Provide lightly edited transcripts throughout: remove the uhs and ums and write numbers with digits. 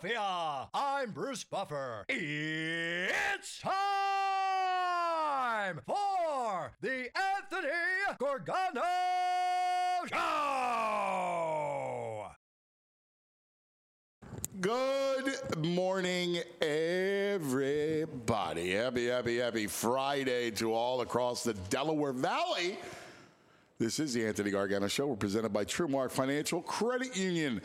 Philadelphia. I'm Bruce Buffer. It's time for the Anthony Gorgano Show. Good morning, everybody. Happy Friday to all across the Delaware Valley. This is the Anthony Gargano Show. We're presented by TrueMark Financial Credit Union.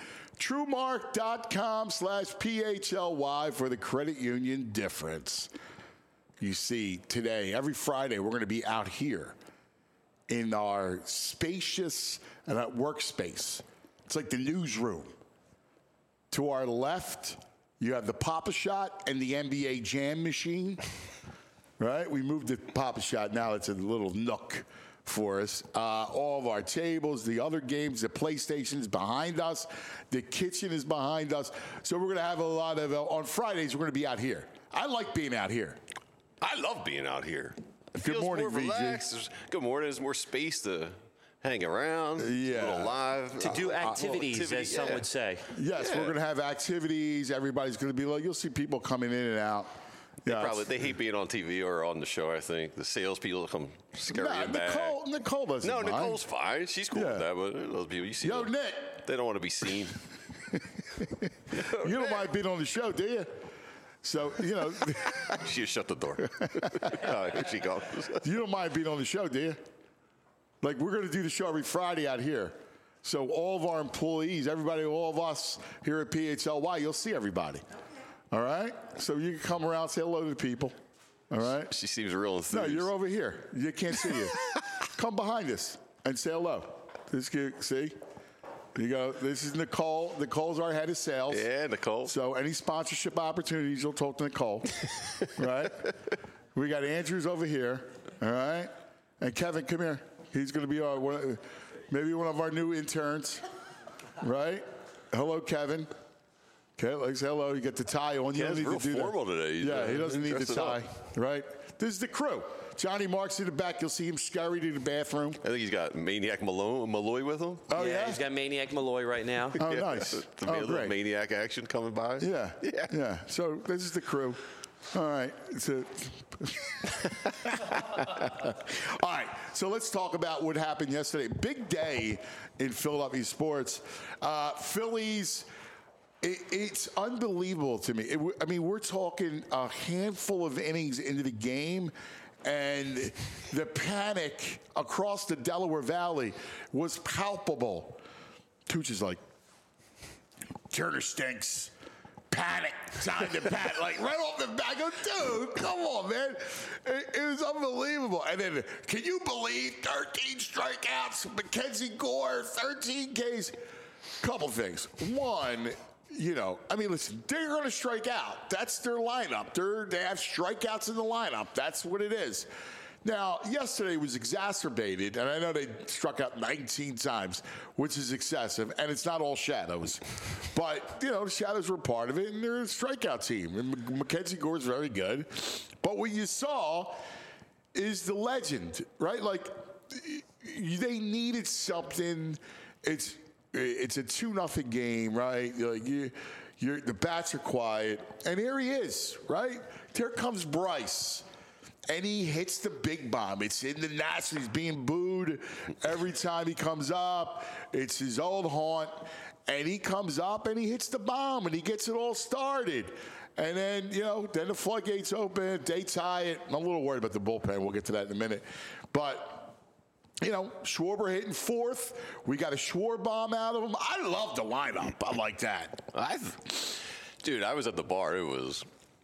TrueMark.com/PHLY for the credit union difference. You see, today, every Friday, we're going to be out here in our spacious workspace. It's like the newsroom. To our left, you have the Pop-A-Shot and the NBA Jam machine. Right? We moved the Pop-A-Shot. Now it's a little nook for us. All of our tables, the other games, the PlayStation is behind us. The kitchen is behind us. So we're going to have a lot of, on Fridays, we're going to be out here. I like being out here. I love being out here. It Good feels morning, more relaxed. VG. Good morning. There's more space to hang around. Yeah. A little live. To do activities, as some would say. Yes, Yeah. we're going to have activities. Everybody's going to be like, you'll see people coming in and out. They hate being on TV or on the show, I think. The salespeople come scurrying back. Nicole doesn't No, mind. Nicole's fine. She's cool with that, but those people, you see Yo, them, Nick. they don't want to be seen. You don't mind being on the show, do you? So, She just shut the door. Here she goes. you don't mind being on the show, do you? Like, we're going to do the show every Friday out here. So all of our employees, everybody, all of us here at PHLY, you'll see everybody. All right? So you can come around, say hello to the people. All right? She seems real enthused. No, you're over here. You can't see you. Come behind us and say hello. See? You go. This is Nicole. Nicole's our head of sales. Yeah, Nicole. So any sponsorship opportunities, you'll talk to Nicole. Right? We got Andrews over here. All right? And Kevin, come here. He's going to be maybe one of our new interns. Right? Hello, Kevin. Okay, like hello. You get the tie on. You don't need real to do formal that. today. Yeah, he doesn't need the Dressed it tie. up. Right? This is the crew. Johnny Marks in the back. You'll see him scurry to the bathroom. I think he's got Maniac Malloy with him. Oh, yeah? He's got Maniac Malloy right now. Oh, nice. To be a little Great. Maniac action coming by. Yeah. So this is the crew. All right. All right. So let's talk about what happened yesterday. Big day in Philadelphia sports. Phillies. It's unbelievable to me. We're talking a handful of innings into the game, and the panic across the Delaware Valley was palpable. Tooch is like, Turner stinks. Panic. Time to panic. Like, right off the bat. I go, dude, come on, man. It was unbelievable. And then, can you believe 13 strikeouts? Mackenzie Gore, 13 Ks. Couple things. One, listen, they're going to strike out. That's their lineup. They have strikeouts in the lineup. That's what it is. Now, yesterday was exacerbated, and I know they struck out 19 times, which is excessive, and it's not all shadows. But, the shadows were part of it, and they're a strikeout team. And Mackenzie Gore's very good. But what you saw is the legend, right? Like, they needed something. It's a 2-0 game, right? The bats are quiet, and here he is, right? There comes Bryce, and he hits the big bomb. It's in the National. He's being booed every time he comes up. It's his old haunt, and he comes up and he hits the bomb, and he gets it all started. And then, then the floodgates open. They tie it. I'm a little worried about the bullpen. We'll get to that in a minute, but. Schwarber hitting fourth. We got a Schwarber bomb out of him. I love the lineup. I like that. Dude, I was at the bar. It was.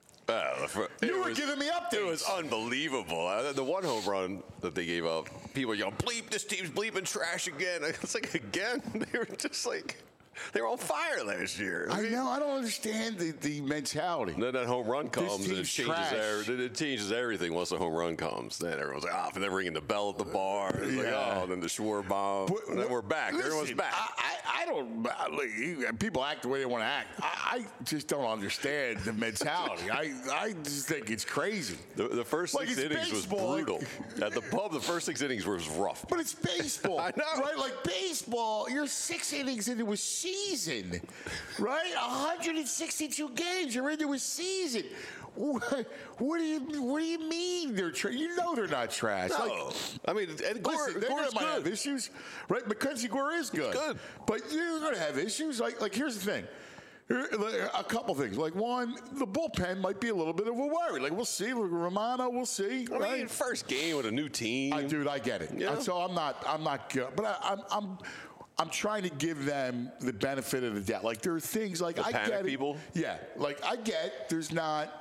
You were giving me updates. It was unbelievable. The one home run that they gave up, people yell, bleep, this team's bleeping trash again. It's like, again? They were just like, they were on fire last year. I know. I don't understand the mentality. Then that home run comes and it changes everything once the home run comes. Then everyone's like, and then ringing the bell at the bar. It's like, then the Schwarber bomb. And then we're back. Listen, Everyone's back. I don't. People act the way they want to act. I just don't understand the mentality. I just think it's crazy. The first 6 innings baseball. was brutal. At the pub, the first 6 innings was rough. But it's baseball. I know. Right? Like baseball, you're 6 innings into a season, right? 162 games. You're into a season. What do you mean they're trash? You know they're not trash. No. I mean, and Gore, Listen, they're Gore's going to have good. issues, right? Mackenzie Gore is good. good. But you're going to have issues. Like here's the thing. A couple things. Like, one, the bullpen might be a little bit of a worry. Like, we'll see. Romano, we'll see. I right? mean, first game with a new team. Dude, I get it. Yeah. So I'm not good. But I'm trying to give them the benefit of the doubt. Like, there are things like I panic get it. people? Yeah. Like, I get there's not,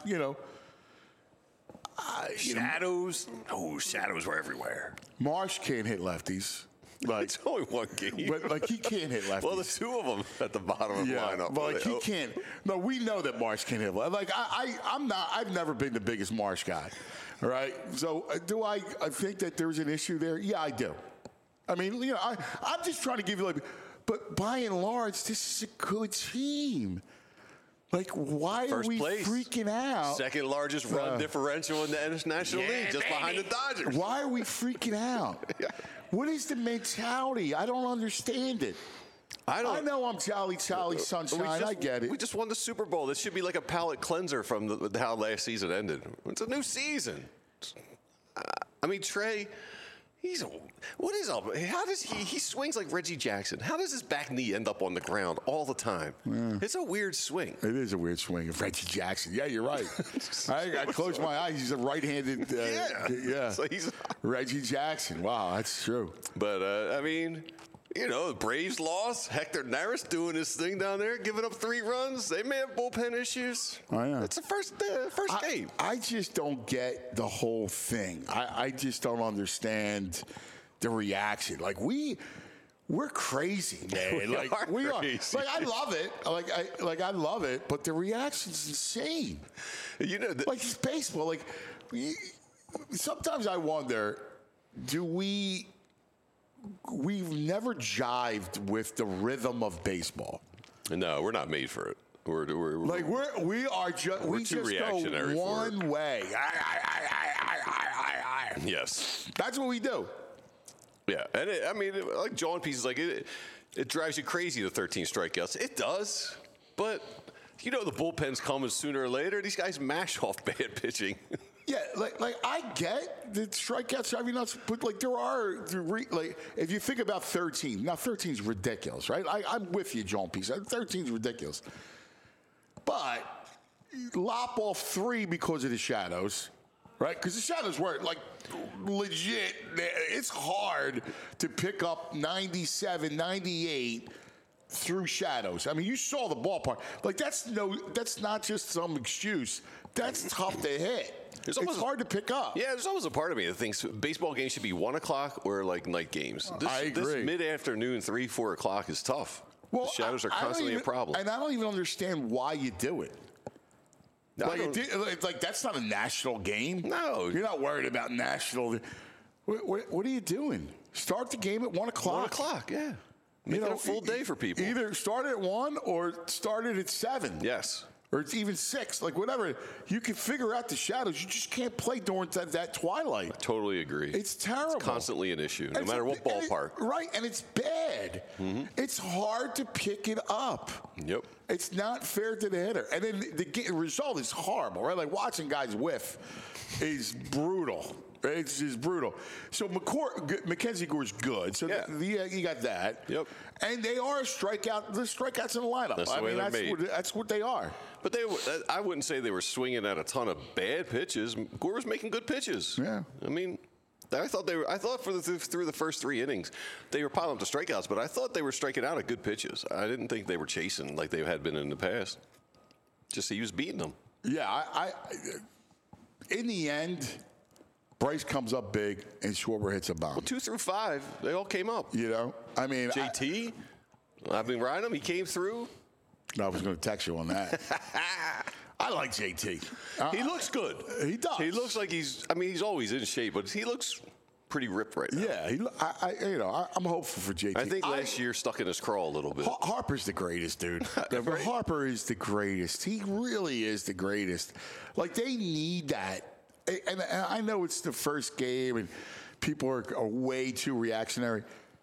Shadows. Oh, shadows were everywhere. Marsh can't hit lefties. Like, It's only one game. but like he can't hit lefties. Well, the two of them at the bottom of the lineup. but like he can't. No, we know that Marsh can't hit. Like I'm not. I've never been the biggest Marsh guy. All right. So do I think that there's an issue there? Yeah, I do. I mean, I'm just trying to give you but by and large, this is a good team. Like, why First are we place. freaking out? Second largest run differential in the National League, just behind the Dodgers. Why are we freaking out? What is the mentality? I don't understand it. I know I'm jolly sunshine. I get it. We just won the Super Bowl. This should be like a palate cleanser from how last season ended. It's a new season. I mean, Trey, how does he swings like Reggie Jackson. How does his back knee end up on the ground all the time? Yeah. It's a weird swing. It is a weird swing of Reggie Jackson. Yeah, you're right. I closed my eyes. He's a right-handed. Yeah. So he's Reggie Jackson. Wow, that's true. But I mean, the Braves lost. Hector Neris doing his thing down there, giving up 3 runs. They may have bullpen issues. Oh, yeah. It's the first game. I just don't get the whole thing. I just don't understand the reaction. Like we're crazy, man. We are. Crazy. Like I love it. I love it. But the reaction's insane. Like it's baseball. Like sometimes I wonder, we've never jived with the rhythm of baseball. No, we're not made for it. We just too reactionary go for it. one way. Yes. That's what we do. Yeah, and like John P. is like it drives you crazy, the 13 strikeouts. It does, but the bullpen's coming sooner or later. These guys mash off bad pitching. Yeah, like I get the strikeouts driving nuts, but if you think about 13, now 13 is ridiculous, right? I'm with you, John P. 13 is ridiculous, but lop off 3 because of the shadows. Right? Because the shadows were legit. It's hard to pick up 97, 98 through shadows. I mean, you saw the ballpark. Like, that's not just some excuse. That's tough to hit. It's hard to pick up. Yeah, there's always a part of me that thinks baseball games should be 1 o'clock or like night games. I agree. This mid-afternoon, 3, 4 o'clock is tough. Well, the shadows are constantly a problem. And I don't even understand why you do it. That's not a national game. No. You're not worried about national. What are you doing? Start the game at 1 o'clock. 1 o'clock, yeah. Make it a full day for people. Either start at 1 or start it at 7. Yes. Or it's even 6. Like, whatever. You can figure out the shadows. You just can't play during that twilight. I totally agree. It's terrible. It's constantly an issue, no matter what ballpark. Right, and it's bad. Mm-hmm. It's hard to pick it up. Yep. It's not fair to the hitter. And then the result is horrible, right? Like, watching guys whiff is brutal. It's just brutal. So Mackenzie Gore's good. So you got that. Yep. And they are the strikeouts in the lineup. That's the way they're made. That's what they are. But I wouldn't say they were swinging at a ton of bad pitches. Gore was making good pitches. Yeah. I mean, I thought through the first 3 innings they were piling up the strikeouts, but I thought they were striking out at good pitches. I didn't think they were chasing like they had been in the past. Just he was beating them. Yeah. I in the end, Bryce comes up big and Schwarber hits a bomb. Well, 2 through 5, they all came up. I mean, JT, I've been riding him. He came through. I was going to text you on that. I like JT. He looks good. He does. He looks like he's always in shape, but he looks pretty ripped right now. Yeah, I'm hopeful for JT. I think last year stuck in his craw a little bit. Harper's the greatest, dude. Right? Harper is the greatest. He really is the greatest. Like, they need that. And I know it's the first game and people are way too reactionary.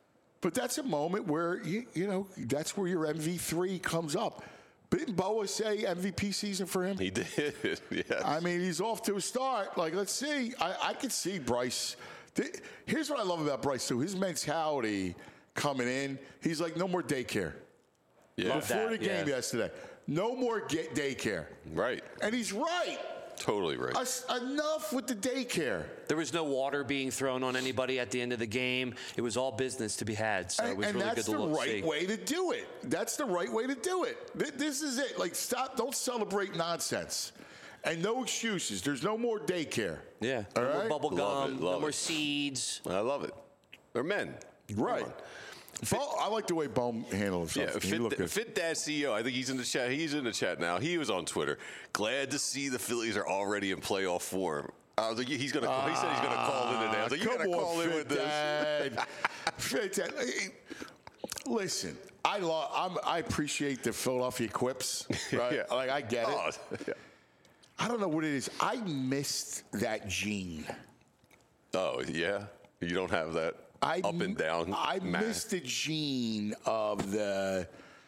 But that's a moment where, you know, that's where your MV3 comes up. Didn't Boa say MVP season for him? He did, yes. I mean, he's off to a start. Like, let's see. I could see Bryce. Here's what I love about Bryce, too. His mentality coming in, he's like, no more daycare. Yeah. Before the game yesterday, no more daycare. Right. And he's right. Totally right. Enough with the daycare. There was no water being thrown on anybody at the end of the game. It was all business to be had. So it was really good to look. And that's the right way to do it. That's the right way to do it. This is it. Like, stop. Don't celebrate nonsense. And no excuses. There's no more daycare. Yeah. All No right? more bubble gum. No more it. seeds. I love it. They're men. Right. I like the way Bohm handles himself. Yeah, Fit Dad CEO. I think he's in the chat. He's in the chat now. He was on Twitter. Glad to see the Phillies are already in playoff form. I was like, he said he's going to call in today. I was like, you got to call in with this. Fit Dad. Listen, I appreciate the Philadelphia quips. Right? Yeah. Like, I get it. Yeah. I don't know what it is. I missed that gene. Oh, yeah? You don't have that up and down I missed the gene of the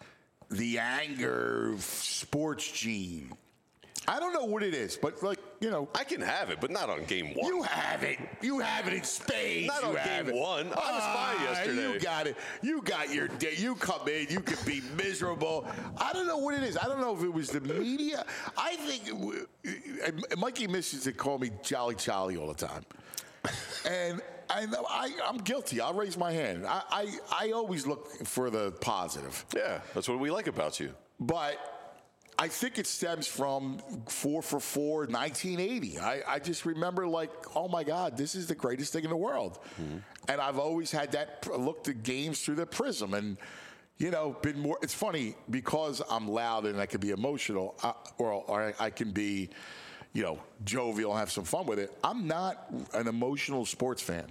anger sports gene. I don't know what it is, but, like, you know. I can have it, but not on game one. You have it. You have it in spades. Not on game one. I was fine yesterday. You got it. You got your day. You come in. You can be miserable. I don't know what it is. I don't know if it was the media. I think Mikey misses to call me Jolly Charlie all the time. And I'm guilty. I'll raise my hand. I always look for the positive. Yeah, that's what we like about you. But I think it stems from 4 for 4, 1980. I just remember, like, oh, my God, this is the greatest thing in the world. Mm-hmm. And I've always had that, looked at games through the prism. And, you know, been more. It's funny, because I'm loud and I can be emotional, or I can be, you know, jovial and have some fun with it. I'm not an emotional sports fan.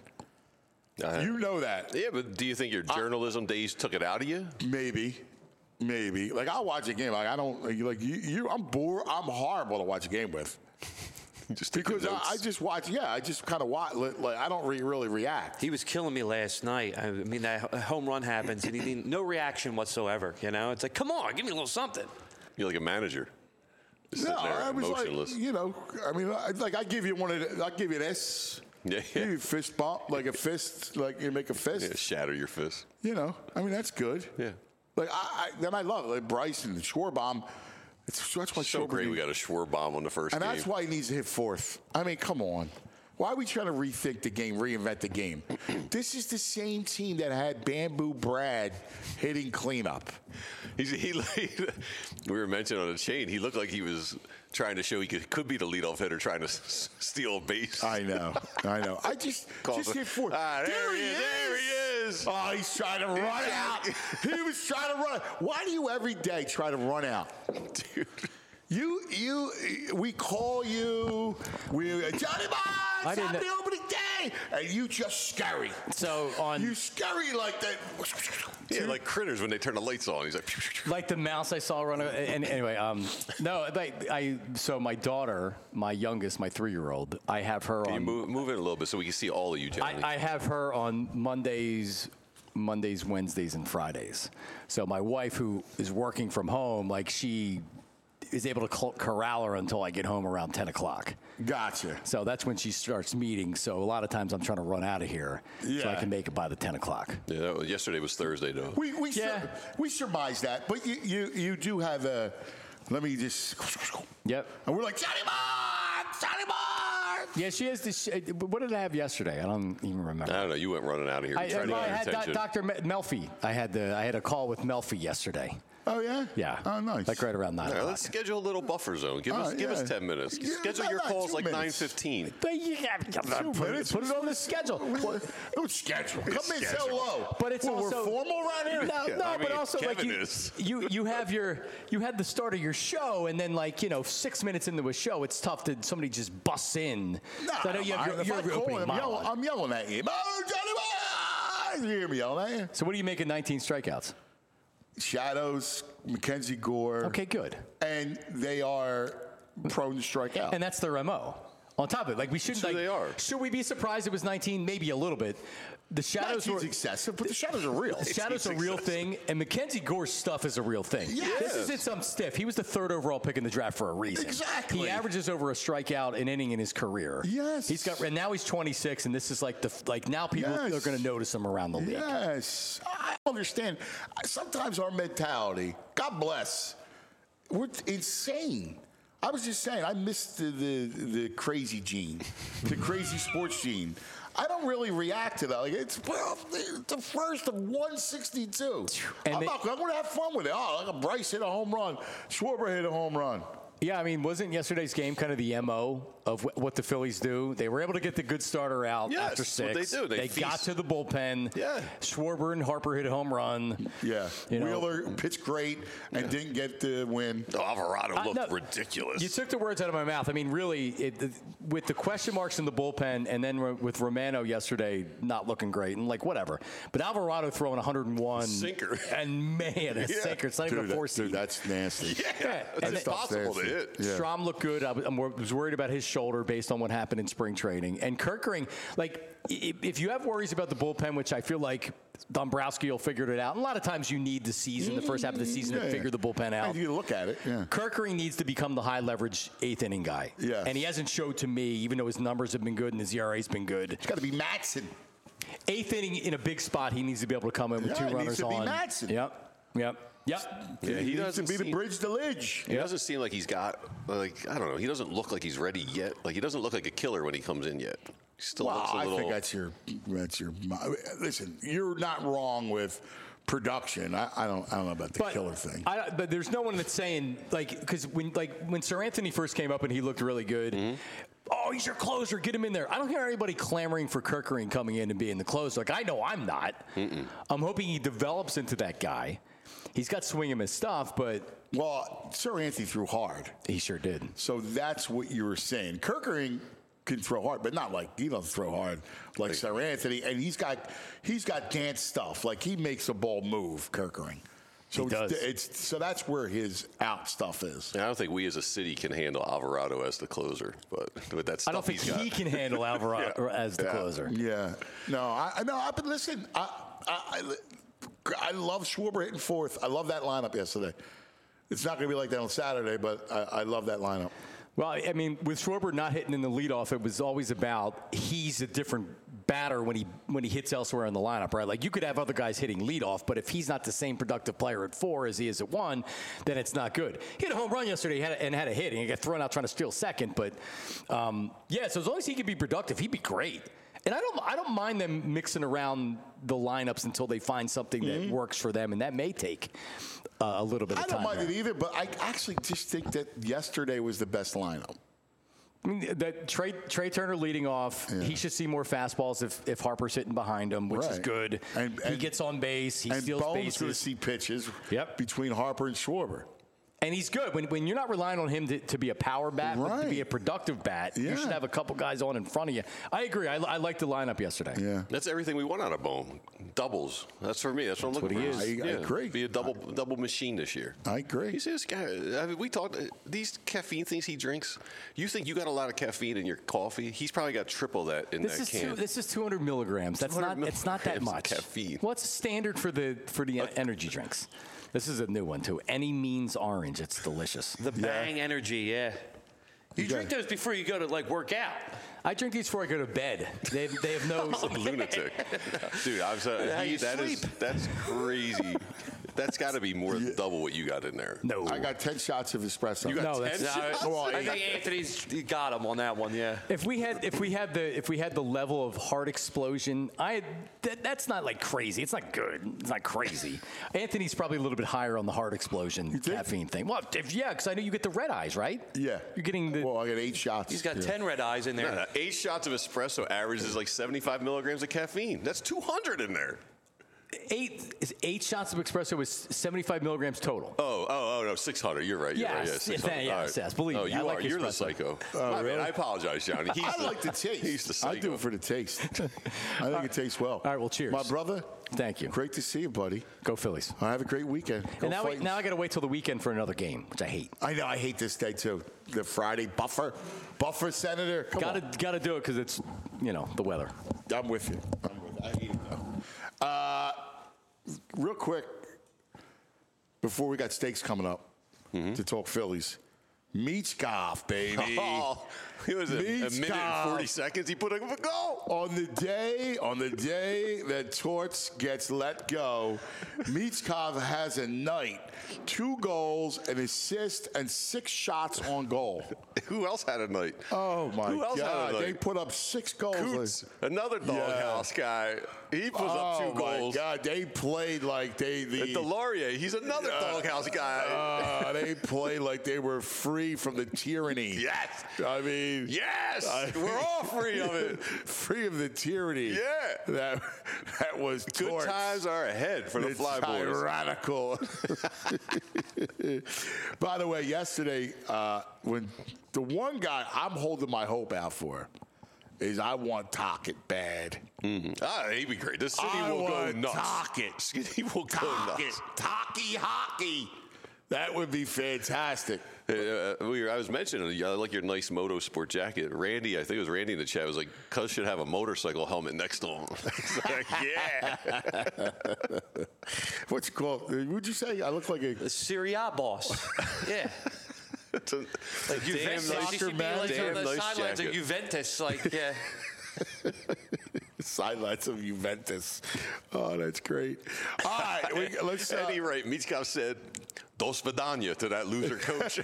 You know that. Yeah, but do you think your journalism days took it out of you? Maybe. Like, I'll watch a game. Like, I don't, like, I'm bored. I'm horrible to watch a game with. Because I just watch, I just kind of watch. Like, I don't really react. He was killing me last night. I mean, that home run happens, and he didn't, no reaction whatsoever, you know? It's like, come on, give me a little something. You're like a manager. No, I was emotionless. Like, you know, I mean, like, I give you I'll give you this. Yeah. Give you a fist bump, like a fist, like you make a fist. Yeah, shatter your fist. You know, I mean, that's good. Yeah. Like, then I love it. Like Bryce and Schwarbaum. That's why so great we got a Schwarbaum on the first game. And that's why he needs to hit fourth. I mean, come on. Why are we trying to rethink the game, reinvent the game? This is the same team that had Bamboo Brad hitting cleanup. We were mentioning on the chain, he looked like he was trying to show he could be the leadoff hitter trying to steal a base. I know. I just hit fourth. There he is. Oh, he's trying to run out. He was trying to run. Why do you every day try to run out? Dude. We call you, Johnny Bonds, happy opening day, and you just scurry. So you scurry like that. Yeah, like critters when they turn the lights on. He's like the mouse I saw run. And anyway, no, so my daughter, my youngest, my 3-year-old, I have her on. Can you move it a little bit so we can see all of you, Johnny? I have her on Mondays, Wednesdays, and Fridays. So my wife, who is working from home, like, she is able to corral her until I get home around 10 o'clock. Gotcha. So that's when she starts meetings. So a lot of times I'm trying to run out of here so I can make it by the 10 o'clock. Yeah, yesterday was Thursday, though. We surmise that. But you do have a, let me just. Yep. And we're like, Johnny Bonds! Johnny Bonds! Yeah, she has this. What did I have yesterday? I don't even remember. I don't know. You went running out of here. I had Dr. Melfi. I had a call with Melfi yesterday. Oh, yeah? Yeah. Oh, nice. Like right around 9 o'clock. Let's schedule a little buffer zone. Give us 10 minutes. Schedule your calls like 9:15. But you put it on the schedule. Don't schedule. Come in so low. But it's also we're formal around here. No, but also Kevin like is. you had the start of your show, and then 6 minutes into a show, it's tough that somebody just busts in. No, so I know you have your opening monologue. I'm yelling at you. Oh, Johnny Bonds! You hear me yelling at you? So what do you make of 19 strikeouts? Shadows, Mackenzie Gore. Okay, good. And they are prone to strike out. And that's their MO. On top of it, we shouldn't. So they are. Should we be surprised it was 19? Maybe a little bit. The shadows Not were excessive, but the shadows are real. The shadows are a real thing, and Mackenzie Gore's stuff is a real thing. Yes. This isn't some stiff. He was the 3rd overall pick in the draft for a reason. Exactly. He averages over a strikeout an inning in his career. Yes. And now he's 26, and this is like now people are going to notice him around the league. Yes, I understand. Sometimes our mentality, God bless, we're insane. I was just saying, I missed the crazy gene, the crazy sports gene. I don't really react to that. Like it's the first of 162. And I'm going to have fun with it. Oh, like Bryce hit a home run, Schwarber hit a home run. Yeah, I mean, wasn't yesterday's game kind of the MO of what the Phillies do? They were able to get the good starter out after 6. What they do. They got to the bullpen. Yeah. Schwarber and Harper hit a home run. Yeah. Wheeler pitched great and didn't get the win. Alvarado looked ridiculous. You took the words out of my mouth. I mean, really, with the question marks in the bullpen and then with Romano yesterday not looking great and whatever. But Alvarado throwing 101. Sinker. And, man, a sinker. It's not even a 4-seed. Dude, that's nasty. Yeah. That's impossible to hit. Yeah. Strom looked good. I was worried about his shoulder based on what happened in spring training. And Kerkering, if you have worries about the bullpen, which I feel like Dombrowski will figure it out. And a lot of times you need the season, the first half of the season, to figure the bullpen out. You look at it. Yeah. Kerkering needs to become the high leverage 8th inning guy. Yeah. And he hasn't showed to me, even though his numbers have been good and his ERA's been good. It's got to be Matson. 8th inning in a big spot, he needs to be able to come in with 2 runners on. It needs to be Matson. Yep. Yeah, he doesn't be the bridge to Lidge. He doesn't seem like he's got, I don't know, he doesn't look like he's ready yet. He doesn't look like a killer when he comes in yet. He still looks a little. I think that's your. Listen, you're not wrong with production. I don't know about the killer thing. But there's no one that's saying, because when Sir Anthony first came up and he looked really good, oh, he's your closer, get him in there. I don't hear anybody clamoring for Kerkering coming in and being the closer. I know I'm not. I'm hoping he develops into that guy. He's got swing and miss stuff, but... Well, Sir Anthony threw hard. He sure did. So that's what you were saying. Kerkering can throw hard, but not he doesn't throw hard like Sir Anthony. And he's got dance stuff. He makes a ball move, Kerkering. So he does. So that's where his out stuff is. I don't think we as a city can handle Alvarado as the closer, but with that stuff I don't think he can handle Alvarado as the closer. Yeah. No, but listen, I love Schwarber hitting 4th. I love that lineup yesterday. It's not going to be like that on Saturday, but I love that lineup. Well, I mean, with Schwarber not hitting in the leadoff, it was always about he's a different batter when he hits elsewhere in the lineup, right? You could have other guys hitting leadoff, but if he's not the same productive player at 4 as he is at 1, then it's not good. He had a home run yesterday and had a hit, and he got thrown out trying to steal second. But, so as long as he could be productive, he'd be great. And I don't mind them mixing around the lineups until they find something that works for them, and that may take a little bit of time. I don't mind it either, but I actually just think that yesterday was the best lineup. I mean, that Trey Turner leading off, he should see more fastballs if Harper's hitting behind him, which is good. And he gets on base, he steals Bones bases. going to see pitches between Harper and Schwarber. And he's good. When you're not relying on him to be a power bat, but to be a productive bat, you should have a couple guys on in front of you. I agree. I liked the lineup yesterday. Yeah. That's everything we want out of Bone. Doubles. That's for me. That's what I'm looking for. I agree. Be a double machine this year. I agree. He's this guy. We talked, these caffeine things he drinks, you think you got a lot of caffeine in your coffee? He's probably got triple that in that can. This is 200 milligrams. It's not that much. Caffeine. What's standard for the energy drinks? This is a new one, too. Any Means Orange. It's delicious. The Bang Energy, yeah. You drink those before you go to, work out. I drink these before I go to bed. They have no... Lunatic. Dude, that's crazy. That's got to be more than double what you got in there. No. I got 10 shots of espresso. You got 10 shots? I think Anthony's got him on that one, yeah. If we had the level of heart explosion, that's not crazy. It's not good. It's not crazy. Anthony's probably a little bit higher on the heart explosion caffeine thing. Well, because I know you get the red eyes, right? Yeah. You're getting the... Well, I got 8 shots. He's got 10 red eyes in there. No, 8 shots of espresso averages 75 milligrams of caffeine. That's 200 in there. 8 shots of espresso is 75 milligrams total. Oh, no, 600. You're right. Yes, yes. Believe me. You're the psycho. Really? I apologize, Johnny. I like the taste. He's the psycho. I do it for the taste. I think it tastes well. All right, well, cheers. My brother. Thank you. Great to see you, buddy. Go Phillies. Have a great weekend. Go and now I got to wait till the weekend for another game, which I hate. I know. I hate this day, too. The Friday buffer, Senator. Got to do it because it's, the weather. I'm with you. I hate it though. Real quick, before we got Steaks coming up to talk Phillies. Michkov, baby. Oh, it was a minute and 40 seconds. He put up a goal. On the day that Torts gets let go, Michkov has a night. 2 goals, an assist, and 6 shots on goal. Who else had a night? Oh, my Who else had a God. night? They put up 6 goals. Coots, another doghouse guy. He puts up 2 goals. Oh, my God. They played like At Delorier, he's another doghouse guy. They played like they were free from the tyranny. Yes. I mean. Yes. We're all free of it. Free of the tyranny. Yeah. That was Good Torts. times are ahead for the Fly Boys. Radical. By the way, yesterday, when the one guy I'm holding my hope out for is I want Tocchet bad. He'd be great. The city will go nuts. Tocchet. City will go nuts. Tocky hockey. That would be fantastic. I was mentioning, I like your nice motorsport jacket. Randy, I think it was Randy in the chat, was like, Cuz should have a motorcycle helmet next to him. It's like, yeah. What's it called? Would you say I look like a Serie A boss. Yeah. Like Juventus, damn nice, you should be like damn on the nice sidelines of jacket. Juventus, like, yeah. sidelines of Juventus? Oh, that's great. All right, let's. Eddie Wright, Michkov said, "Dos vidania" to that loser coach.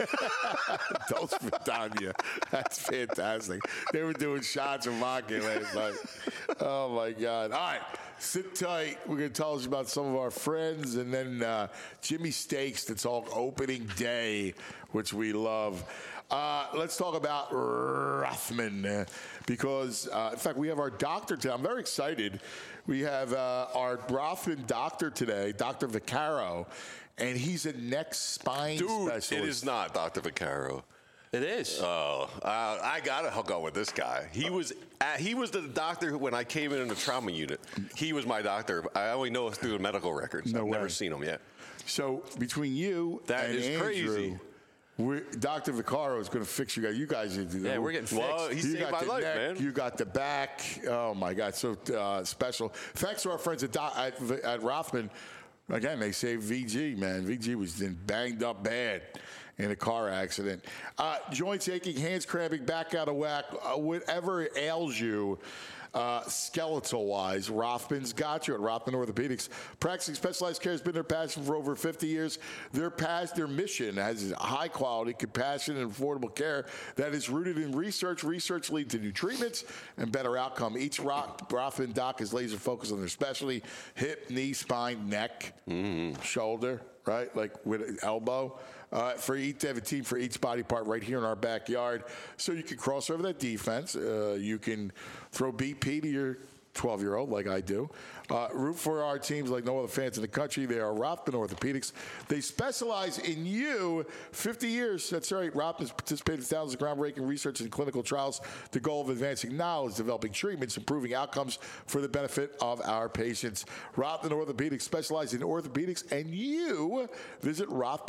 Dos vidania. That's fantastic. They were doing shots of vodka last night. Oh my God! All right, sit tight. We're going to tell us about some of our friends, and then Jimmy Steaks to talk opening day, which we love. Let's talk about Rothman because, in fact, we have our doctor today. I'm very excited. We have our Rothman doctor today, Dr. Vaccaro, and he's a neck spine specialist. It is not Dr. Vaccaro. It is. Oh, I gotta hook up with this guy. He was the doctor when I came in the trauma unit. He was my doctor. I only know through the medical records. No I've way. never seen him yet. So between you That and is Andrew, crazy. Dr. Vaccaro is going to fix you guys. You guys, Yeah, we're getting fixed. Well, he you saved got my the life, neck, man. you got the back. Oh my God, so special. Thanks to our friends at Rothman. Again, they saved VG, man. VG was banged up bad in a car accident. Joints aching, hands cramping, back out of whack, whatever ails you. Skeletal-wise, Rothman's got you at Rothman Orthopedics. Practicing specialized care has been their passion for over 50 years. Their mission has high-quality, compassionate, and affordable care that is rooted in research. Research leads to new treatments and better outcome. Each Rothman doc is laser-focused on their specialty: hip, knee, spine, neck, shoulder, right? Like with elbow. They have a team for each body part right here in our backyard. So you can cross over that defense. You can throw BP to your 12-year-old like I do. Root for our teams like no other fans in the country. They are Rothman Orthopedics. They specialize in you. 50 years. That's right. Rothman's participated in thousands of groundbreaking research and clinical trials. The goal of advancing knowledge, developing treatments, improving outcomes for the benefit of our patients. Rothman Orthopedics specialize in orthopedics, and you visit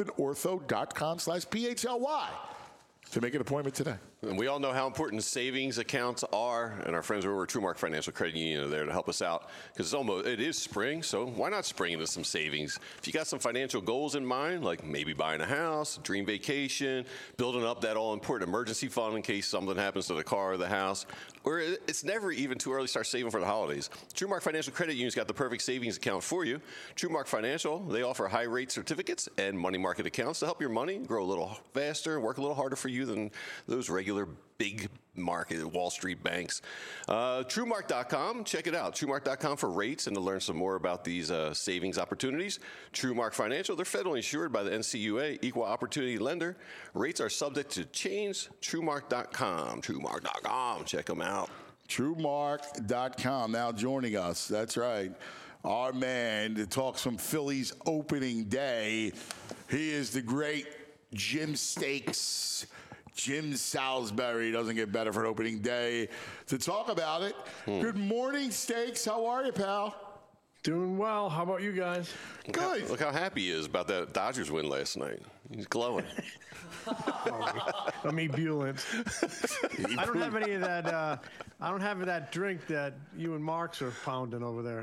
rothmanortho.com/PHLY to make an appointment today. And we all know how important savings accounts are, and our friends over at TrueMark Financial Credit Union are there to help us out because it is spring, so why not spring into some savings? If you got some financial goals in mind, like maybe buying a house, dream vacation, building up that all-important emergency fund in case something happens to the car or the house, or it's never even too early to start saving for the holidays. TrueMark Financial Credit Union's got the perfect savings account for you. TrueMark Financial, they offer high-rate certificates and money market accounts to help your money grow a little faster and work a little harder for you than those regular big market Wall Street banks. TrueMark.com, check it out. TrueMark.com for rates and to learn some more about these savings opportunities. TrueMark Financial, they're federally insured by the NCUA, equal opportunity lender. Rates are subject to change. TrueMark.com. TrueMark.com, check them out. TrueMark.com now joining us. That's right. Our man to talk some Phillies opening day. He is the great Jim Steaks. Jim Salisbury doesn't get better for an opening day. To talk about it, Good morning, Steaks. How are you, pal? Doing well. How about you guys? Good. Look how happy he is about that Dodgers win last night. He's glowing. I'm ebullient. I don't have any of that I don't have that drink that you and Marks are pounding over there.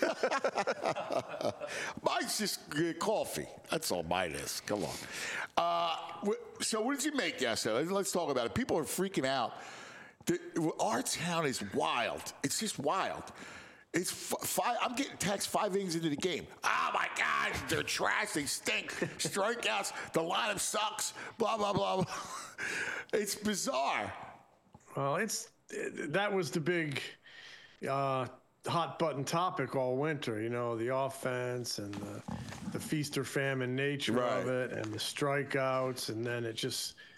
Mine's just coffee. That's all mine is. Come on. So what did you make yesterday? Let's talk about it. People are freaking out. Our town is wild. It's just wild. It's five. I'm getting texts 5 innings into the game. Oh my God, they're trash. They stink. Strikeouts. The lineup sucks. Blah blah blah. It's bizarre. Well, that was the big hot button topic all winter. You know, the offense and the feast or famine nature of it, and the strikeouts, and then it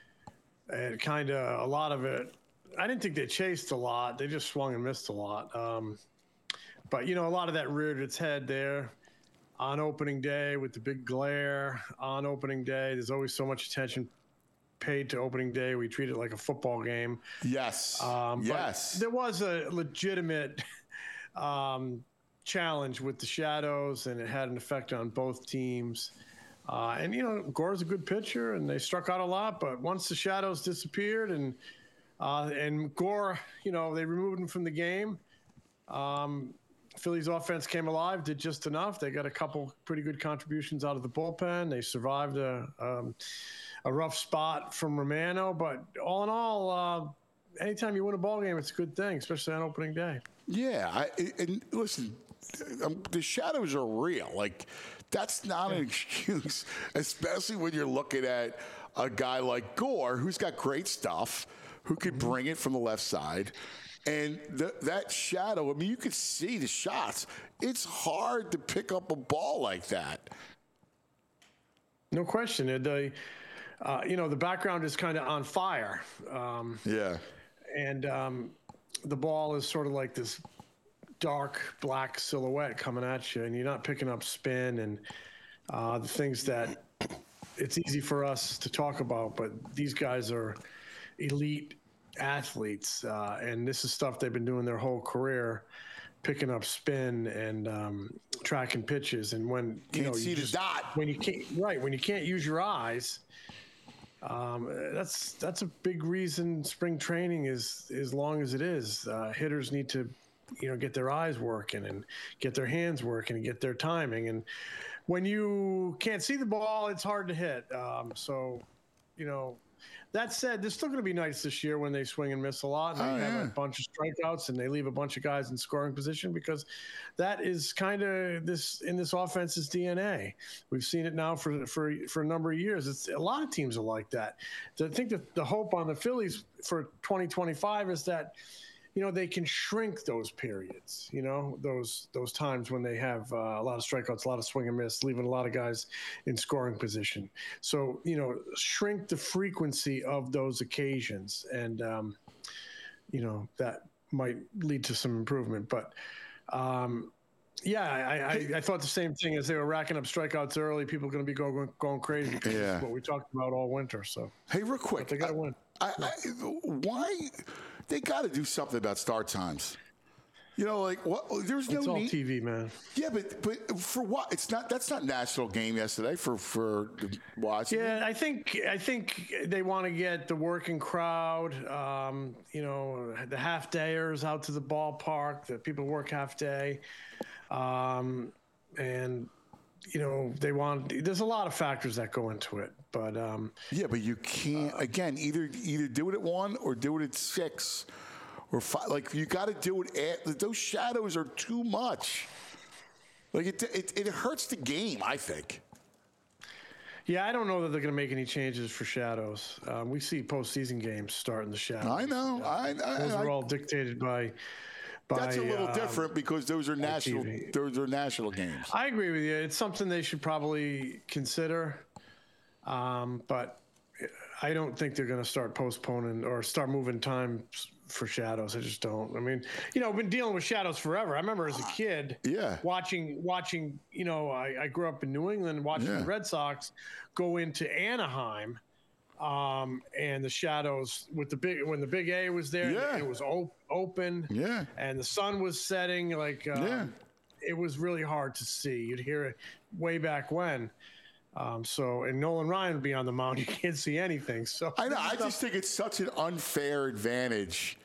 kind of a lot of it. I didn't think they chased a lot. They just swung and missed a lot. But, you know, a lot of that reared its head there on opening day with the big glare on opening day. There's always so much attention paid to opening day. We treat it like a football game. Yes. Yes. There was a legitimate challenge with the shadows, and it had an effect on both teams. And, you know, Gore's a good pitcher, and they struck out a lot. But once the shadows disappeared and Gore, you know, they removed him from the game. Phillies offense came alive, did just enough. They got a couple pretty good contributions out of the bullpen. They survived a rough spot from Romano, but all in all, anytime you win a ball game, it's a good thing, especially on opening day. Yeah, and listen, the shadows are real. Like, that's not an excuse, especially when you're looking at a guy like Gore, who's got great stuff, who could bring it from the left side. And that shadow, I mean, you could see the shots. It's hard to pick up a ball like that. No question. You know, the background is kind of on fire. And the ball is sort of like this dark black silhouette coming at you, and you're not picking up spin and the things that it's easy for us to talk about, but these guys are elite athletes, and this is stuff they've been doing their whole career, picking up spin and tracking pitches. And when you see the dot, when you can't use your eyes, that's a big reason spring training is as long as it is. Hitters need to, you know, get their eyes working and get their hands working and get their timing. And when you can't see the ball, it's hard to hit. So, you know. That said, there's still going to be nights this year when they swing and miss a lot, and they have a bunch of strikeouts, and they leave a bunch of guys in scoring position, because that is kind of this offense's DNA. We've seen it now for a number of years. It's a lot of teams are like that. I think that the hope on the Phillies for 2025 is that, you know, they can shrink those periods, you know, those times when they have a lot of strikeouts, a lot of swing and miss, leaving a lot of guys in scoring position. So, you know, shrink the frequency of those occasions, and, you know, that might lead to some improvement. But, yeah, I thought the same thing. As they were racking up strikeouts early, people are going to be going crazy. That's what we talked about all winter. So, hey, real quick, they got to win. Why? They got to do something about start times. You know, like what? There's no. It's all TV, man. Yeah, but for what? It's not. That's not national game yesterday for watching. Yeah, I think they want to get the working crowd. You know, the half dayers out to the ballpark. The people who work half day, and you know, there's a lot of factors that go into it, but yeah, but you can't again either do it at 1 or do it at 6 or 5. Like, you got to do it at those shadows are too much. Like, it hurts the game, I think. Yeah, I don't know that they're going to make any changes for shadows. We see postseason games starting the shadows. I know. Those are all dictated by. That's a little different because those are national. TV. Those are national games. I agree with you. It's something they should probably consider, but I don't think they're going to start postponing or start moving time for shadows. I just don't. I mean, you know, I've been dealing with shadows forever. I remember as a kid, watching. You know, I grew up in New England, watching the Red Sox go into Anaheim. And the shadows with when the big A was there, it was open, and the sun was setting. Like, it was really hard to see. You'd hear it way back when. And Nolan Ryan would be on the mound. You can't see anything. So I know. I just think it's such an unfair advantage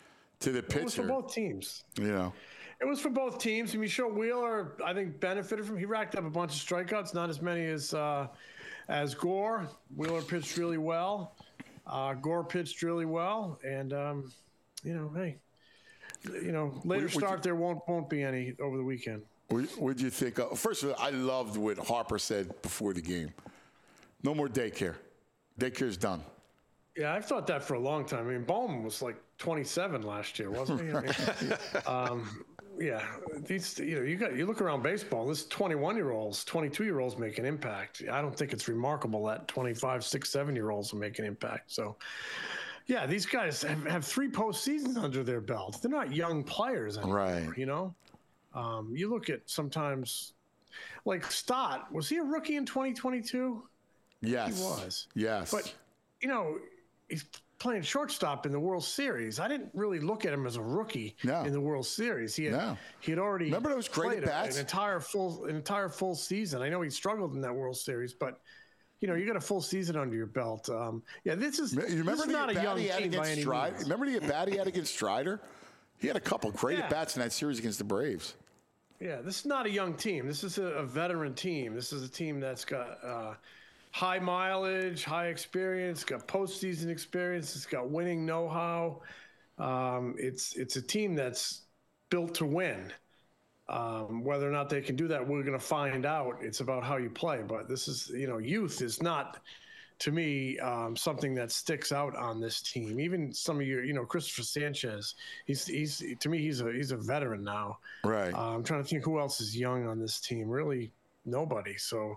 to the pitcher. It was for both teams. You know. It was for both teams. I mean, sure, Wheeler, I think, benefited from. He racked up a bunch of strikeouts, not as many as Gore. Wheeler pitched really well. Gore pitched really well, and hey, later start there won't be any over the weekend. What do you think? First of all, I loved what Harper said before the game. No more daycare. Daycare's done. Yeah, I've thought that for a long time. I mean, Bowman was like 27 last year, wasn't he? I mean, yeah, these you look around baseball. This 21-year-olds, 22-year-olds make an impact. I don't think it's remarkable that 25, 6, 7-year-olds will make an impact. So, yeah, these guys have 3 postseasons under their belt. They're not young players anymore, right? You know, you look at sometimes like Stott. Was he a rookie in 2022? Yes, he was. Yes, but he's playing shortstop in the World Series. I didn't really look at him as a rookie in the World Series. He had already remember those great bats? An entire full season. I know he struggled in that World Series, but you got a full season under your belt. This is not a young team by any means. Remember the at-bat he had against Strider? He had a couple great at-bats in that series against the Braves. Yeah, this is not a young team. This is a veteran team. This is a team that's got high mileage, high experience, got postseason experience. It's got winning know-how. It's a team that's built to win. Whether or not they can do that, we're going to find out. It's about how you play. But this is, youth is not, to me, something that sticks out on this team. Even some of you, Christopher Sanchez, he's to me, he's a veteran now. Right. I'm trying to think who else is young on this team. Really, nobody. So.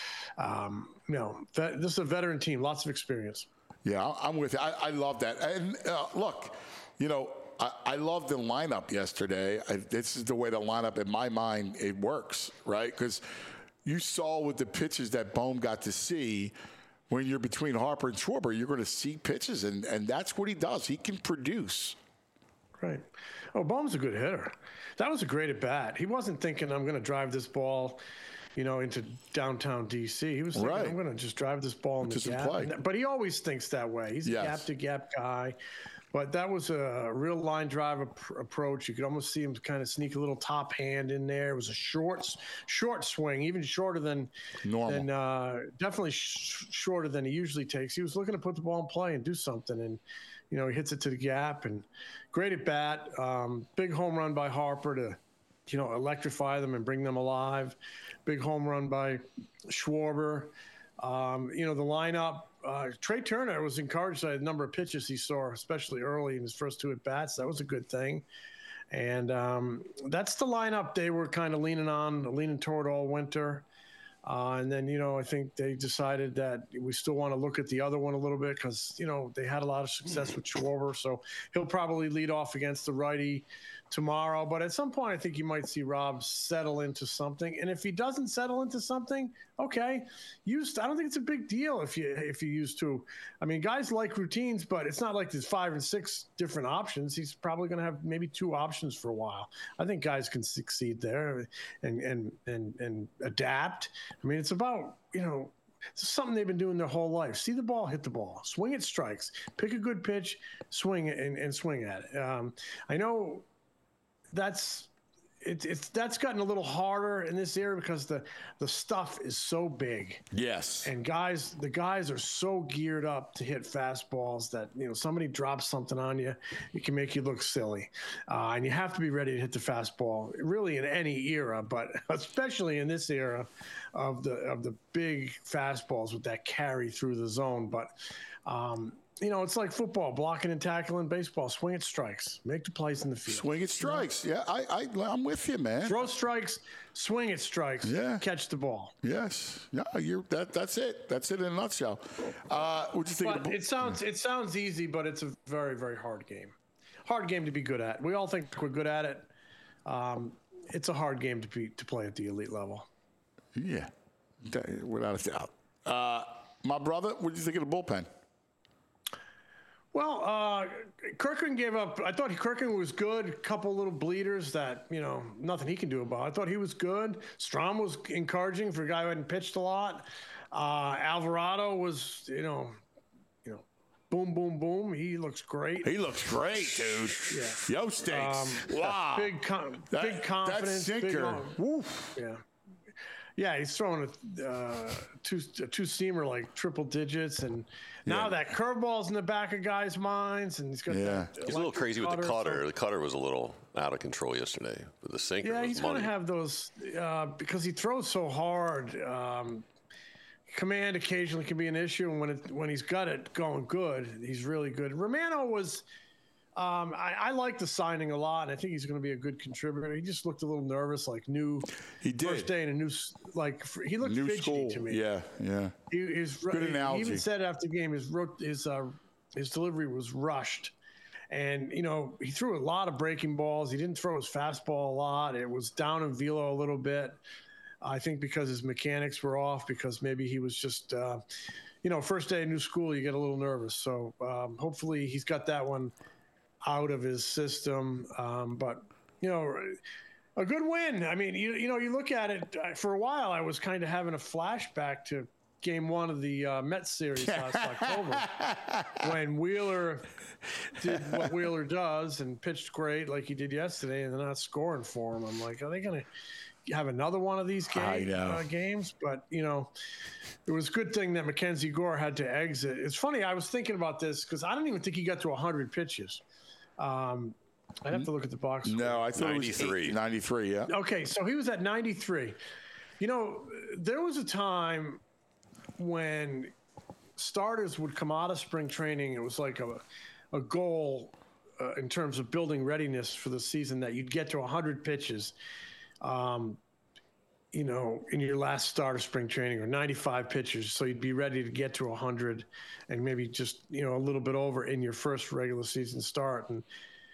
This is a veteran team, lots of experience. Yeah, I'm with you. I love that. And look, I love the lineup yesterday. This is the way the lineup, in my mind, it works, right? Because you saw with the pitches that Bohm got to see, when you're between Harper and Schwarber, you're going to see pitches, and that's what he does. He can produce. Right. Oh, Bohm's a good hitter. That was a great at-bat. He wasn't thinking, I'm going to drive this ball into downtown D.C. He was thinking, I'm going to just drive this ball in the gap. But he always thinks that way. He's a gap-to-gap guy. But that was a real line drive approach. You could almost see him kind of sneak a little top hand in there. It was a short swing, even shorter than normal. Definitely shorter than he usually takes. He was looking to put the ball in play and do something. And, he hits it to the gap. And great at bat. Big home run by Harper to electrify them and bring them alive. Big home run by Schwarber. The lineup, Trey Turner was encouraged by the number of pitches he saw, especially early in his first 2 at-bats. That was a good thing. And that's the lineup they were kind of leaning toward all winter. And then, I think they decided that we still want to look at the other one a little bit because, they had a lot of success with Schwarber. So he'll probably lead off against the righty tomorrow. But at some point, I think you might see Rob settle into something. And if he doesn't settle into something, okay, I don't think it's a big deal if you use 2. I mean, guys like routines, but it's not like there's 5 and 6 different options. He's probably going to have maybe 2 options for a while. I think guys can succeed there and adapt. I mean, it's about, it's something they've been doing their whole life. See the ball, hit the ball, swing at strikes, pick a good pitch, swing it and swing at it. I know that's gotten a little harder in this era because the stuff is so big. Yes. And the guys are so geared up to hit fastballs that, somebody drops something on you, it can make you look silly. And you have to be ready to hit the fastball really in any era, but especially in this era of the big fastballs with that carry through the zone. But, it's like football, blocking and tackling, baseball, swing at strikes, make the plays in the field. Swing at strikes. Yeah, I'm with you, man. Throw strikes, swing at strikes, catch the ball. Yes. Yeah, that's it. That's it in a nutshell. What do you think? But it sounds easy, but it's a very, very hard game. Hard game to be good at. We all think we're good at it. It's a hard game to play at the elite level. Yeah, without a doubt. My brother, what do you think of the bullpen? Well, Kirkland gave up. I thought Kirkland was good. A couple little bleeders that, nothing he can do about. I thought he was good. Strom was encouraging for a guy who hadn't pitched a lot. Alvarado was, boom, boom, boom. He looks great. He looks great, dude. Yeah. Yo stinks. Wow. Big confidence. That sinker. Woof. Yeah. Yeah, he's throwing a two-seamer like triple digits, and now that curveball's in the back of guys' minds, and he's got that. He's a little crazy with the cutter. So. The cutter was a little out of control yesterday, but the sinker. Yeah, was he's money. going to have those because he throws so hard. Command occasionally can be an issue, and when he's got it going good, he's really good. Romano was. I like the signing a lot, and I think he's going to be a good contributor. He just looked a little nervous, like He did. First day in a new, like he looked New fidgety school. to me. Yeah. Good analogy. He even said after the game, his delivery was rushed, and he threw a lot of breaking balls. He didn't throw his fastball a lot. It was down in velo a little bit. I think because his mechanics were off, because maybe he was just, first day in new school, you get a little nervous. So hopefully he's got that one out of his system. But a good win. I mean, you look at it. For a while, I was kind of having a flashback to Game 1 of the Mets series last October, when Wheeler did what Wheeler does and pitched great like he did yesterday, and they're not scoring for him. I'm like, are they going to have another one of these games? But it was a good thing that Mackenzie Gore had to exit. It's funny. I was thinking about this because I don't even think he got to 100 pitches. I'd have to look at the box score. No, I thought 93. It was 93, yeah. Okay, so he was at 93. There was a time when starters would come out of spring training. It was like a goal in terms of building readiness for the season that you'd get to 100 pitches, in your last start of spring training, or 95 pitches. So you'd be ready to get to 100 and maybe just, a little bit over in your first regular season start. And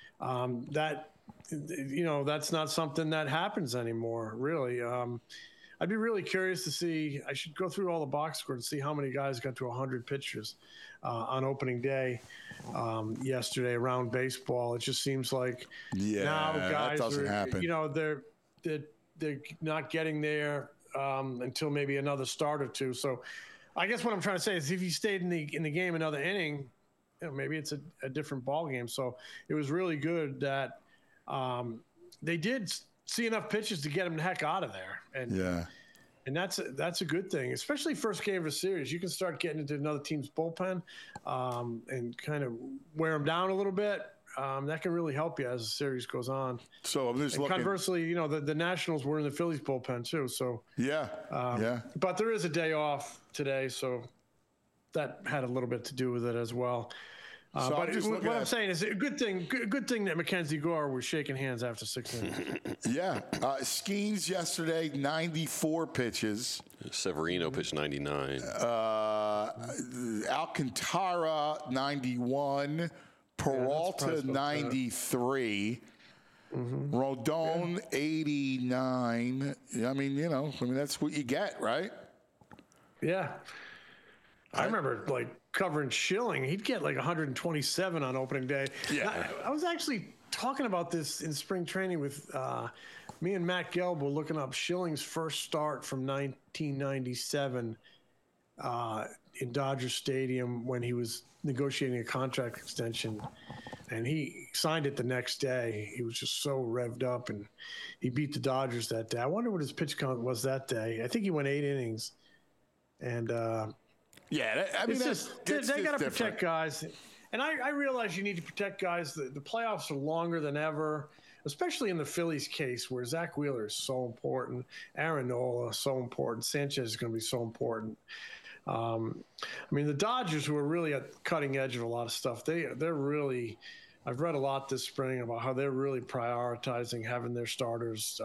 that's not something that happens anymore, really. I'd be really curious to see. I should go through all the box scores and see how many guys got to 100 pitches on opening day yesterday around baseball. It just seems like now guys that doesn't happen. They're not getting there until maybe another start or two. So I guess what I'm trying to say is if you stayed in the game another inning, maybe it's a different ball game. So it was really good that they did see enough pitches to get him the heck out of there. And that's a good thing, especially first game of a series. You can start getting into another team's bullpen and kind of wear them down a little bit. That can really help you as the series goes on. So I'm just looking. Conversely, the Nationals were in the Phillies bullpen too. So But there is a day off today, so that had a little bit to do with it as well. But I'm saying is a good thing that Mackenzie Gore was shaking hands after 6 innings. Skeens yesterday, 94 pitches. Severino pitched 99. Alcantara, 91. Peralta, 93. Rodon, 89. I mean, that's what you get, right? Yeah. I remember covering Schilling. He'd get 127 on opening day. Yeah. I was actually talking about this in spring training with me and Matt Gelb were looking up Schilling's first start from 1997 in Dodger Stadium when he was negotiating a contract extension, and he signed it the next day. He was just so revved up, and he beat the Dodgers that day. I wonder what his pitch count was that day. I think he went 8 innings, and they got to protect guys. And I realize you need to protect guys. The playoffs are longer than ever, especially in the Phillies case where Zach Wheeler is so important, Aaron Nola is so important, Sanchez is going to be so important. The Dodgers, who are really at the cutting edge of a lot of stuff, they're really, I've read a lot this spring about how they're really prioritizing having their starters,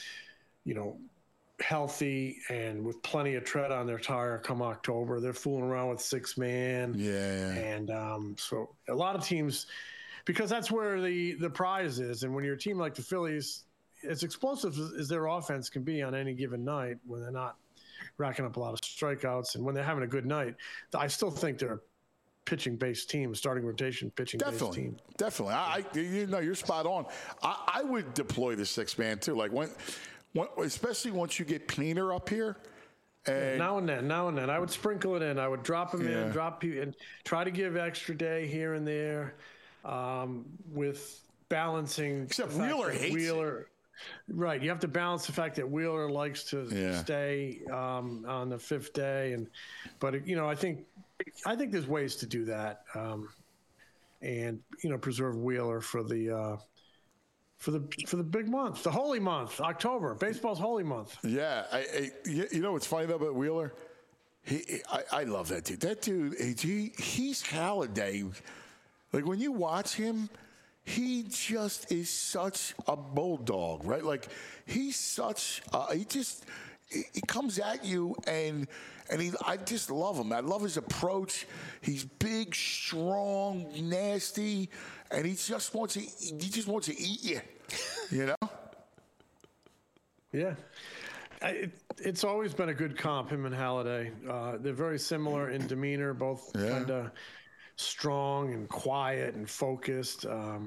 healthy and with plenty of tread on their tire come October. They're fooling around with 6-man. And so a lot of teams, because that's where the prize is. And when you're a team like the Phillies, as explosive as their offense can be on any given night, when they're not racking up a lot of strikeouts, and when they're having a good night, I still think they're a pitching-based team, starting rotation pitching-based team. Definitely. You're spot on. I would deploy the 6-man too. Especially once you get Peener up here, And Now and then. I would sprinkle it in. I would drop him in, and try to give extra day here and there, with balancing. Except the fact Wheeler that hates it. Right, you have to balance the fact that Wheeler likes to stay on the fifth day, but I think there's ways to do that, and preserve Wheeler for the big month, the holy month, October, baseball's holy month. Yeah, you know what's funny though about Wheeler? I love that dude. That dude, he's Halliday. Like when you watch him, he just is such a bulldog, right? Like he's such. He comes at you and I just love him. I love his approach. He's big, strong, nasty, and he just wants to eat you. You know? Yeah. It's always been a good comp, him and Halliday. They're very similar in demeanor, both kind of strong and quiet and focused.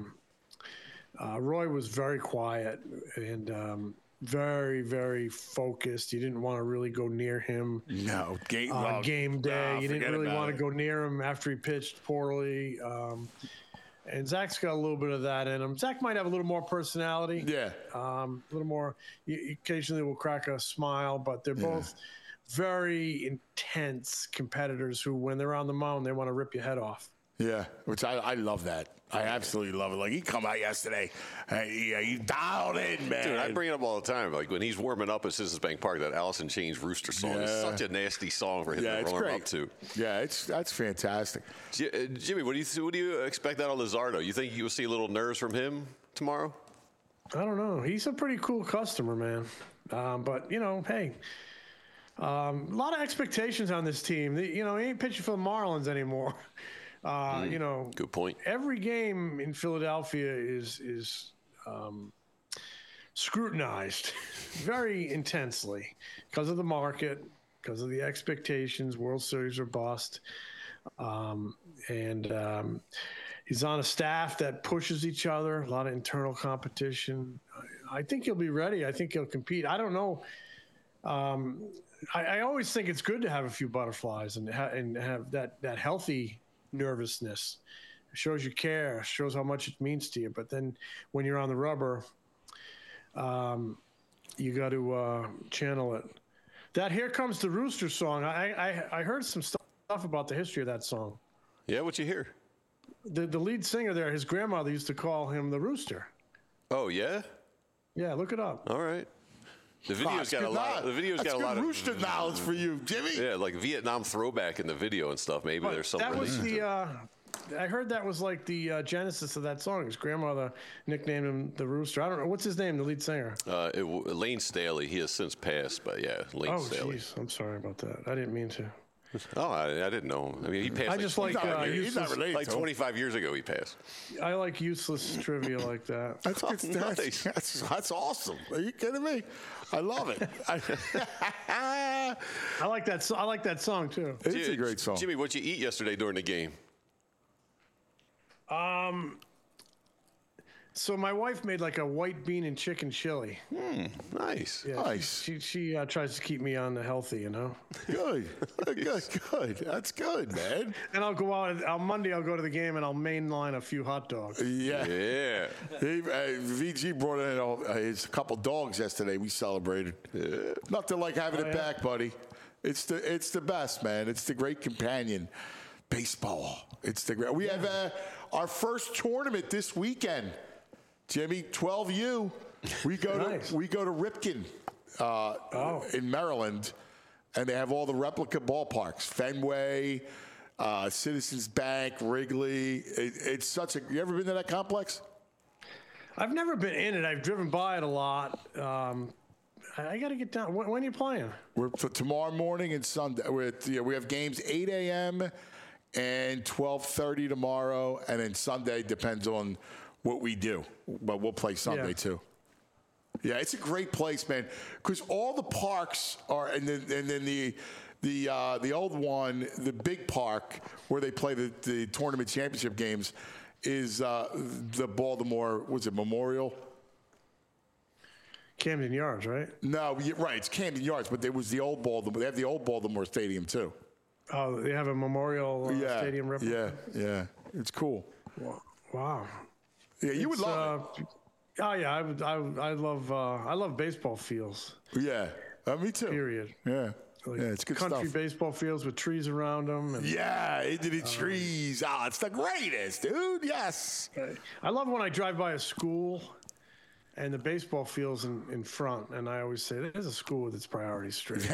Roy was very quiet and very, very focused. You didn't want to really go near him. No, game day. You didn't really want to go near him after he pitched poorly. And Zach's got a little bit of that in him. Zach might have a little more personality. Yeah. A little more. Occasionally will crack a smile, but they're both very intense competitors who, when they're on the mound, they want to rip your head off. Yeah, which I love that. I absolutely love it. Like, he come out yesterday. He dialed in, man. Dude, I bring it up all the time. Like, when he's warming up at Citizens Bank Park, that Alice in Chains Rooster song is such a nasty song for him to warm up to. Yeah, that's fantastic. Jimmy, what do you expect out of Luzardo? You think you'll see a little nerves from him tomorrow? I don't know. He's a pretty cool customer, man. But, hey, a lot of expectations on this team. He ain't pitching for the Marlins anymore. Good point. Every game in Philadelphia is scrutinized very intensely because of the market, because of the expectations, World Series or bust. He's on a staff that pushes each other, a lot of internal competition. I think he'll be ready. I think he'll compete. I don't know. I always think it's good to have a few butterflies and have that healthy nervousness. It shows you care, shows how much it means to you. But then when you're on the rubber, you got to channel it. That "Here Comes the Rooster" song, I heard some stuff about the history of that song. Yeah, what'd you hear? The lead singer there, his grandmother used to call him the Rooster. Oh, yeah? Yeah, look it up. All right. The video's got a lot. The video's got a lot of Rooster knowledge for you, Jimmy. Yeah, like Vietnam throwback in the video and stuff. Maybe there's something. That was I heard that was like the genesis of that song. His grandmother nicknamed him the Rooster. I don't know what's his name, the lead singer. Lane Staley. He has since passed, but yeah, Lane Staley. Jeez, I'm sorry about that. I didn't mean to. Oh, I didn't know. I mean, he passed. I just he's not related. Like 25 years ago, he passed. I like useless trivia like that. That's awesome. Are you kidding me? I love it. I like that. I like that song too. It's a great song. Jimmy, what'd you eat yesterday during the game? So my wife made like a white bean and chicken chili. Nice. Yeah, nice. She tries to keep me on the healthy, Good. That's good, man. And I'll go out on Monday. I'll go to the game and I'll mainline a few hot dogs. Yeah. VG brought in his couple dogs yesterday. We celebrated. Yeah. Nothing like having it back, buddy. It's the best, man. It's the great companion. Baseball. It's the great. We have our first tournament this weekend. Jimmy, 12U. We go to Ripken in Maryland, and they have all the replica ballparks: Fenway, Citizens Bank, Wrigley. It's such a. You ever been to that complex? I've never been in it. I've driven by it a lot. I got to get down. When are you playing? We're tomorrow morning and Sunday. We have games 8 a.m. and 12:30 tomorrow, and then Sunday depends on what we do, but we'll play Sunday too. Yeah, it's a great place, man, because all the parks are, and then the old one, the big park where they play the tournament championship games, is the Baltimore. Was it Memorial? Camden Yards, right? No, right. It's Camden Yards, but there was the old Baltimore. They have the old Baltimore Stadium too. Oh, they have a memorial stadium replica? Yeah. It's cool. Wow. Yeah, you would love it. Oh yeah, I love baseball fields. Yeah, me too. Period. Yeah. Like It's good country stuff. baseball fields with trees around them. And, Yeah, into the trees. It's the greatest, dude. Yes. I love when I drive by a school and the baseball field's in front, and I always say, there's a school with its priorities straight.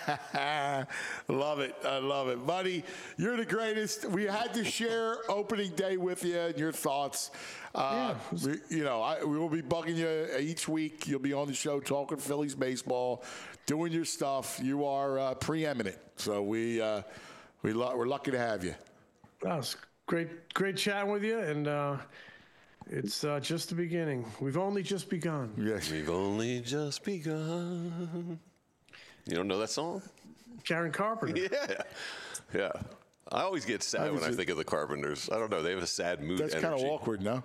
Love it. I love it. Buddy, you're the greatest. We had to share opening day with you and your thoughts. We will be bugging you each week. You'll be on the show talking Phillies baseball, doing your stuff. You are preeminent. So we're lucky to have you. That was great chatting with you, and it's just the beginning. We've only just begun. Yes. We've only just begun. You don't know that song? Karen Carpenter. Yeah. I always get sad when I think of the Carpenters. I don't know. They have a sad mood. That's kind of awkward, no?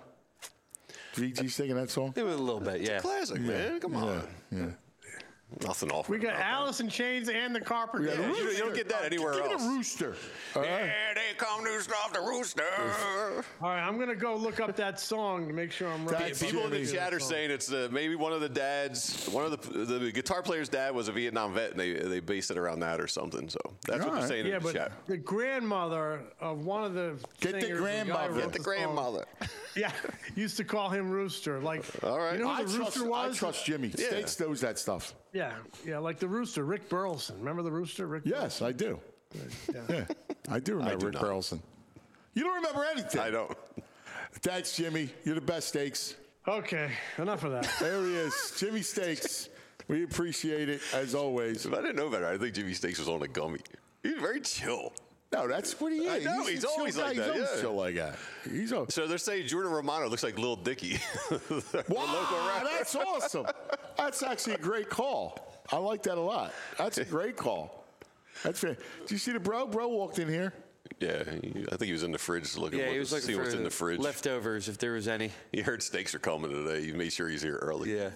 VG singing that song? It was a little bit, yeah. Classic, man. Come on. Yeah. Nothing awful. We got Alice in Chains and the Carpenters. Yeah, you don't get that anywhere Give else. it a rooster. Yeah, they come to stop the rooster. All right, I'm going to go look up that song to make sure I'm right. That's People in the Jimmy. chat are saying it's maybe one of the dads, one of the guitar player's dad was a Vietnam vet, and they based it around that or something. So that's what they're Alright. saying Yeah, in the but chat. the grandmother of one of the Get the singers, grandmother. guy who wrote Get The the song, grandmother. Yeah, used to call him Rooster. Like, All right. you know who the Rooster I was? trust Jimmy. Yeah. States knows that stuff. Yeah, like the Rooster, Rick Burleson. Remember the Rooster, Rick? Yes, I do. Yeah, I do remember do Rick not. Burleson. You don't remember anything. I don't. Thanks, Jimmy. You're the best, Steaks. Okay, enough of that. There he is, Jimmy Steaks. We appreciate it as always. If I didn't know better, I think Jimmy Steaks was on a gummy. He's very chill. No, that's what he is. I know, he's a chill always guy. like that, He's always yeah. chill like that. He's a So they're saying Jordan Romano looks like Lil Dicky. wow. That's awesome. That's actually a great call. I like that a lot. That's a great call. That's fair. Did you see the bro? Bro walked in here. Yeah, I think he was in the fridge looking. Yeah, he was looking see for what's in the fridge. leftovers, if there was any. He heard steaks are coming today. He made sure he's here early. Yeah.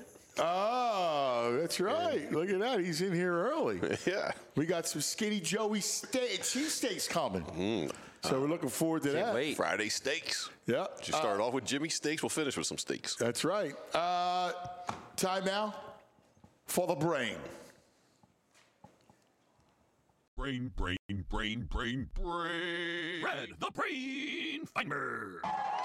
Oh, that's right. Look at that. He's in here early. Yeah. We got some Skinny Joey cheesesteaks coming. So we're looking forward to that. wait. Friday steaks. Yeah. Just start off with Jimmy Steaks. We'll finish with some steaks. That's right. Time now for the brain. Brain. Red, the brain finder.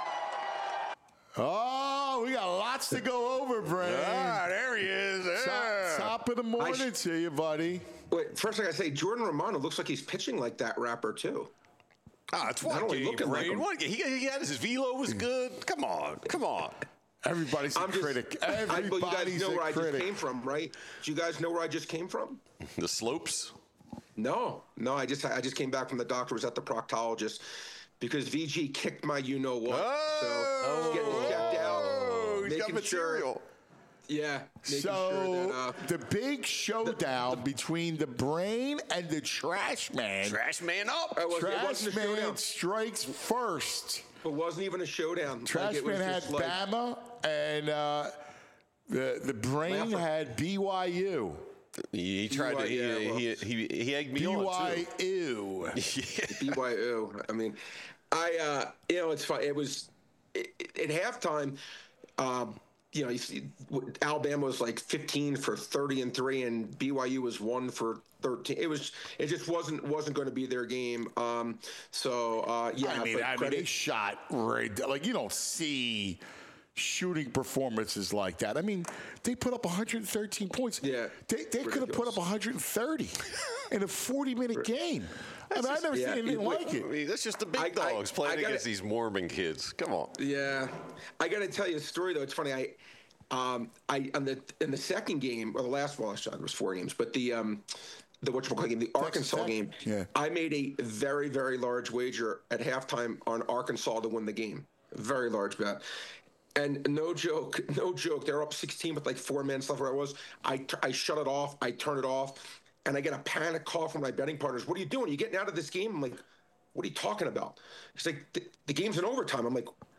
Oh, we got lots to go over, Brain. there he is. Top of the morning to you, buddy. Wait, first I gotta say, Jordan Romano looks like he's pitching like that rapper too. It's Not one only game, looking like Brain. him. One game. He had his velo was good. Come on. Everybody's a critic. But you guys Everybody's know a where I just critic. came from, right? Do you guys know where I just came from? The slopes. No. I just came back from the doctor. Was at the proctologist because VG kicked my you-know-what. So he's getting checked out. He's got material. Making So sure that, the big showdown between the Brain and the Trash Man. Trash man up. it Trash wasn't a Man showdown. strikes first. It wasn't even a showdown. Trash it was Man had just like, Bama, and the Brain Laugh- had BYU. He tried to. He egged me on too. BYU. BYU. I mean, it's fun. It was at halftime. You see, Alabama was like 15 for 30-3, and BYU was 1 for 13. It just wasn't going to be their game. I mean, they shot right. Like, you don't see shooting performances like that. I mean, they put up 113 points. Yeah, they could have put up 130 in a 40-minute game. I mean, I've never seen anything like it. I mean, that's just the big dogs playing against these Mormon kids. Come on. Yeah, I got to tell you a story though. It's funny. In the second game or the last there was 4 games, but the whatchamacallit game, the Arkansas game. Yeah. I made a very, very large wager at halftime on Arkansas to win the game. Very large bet. And no joke, they're up 16 with like 4 minutes left where I was. I shut it off. I turn it off. And I get a panic call from my betting partners. What are you doing? Are you getting out of this game? I'm like, what are you talking about? He's like, the game's in overtime. I'm like,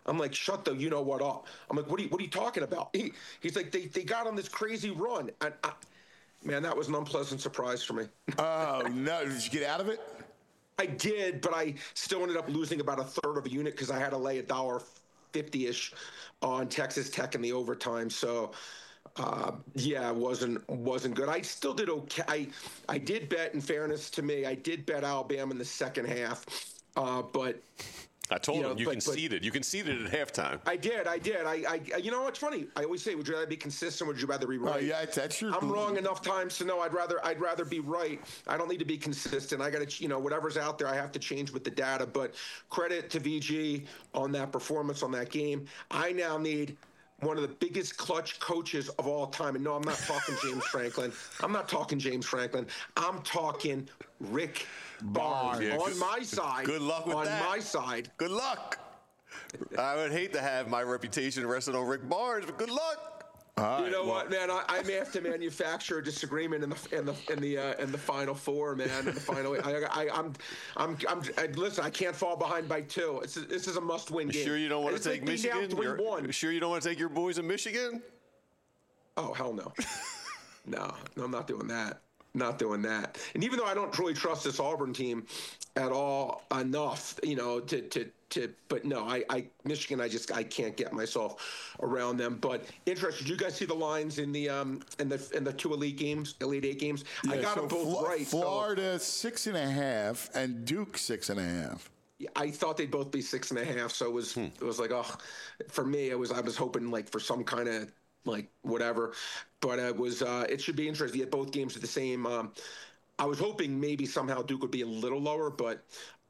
I'm like, shut the you-know-what up. I'm like, what are you talking about? He's like, they got on this crazy run. And man, that was an unpleasant surprise for me. Oh, no. Did you get out of it? I did, but I still ended up losing about a third of a unit because I had to lay $1.50-ish on Texas Tech in the overtime. So, yeah, it wasn't good. I still did okay. I did bet, in fairness to me, I did bet Alabama in the second half, but I told him you conceded. You conceded at halftime. I did. I you know what's funny? I always say, would you rather be consistent? Would you rather be right? Oh, yeah, that's your. I'm wrong enough times to know I'd rather be right. I don't need to be consistent. I got to, whatever's out there, I have to change with the data. But credit to VG on that performance on that game. I now need one of the biggest clutch coaches of all time. And no, I'm not talking James Franklin. I'm talking Rick Barnes. Yeah, on my side. Good luck with that. On my side. Good luck. I would hate to have my reputation rested on Rick Barnes, but good luck. You know what, man? I may have to manufacture a disagreement in the Final Four, man. In the final, listen. I can't fall behind by 2. This is a must-win game. Sure you don't want to take Michigan? Sure you don't want to take your boys in Michigan? Oh hell no. No, I'm not doing that. Not doing that. And even though I don't really trust this Auburn team at all enough, but no, Michigan, I can't get myself around them. But interesting. Did you guys see the lines in the 2 Elite Eight games? Yeah, I got them both right. Florida 6.5 and Duke 6.5. I thought they'd both be 6.5. So it was like, oh, for me, I was hoping like for some kind of like whatever, but it should be interesting. Yet both games are the same. I was hoping maybe somehow Duke would be a little lower, but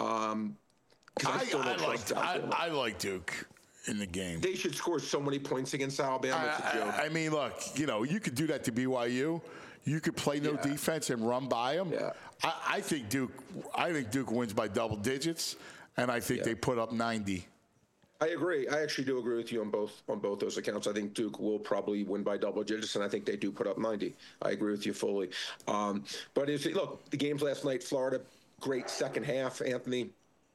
I like Duke in the game. They should score so many points against Alabama. It's a joke. I mean, look, you could do that to BYU. You could play no defense and run by them. Yeah. I think Duke wins by double digits, and I think they put up 90. I agree. I actually do agree with you on both those accounts. I think Duke will probably win by double digits, and I think they do put up 90. I agree with you fully. But look, the games last night, Florida, great second half. Anthony,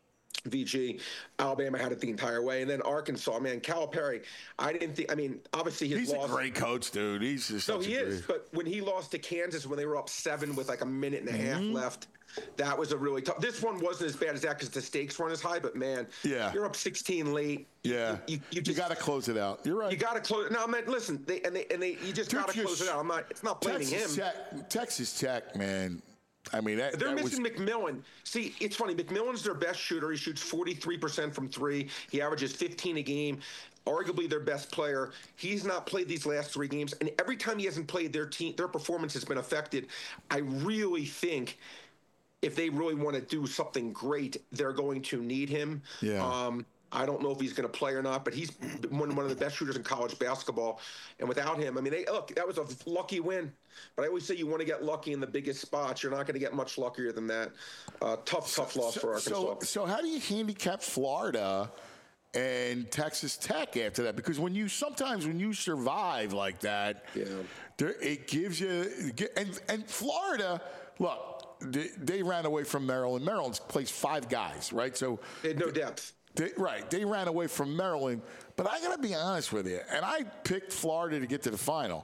VG, Alabama had it the entire way, and then Arkansas. Man, Calipari. Obviously he's a great coach, dude. He's just he is. But when he lost to Kansas, when they were up 7 with like a minute and a half left. That was a really tough. This one wasn't as bad as that because the stakes weren't as high. But man, you're up 16 late. Yeah, you got to close it out. You're right. You got to close. No, man, listen. You just got to close it out. It's not blaming him. Texas Tech, man. I mean, they're missing McMillan. See, it's funny. McMillan's their best shooter. He shoots 43% from 3. He averages 15 a game. Arguably their best player. He's not played these last 3 games, and every time he hasn't played, their performance has been affected. I really think if they really want to do something great, they're going to need him. Yeah. I don't know if he's going to play or not, but he's one of the best shooters in college basketball. And without him, that was a lucky win. But I always say you want to get lucky in the biggest spots. You're not going to get much luckier than that. Tough loss for Arkansas. So how do you handicap Florida and Texas Tech after that? Because when you survive like that, it gives you and Florida. Look, they ran away from Maryland. Maryland's plays 5 guys, right? So they had no depth. They ran away from Maryland. But I got to be honest with you, and I picked Florida to get to the final.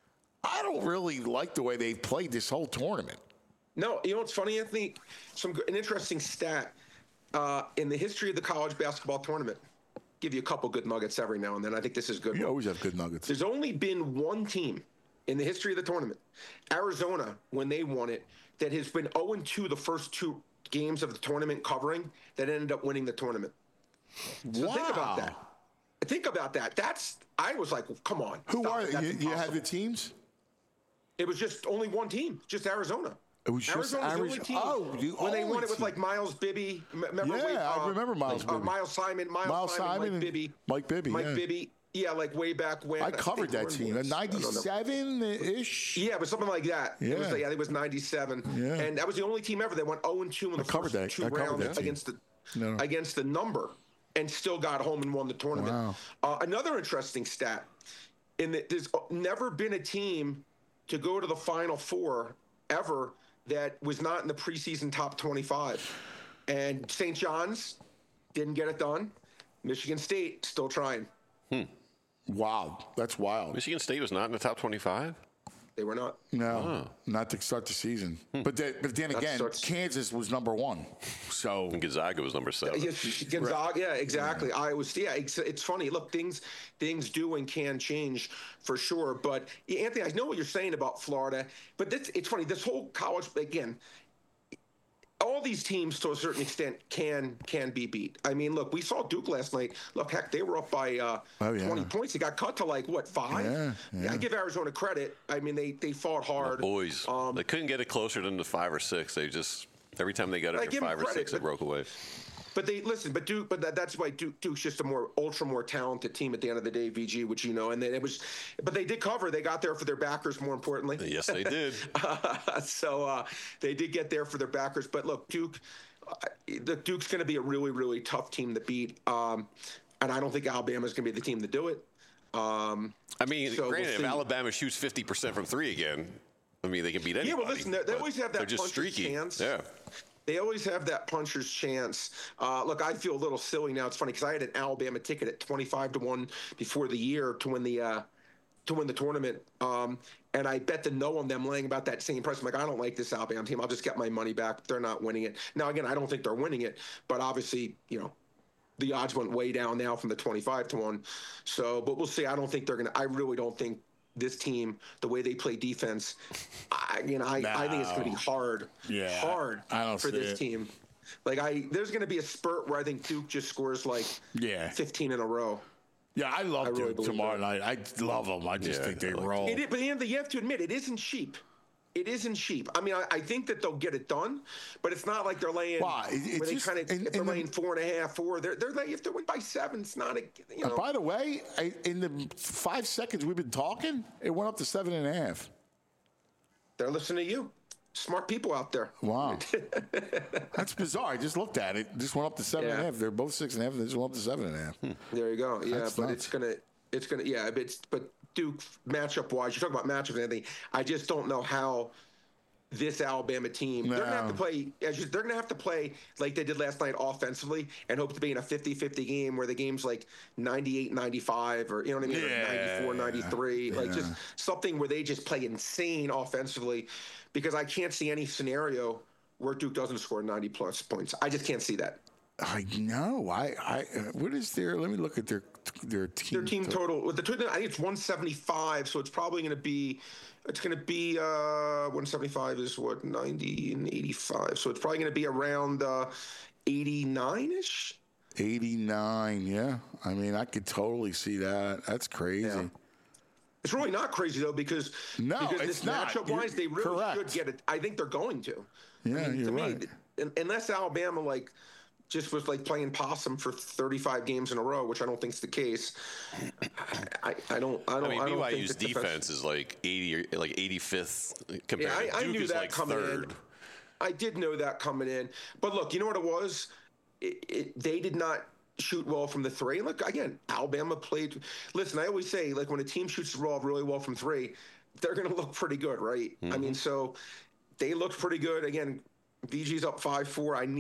I don't really like the way they've played this whole tournament. No, you know what's funny, Anthony? An interesting stat in the history of the college basketball tournament. Give you a couple good nuggets every now and then. I think this is good. You always have good nuggets. There's only been one team in the history of the tournament, Arizona, when they won it, that has been 0-2 the first 2 games of the tournament covering that ended up winning the tournament. So wow. Think about that. I was like, come on. Who are they? You had the teams? It was just only one team, just Arizona. It was just Arizona's the only team. When they won it with like Miles Bibby. Remember I remember Miles Bibby. Miles Simon, Mike Bibby. Mike Bibby. Yeah, like way back when. I covered that team. 97-ish? Yeah, it was something like that. Yeah. I think it was 97. Yeah. And that was the only team ever that went 0-2 in the first 2 rounds against the number and still got home and won the tournament. Wow. Another interesting stat, there's never been a team to go to the Final Four ever that was not in the preseason top 25. And St. John's didn't get it done. Michigan State still trying. Wow, that's wild. Michigan State was not in the top 25? They were not. No, not to start the season. But then again, Kansas was number 1. So And Gonzaga was number 7. Gonzaga, yeah, exactly. Iowa State. Yeah, it's funny. Look, things do and can change for sure. But Anthony, I know what you're saying about Florida, but it's funny. This whole college, again, all these teams to a certain extent can be beat. I mean, look, we saw Duke last night. Look, heck, they were up by 20 points. They got cut to 5? Yeah, I give Arizona credit. I mean, they fought hard. The boys, they couldn't get it closer than the 5 or 6. They just every time they got it to 5 or 6, it broke away. But Duke. But that's why Duke's just a more talented team at the end of the day, VG, which you know. And then but they did cover. They got there for their backers, more importantly. Yes, they did. So they did get there for their backers. But look, Duke's going to be a really, really tough team to beat. And I don't think Alabama's going to be the team to do it. I mean, granted, if Alabama shoots 50% from 3 again, I mean, they can beat anybody. Yeah, well, listen, they always have that they're just puncher's streaky. chance. Yeah. They always have that puncher's chance. Look, I feel a little silly now. It's funny because I had an Alabama ticket at 25-1 before the year to win the tournament, and I bet the no on them laying about that same price. I'm like, I don't like this Alabama team. I'll just get my money back. They're not winning it. Now, again, I don't think they're winning it, but obviously, you know, the odds went way down now from the 25-1. So, but we'll see. I don't think they're gonna. I really don't think this team, the way they play defense, I think it's going to be hard for this team. There's going to be a spurt where I think Duke just scores 15 in a row. Yeah, I love Duke tomorrow night. I love them. I just think they roll. But you have to admit, it isn't cheap. It isn't cheap. I mean, I think that they'll get it done, but it's not like they're laying. If they're laying 4.5, 4. They're laying, if they win by 7, it's not a. You know. By the way, in the 5 seconds we've been talking, it went up to 7.5. They're listening to you. Smart people out there. Wow, that's bizarre. I just looked at it. Just went up to 7.5. They're both 6.5. They just went up to 7.5. There you go. Yeah, that's but nuts. it's gonna. Yeah, but Duke matchup wise, you talk about matchups and everything. I just don't know how this Alabama team, they're gonna have to play like they did last night offensively and hope to be in a 50-50 game where the game's 98-95 or, you know what I mean, 94-93, just something where they just play insane offensively, because I can't see any scenario where Duke doesn't score 90 plus points. I just can't see that. I know. What is let me look at their team. Their team total. With the I think it's 175. So it's probably going to be. It's going to be 175 is what 90 and 85. So it's probably going to be around 89ish. 89. Yeah. I mean, I could totally see that. That's crazy. Yeah. It's really not crazy though, because it's not. Matchup wise, they really should get it. I think they're going to. Yeah, you're right. Unless Alabama just was playing possum for 35 games in a row, which I don't think is the case. I mean, BYU's defense is 80 or 85th compared to Duke. I knew that coming 3rd. in. I did know that coming in. But look, you know what it was? They did not shoot well from the 3. Look, again, Alabama played. Listen, I always say, when a team shoots really well from 3, they're going to look pretty good, right? Mm-hmm. I mean, so they looked pretty good. Again, VG's up 5-4. I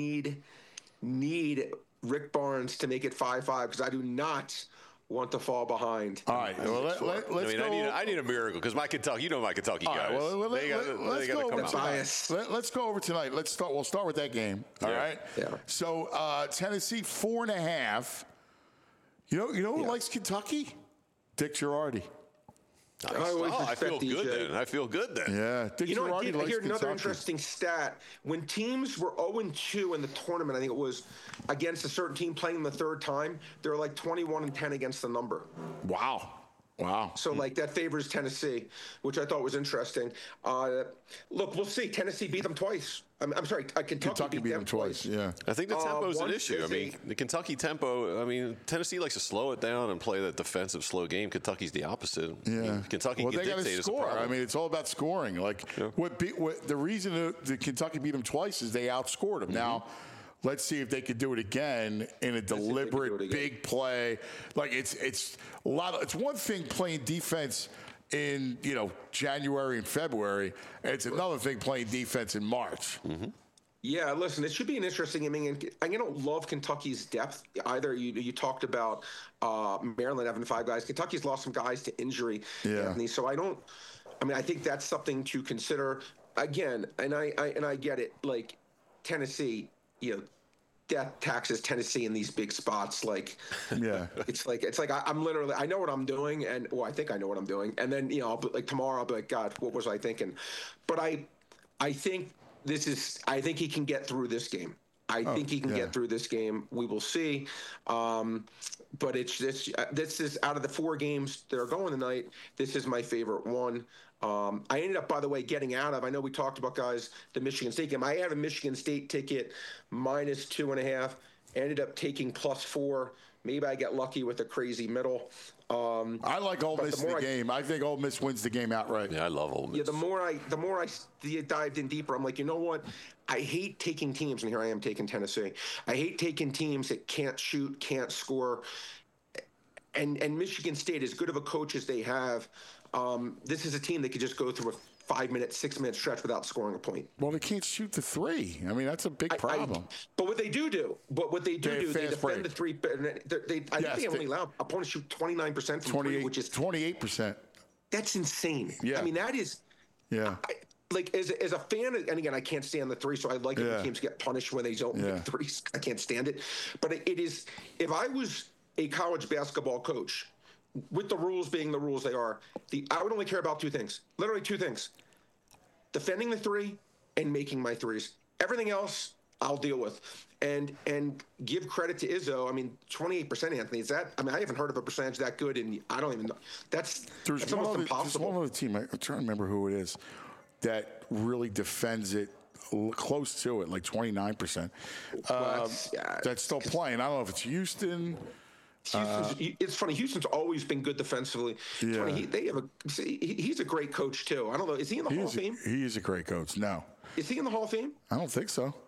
need Rick Barnes to make it 5-5 because I do not want to fall behind. All right. Well, let's go. I need a miracle because my Kentucky guys. Well, let's go over tonight. We'll start with that game. All right. Yeah. So Tennessee 4.5. You know who likes Kentucky? Dick Girardi. Nice. I feel good then. Yeah. Dick Girardi likes here's another Kentucky. interesting stat. When teams were 0-2 in the tournament, I think it was against a certain team playing the 3rd time, they were 21-10 against the number. Wow. So that favors Tennessee, which I thought was interesting. Look, we'll see. Tennessee beat them twice. I'm sorry, Kentucky beat them twice. Yeah. I think the tempo is an issue. I mean, the Kentucky tempo. I mean, Tennessee likes to slow it down and play that defensive slow game. Kentucky's the opposite. Yeah. I mean, Kentucky can they got to dictate score. as a problem. I mean, it's all about scoring. What the reason the Kentucky beat them twice is they outscored them. Mm-hmm. Now, let's see if they could do it again in a deliberate big play. It's a lot. It's one thing playing defense in January and February. And it's another thing playing defense in March. Mm-hmm. Yeah, listen, it should be an interesting. I mean, I don't love Kentucky's depth either. You talked about Maryland having 5 guys. Kentucky's lost some guys to injury, Anthony. So I think that's something to consider. Again, and I get it. Like Tennessee, death taxes Tennessee in these big spots. Like, Yeah. it's like I'm literally, I know what I'm doing, and I think I know what I'm doing, and then tomorrow I'll be like, God, what was I thinking? But I think. I think he can get through this game. I think he can get through this game. We will see. But this is out of the 4 games that are going tonight, this is my favorite one. I ended up, by the way, getting out of, I know we talked about, guys, the Michigan State game. I had a Michigan State ticket -2.5, ended up taking +4. Maybe I get lucky with a crazy middle. I like Ole Miss in the game. I think Ole Miss wins the game outright. Yeah, I love Ole Miss. Yeah, the more I dived in deeper, I'm like, you know what? I hate taking teams, and here I am taking Tennessee. I hate taking teams that can't shoot, can't score. And Michigan State, as good of a coach as they have, this is a team that could just go through a 5-minute, 6-minute stretch without scoring a point. Well, they can't shoot the 3. I mean, that's a big problem. But what they do, they defend the 3. I think they only allow opponents shoot 29% from 3, which is 28%. That's insane. Yeah. I mean, that is. Yeah. As a fan, and again, I can't stand the 3, so I like it when teams get punished when they don't make 3s. I can't stand it. But it is. If I was a college basketball coach, with the rules being the rules they are, I would only care about 2 things. Literally 2 things. Defending the 3 and making my 3s. Everything else, I'll deal with. And give credit to Izzo. I mean, 28%, Anthony. Is that? I mean, I haven't heard of a percentage that good, and I don't even know. That's almost impossible. There's one other team. I'm trying to remember who it is that really defends it close to it, like 29%. That's still playing. I don't know if it's Houston. It's funny. Houston's always been good defensively. Yeah. He's a great coach too. I don't know. Is he in the Hall of Fame? He is a great coach. No. Is he in the Hall of Fame? I don't think so.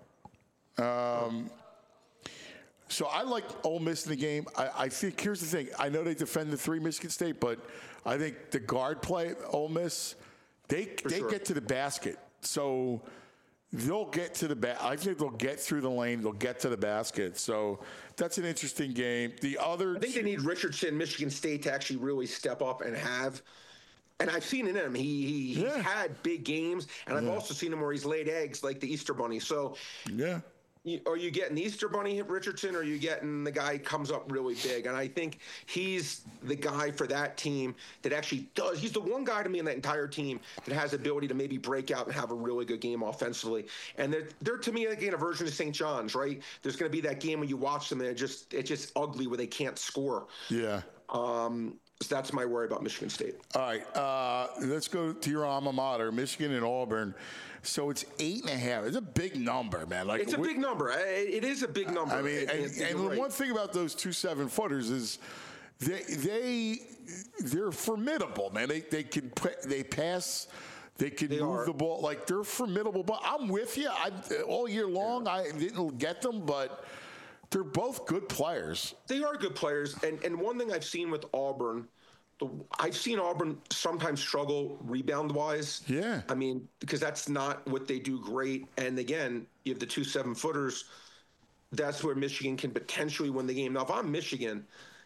So I like Ole Miss in the game. I think here's the thing. I know they defend the 3, Michigan State, but I think the guard play, Ole Miss, they get to the basket. So they'll get to the I think they'll get through the lane. They'll get to the basket. So that's an interesting game. I think they need Richardson, Michigan State, to actually really step up and have. And I've seen it in him. He's had big games, and I've also seen him where he's laid eggs like the Easter Bunny. So are you getting the Easter Bunny Richardson, or are you getting the guy who comes up really big? And I think he's the guy for that team that actually does. He's the one guy to me in that entire team that has the ability to maybe break out and have a really good game offensively. And they're to me, again, a version of St. John's, right? There's going to be that game when you watch them and it's just ugly where they can't score. Yeah. So that's my worry about Michigan State. All right, let's go to your alma mater, Michigan and Auburn. So it's 8.5. It's a big number, man. Like it's a big number. It is a big number. I mean, and the one thing about those 2 7-footers is they're formidable, man. They pass. They can move the ball. Like, they're formidable. But I'm with you. All year long, I didn't get them, but they're both good players. They are good players. And one thing I've seen with Auburn, I've seen Auburn sometimes struggle rebound-wise. Yeah. I mean, because that's not what they do great. And, again, you have the 2 7-footers. That's where Michigan can potentially win the game. Now, if I'm Michigan,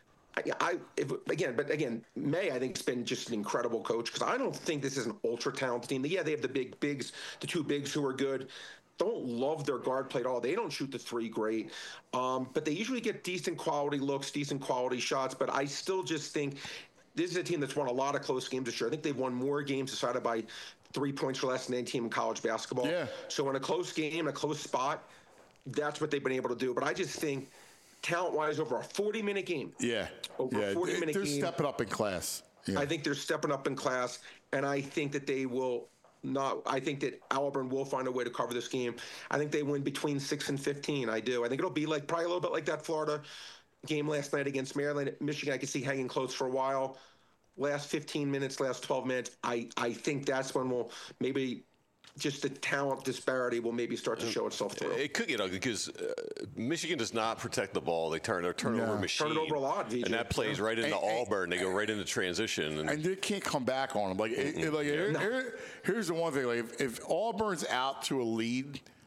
May, I think, has been just an incredible coach, because I don't think this is an ultra-talented team. Yeah, they have the big bigs, the 2 bigs who are good. Don't love their guard play at all. They don't shoot the 3 great, but they usually get decent quality looks, decent quality shots. But I still just think this is a team that's won a lot of close games this year. I think they've won more games decided by 3 points or less than any team in college basketball. Yeah. So in a close game, a close spot, that's what they've been able to do. But I just think talent-wise, over a 40-minute game. Yeah. Over a 40-minute game. They're stepping up in class. Yeah. I think they're stepping up in class, and I think that they will not. I think that Auburn will find a way to cover this game. I think they win between 6 and 15. I do. I think it'll be probably a little bit like that Florida game last night against Maryland. Michigan, I can see hanging close for a while. Last 15 minutes, last 12 minutes, I think that's when we'll maybe just the talent disparity will maybe start to show itself through. It could get ugly because Michigan does not protect the ball. They turn their turnover machine. Turn it over a lot, VJ. And that plays right into Auburn. They go right into transition. And they can't come back on them. Here's the one thing. Like, if Auburn's out to a lead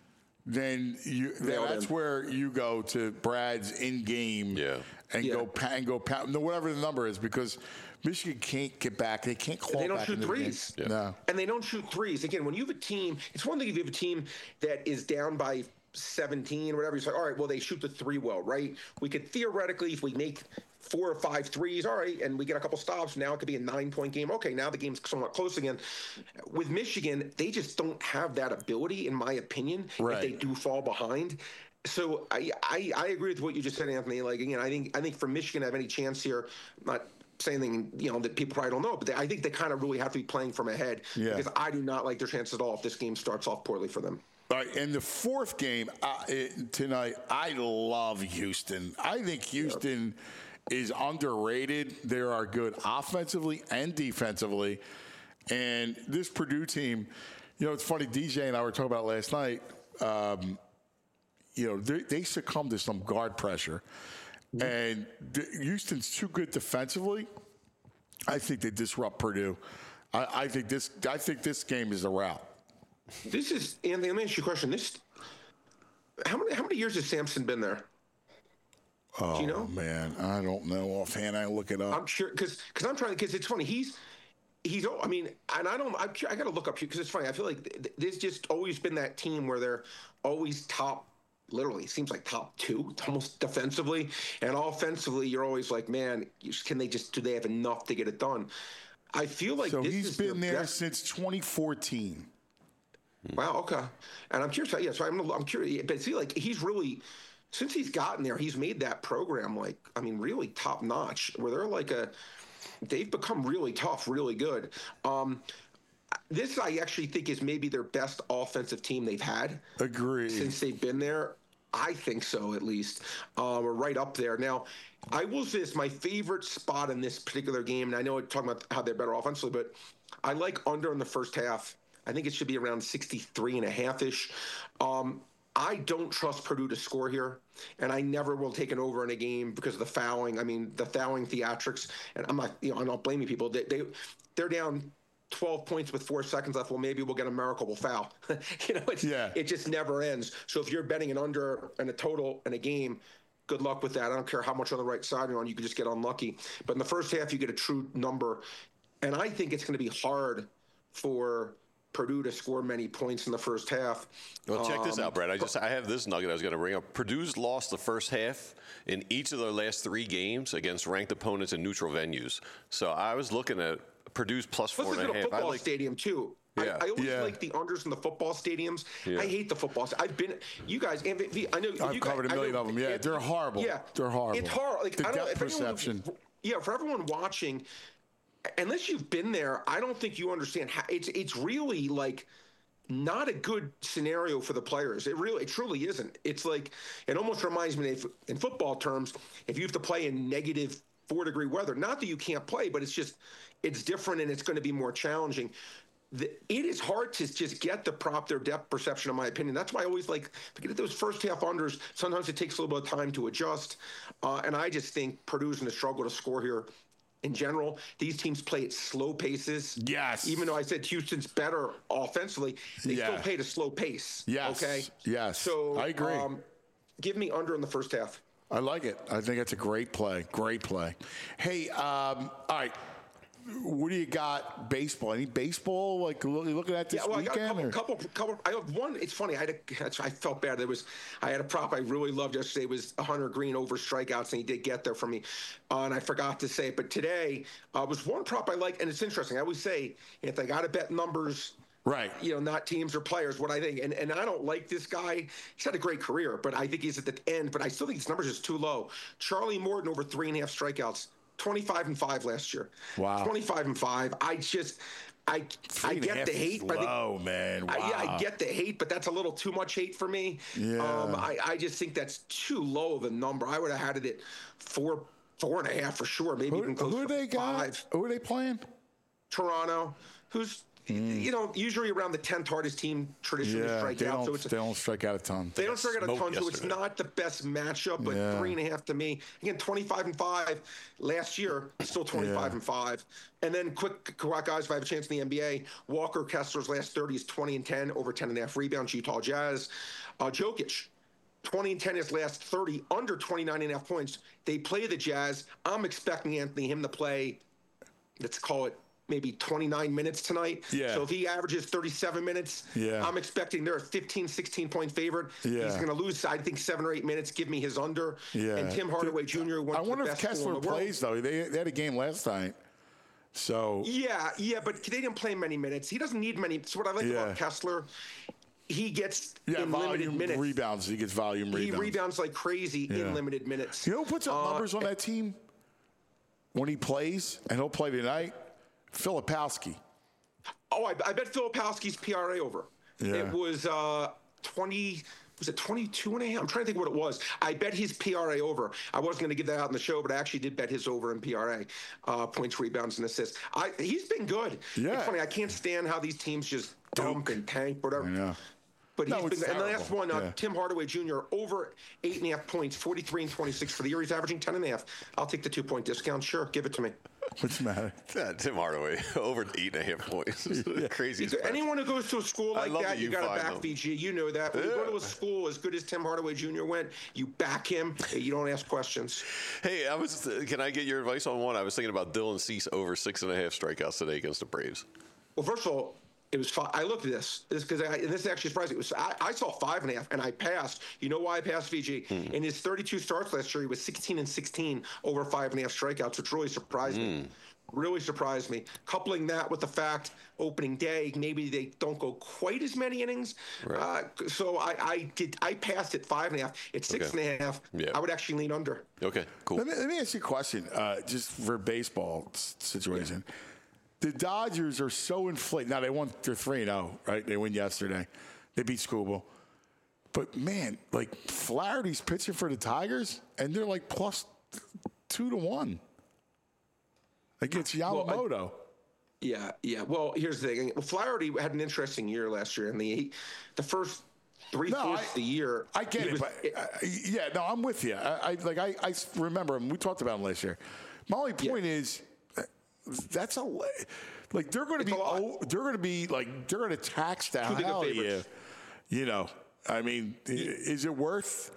then that's where you go to Brad's in-game and go pound, whatever the number is, because Michigan can't get back. They can't claw back. They don't shoot threes. Yeah. No. And they don't shoot threes. Again, when you have a team, it's one thing if you have a team that is down by 17 or whatever, you say, all right, well, they shoot the three well, right? We could theoretically, if we make 4 or 5 threes, all right, and we get a couple stops, now it could be a 9-point game. Okay, now the game's somewhat close again. With Michigan, they just don't have that ability, in my opinion, if they do fall behind. So I agree with what you just said, Anthony. Like, again, I think for Michigan to have any chance here, not saying anything, that people probably don't know, but I think they kind of really have to be playing from ahead, because I do not like their chances at all if this game starts off poorly for them. All right, and the fourth game tonight, I love Houston. I think Houston is underrated. They are good offensively and defensively. And this Purdue team, it's funny, DJ and I were talking about last night, they succumb to some guard pressure. And Houston's too good defensively. I think they disrupt Purdue. I think this game is a rout. This is, Anthony, let me ask you a question. How many years has Sampson been there? Oh, do you know? Man, I don't know offhand. I look it up. I'm sure, because it's funny. I got to look up here because it's funny. I feel like there's just always been that team where they're always top, literally, it seems like top 2, almost defensively. And offensively, you're always like, man, do they have enough to get it done? I feel like he's been there since 2014. Wow. Okay. And I'm curious. Yeah. So I'm curious. But see, like, he's really, since he's gotten there, he's made that program really top notch. Where they've become really tough, really good. This I actually think is maybe their best offensive team they've had. Agreed. Since they've been there. I think so, at least. We're right up there. Now, I will say this, my favorite spot in this particular game, and I know we're talking about how they're better offensively, but I like under in the first half. I think it should be around 63.5-ish. I don't trust Purdue to score here, and I never will take an over in a game because of the fouling. I mean, the fouling theatrics, and I'm not blaming people. They're down 12 points with 4 seconds left. Well, maybe we'll get a miracle, we'll foul. It just never ends. So if you're betting an under and a total in a game, good luck with that. I don't care how much on the right side you're on. You can just get unlucky. But in the first half, you get a true number, and I think it's going to be hard for Purdue to score many points in the first half. Well, check this out, Brad. I have this nugget I was going to bring up. Purdue's lost the first half in each of their last 3 games against ranked opponents in neutral venues. So I was looking at Purdue's plus 4.5. Let's look at a football stadium, too. Yeah. I always like the unders in the football stadiums. Yeah. I hate the football. I've been, you guys, I know I've covered a million of them. Yeah, they're horrible. Yeah, they're horrible. It's horrible. Like, the depth perception. For everyone watching, unless you've been there, I don't think you understand how it's really not a good scenario for the players. It truly isn't. It's like, it almost reminds me in football terms, if you have to play in negative 4-degree weather, not that you can't play, but it's different and it's going to be more challenging. It is hard to just get their depth perception, in my opinion. That's why I always to get those first half unders. Sometimes it takes a little bit of time to adjust. And I just think Purdue's going to struggle to score here. In general, these teams play at slow paces. Yes. Even though I said Houston's better offensively, they still play at a slow pace. Yes. Okay. Yes. So I agree. Give me under in the first half. I like it. I think it's a great play. Great play. Hey, all right. What do you got? Baseball? Any baseball? Looking at this weekend? I got a couple. I have one. It's funny. I felt bad. I had a prop I really loved yesterday. It was Hunter Green over strikeouts, and he did get there for me. And I forgot to say it. But today was one prop I like, and it's interesting. I always say, if I got to bet numbers, right? Not teams or players. What I think, and I don't like this guy. He's had a great career, but I think he's at the end. But I still think his numbers is too low. Charlie Morton over 3.5 strikeouts. 25-5 last year. Wow. 25-5. I get the hate, but man. Wow. I get the hate, but that's a little too much hate for me. Yeah. I just think that's too low of a number. I would have had it at 4.5 for sure. Maybe even close to 5. Who are they playing? Toronto, who's usually around the 10th hardest team traditionally strike out. So they don't strike out a ton. They don't strike out a ton, so it's not the best matchup. But 3.5 to me. Again, 25-5 last year, still 25-5. And then quick guys, if I have a chance in the NBA, Walker Kessler's last 30 is 20-10, over 10.5 rebounds. Utah Jazz. Jokic. 20-10 his last 30, under 29.5 points. They play the Jazz. I'm expecting him to play, let's call it, maybe 29 minutes tonight. Yeah. So if he averages 37 minutes, I'm expecting they're a 15, 16-point favorite. Yeah. He's going to lose, I think, 7 or 8 minutes. Give me his under. Yeah. And Tim Hardaway Jr. went I wonder to the if best school Kessler in the world. plays, though. They had a game last night. So Yeah, but they didn't play many minutes. He doesn't need many. So what I like about Kessler, he gets in limited minutes. Rebounds. He gets volume rebounds. He rebounds like crazy in limited minutes. You know who puts up numbers on that team when he plays, and he'll play tonight? Filipowski. Oh, I bet Filipowski's PRA over. Yeah. It was 20. Was it 22.5? I'm trying to think what it was. I bet his PRA over. I wasn't going to give that out in the show, but I actually did bet his over in PRA, points, rebounds, and assists. He's been good. Yeah. It's funny. I can't stand how these teams just dump and tank, whatever. I know. But he's been, terrible. and the last one, Tim Hardaway Jr., over 8.5 points, 43 and 26 for the year. He's averaging 10.5. I'll take the 2-point discount. Sure, give it to me. What's the matter? Tim Hardaway, over 8.5 points. Crazy. Anyone who goes to a school like that, you got to back them. VG. You know that. When you go to a school as good as Tim Hardaway Jr. went, you back him. You don't ask questions. Hey, can I get your advice on one? I was thinking about Dylan Cease over 6.5 strikeouts today against the Braves. Well, first of all, it was five. I looked at this because this actually surprised me. I saw 5.5 and I passed. You know why I passed, VG? In his 32 starts last year, he was 16-16 over 5.5 strikeouts, which really surprised me. Really surprised me. Coupling that with the fact opening day, maybe they don't go quite as many innings. Right. So I passed at 5.5. It's 6.5. Yeah. I would actually lean under. Okay, cool. Let me ask you a question, just for baseball situation. Yeah. The Dodgers are so inflated. Now, they're 3-0, right? They win yesterday. They beat Scooble. But, man, like, Flaherty's pitching for the Tigers, and they're like plus 2-1 against Yamamoto. Well, yeah. Well, here's the thing. Flaherty had an interesting year last year. And the first 3/4 of the year. I get it. I'm with you. I remember him. We talked about him last year. My only point is, that's they're going to tax the hell out of you. You know, I mean, is it worth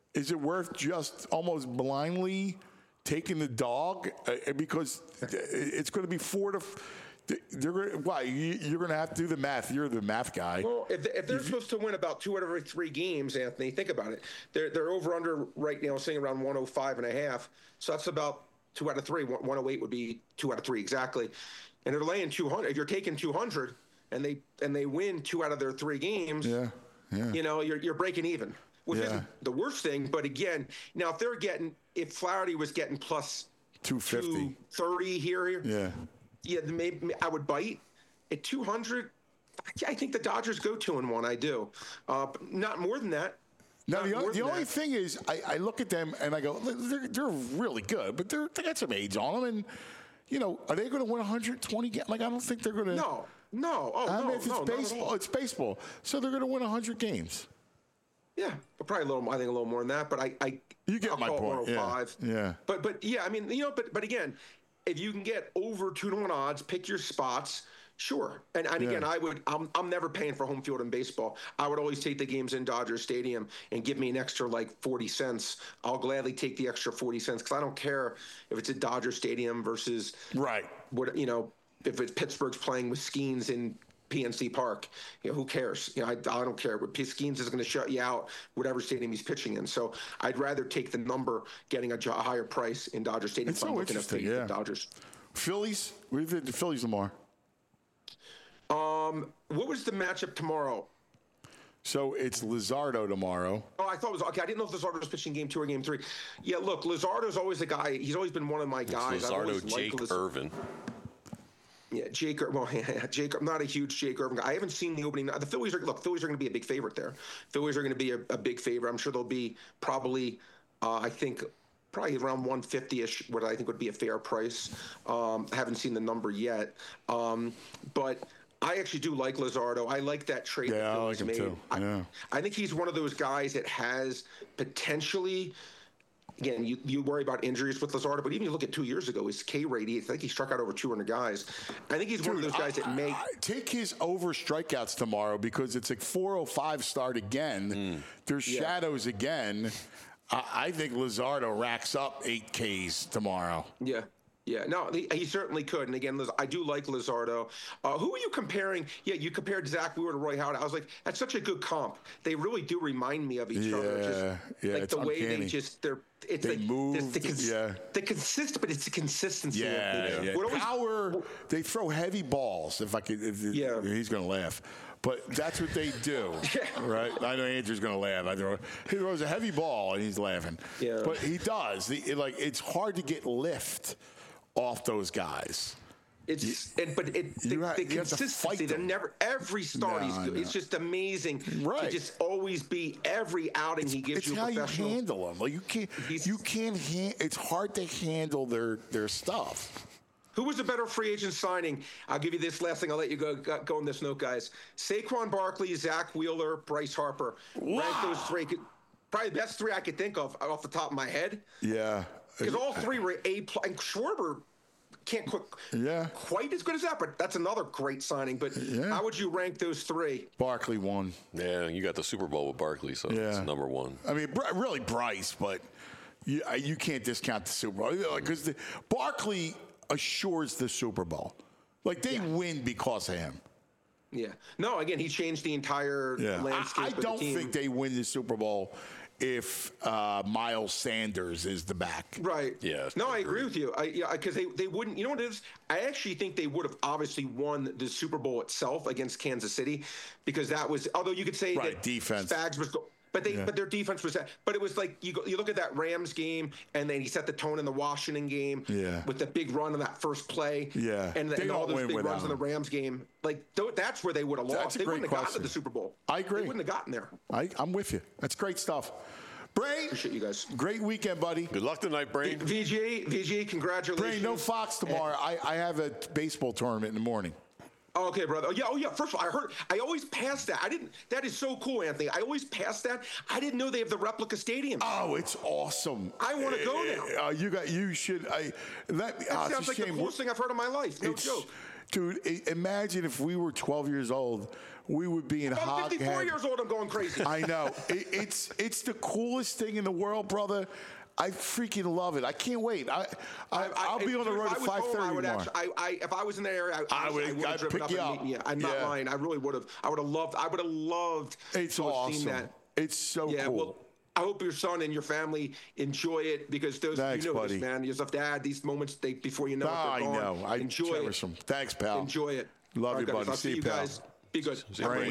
just almost blindly taking the dog because it's going to be 4 to? You're going to have to do the math. You're the math guy. Well, if they're supposed to win about 2 out of every 3 games, Anthony, think about it. They're over under right now, sitting around 105.5. So that's about 2 out of 3. 108 would be 2 out of 3 exactly. And they're laying 200. If you're taking 200 and they win 2 out of their 3 games, you know, you're breaking even, which isn't the worst thing. But again, now if Flaherty was getting plus 250, 230 here, maybe I would bite at 200. I think the Dodgers go 2-1. I do, but not more than that. Now, the only thing is, I look at them and I go, they're really good, but they got some age on them. And, you know, are they going to win 120 games? Like, I don't think they're going to. No. It's baseball. It's baseball. So they're going to win 100 games. Yeah, but probably a little more than that. But you get my point. 105. Yeah. But yeah, I mean, you know, but again, if you can get over 2-1 odds, pick your spots. Sure. And again, I'm never paying for home field in baseball. I would always take the games in Dodger Stadium and give me an extra 40 cents. I'll gladly take the extra 40 cents because I don't care if it's at Dodger Stadium versus if it's Pittsburgh's playing with Skeens in PNC Park. You know, who cares? You know, I don't care. Skeens is going to shut you out whatever stadium he's pitching in. So I'd rather take the number, getting a higher price in Dodger Stadium. It's so interesting. Yeah. Dodgers. Phillies. What do you think the Phillies tomorrow? What was the matchup tomorrow? So it's Luzardo tomorrow. Oh, I thought it was okay. I didn't know if Luzardo was pitching game 2 or game 3. Yeah, look, Luzardo's always a guy. He's always been one of my guys. Luzardo, Jake Irvin. Yeah, Jake. Well, Jake. I'm not a huge Jake Irvin guy. I haven't seen the opening. The Phillies are going to be a big favorite there. Phillies are going to be a big favorite. I'm sure they'll be probably. I think. Probably around 150-ish, what I think would be a fair price. I haven't seen the number yet, but I actually do like Luzardo. I like that trade. Yeah, that I Phillies like him made. too. Yeah. I think he's one of those guys that has potentially. Again, you worry about injuries with Luzardo, but even you look at 2 years ago, his K rate, I think he struck out over 200 guys. I think he's one of those guys that may take his over strikeouts tomorrow because it's like 405 start again. There's shadows again. I think Luzardo racks up 8 Ks tomorrow. Yeah. Yeah, no, he certainly could. And again, I do like Luzardo. Who are you comparing? Yeah, you compared Zach Wheeler to Roy Howard. I was like, that's such a good comp. They really do remind me of each other. Yeah, like it's the way uncanny. they move. the consistent, but it's the consistency. Yeah. Power. They throw heavy balls. If he's going to laugh. But that's what they do, right? I know Andrew's going to laugh. He throws a heavy ball and he's laughing. Yeah. But he does. It's hard to get lift off those guys. The consistency. They're never every start. It's just amazing to just always be every outing he gives you. It's how you handle them. Like you can't. It's hard to handle their stuff. Who was a better free agent signing? I'll give you this last thing. I'll let you go on this note, guys. Saquon Barkley, Zach Wheeler, Bryce Harper. Wow. Rank those three. Probably the best three I could think of off the top of my head. Yeah. Because all three were A+. And Schwarber can't quite as good as that, but that's another great signing. But how would you rank those three? Barkley won. Yeah, you got the Super Bowl with Barkley, so it's number one. I mean, really Bryce, but you can't discount the Super Bowl. Because Barkley assures the Super Bowl. Like, they win because of him. Yeah. No, again, he changed the entire landscape of the team. I don't think they win the Super Bowl if Miles Sanders is the back. Right. Yeah. No, I agree with you. Because they wouldn't. You know what it is? I actually think they would have obviously won the Super Bowl itself against Kansas City, because that was. Although you could say that defense. Spags was. But their defense was that. But it was like you look at that Rams game, and then he set the tone in the Washington game with the big run on that first play. Yeah. And all those big runs in the Rams game. Like, that's where they would have lost. They wouldn't have gotten to the Super Bowl. I agree. They wouldn't have gotten there. I'm with you. That's great stuff. Brain, appreciate you guys. Great weekend, buddy. Good luck tonight, Brain. VG, congratulations. Brain, no Fox tomorrow. I have a baseball tournament in the morning. Okay, brother. Oh, yeah. First of all, I always pass that. That is so cool, Anthony. I always pass that. I didn't know they have the replica stadium. Oh, it's awesome. I want to go now. You should. That sounds like the coolest thing I've heard in my life. No joke. Dude, imagine if we were 12 years old, we would be in I'm 54 years old. I'm going crazy. I know. It's the coolest thing in the world, brother. I freaking love it. I can't wait. I'll be on the road at 5:30 tomorrow. If I was in that area, I would have driven up and meet you. I'm not lying. I really would have. I would have loved. It's awesome. Seen that. It's so cool. Well, I hope your son and your family enjoy it, because Thanks, this, man. You just have to add these moments before you know it. I know. I cherish them. Thanks, pal. Enjoy it. Love you, buddy. I'll see you guys. Be good.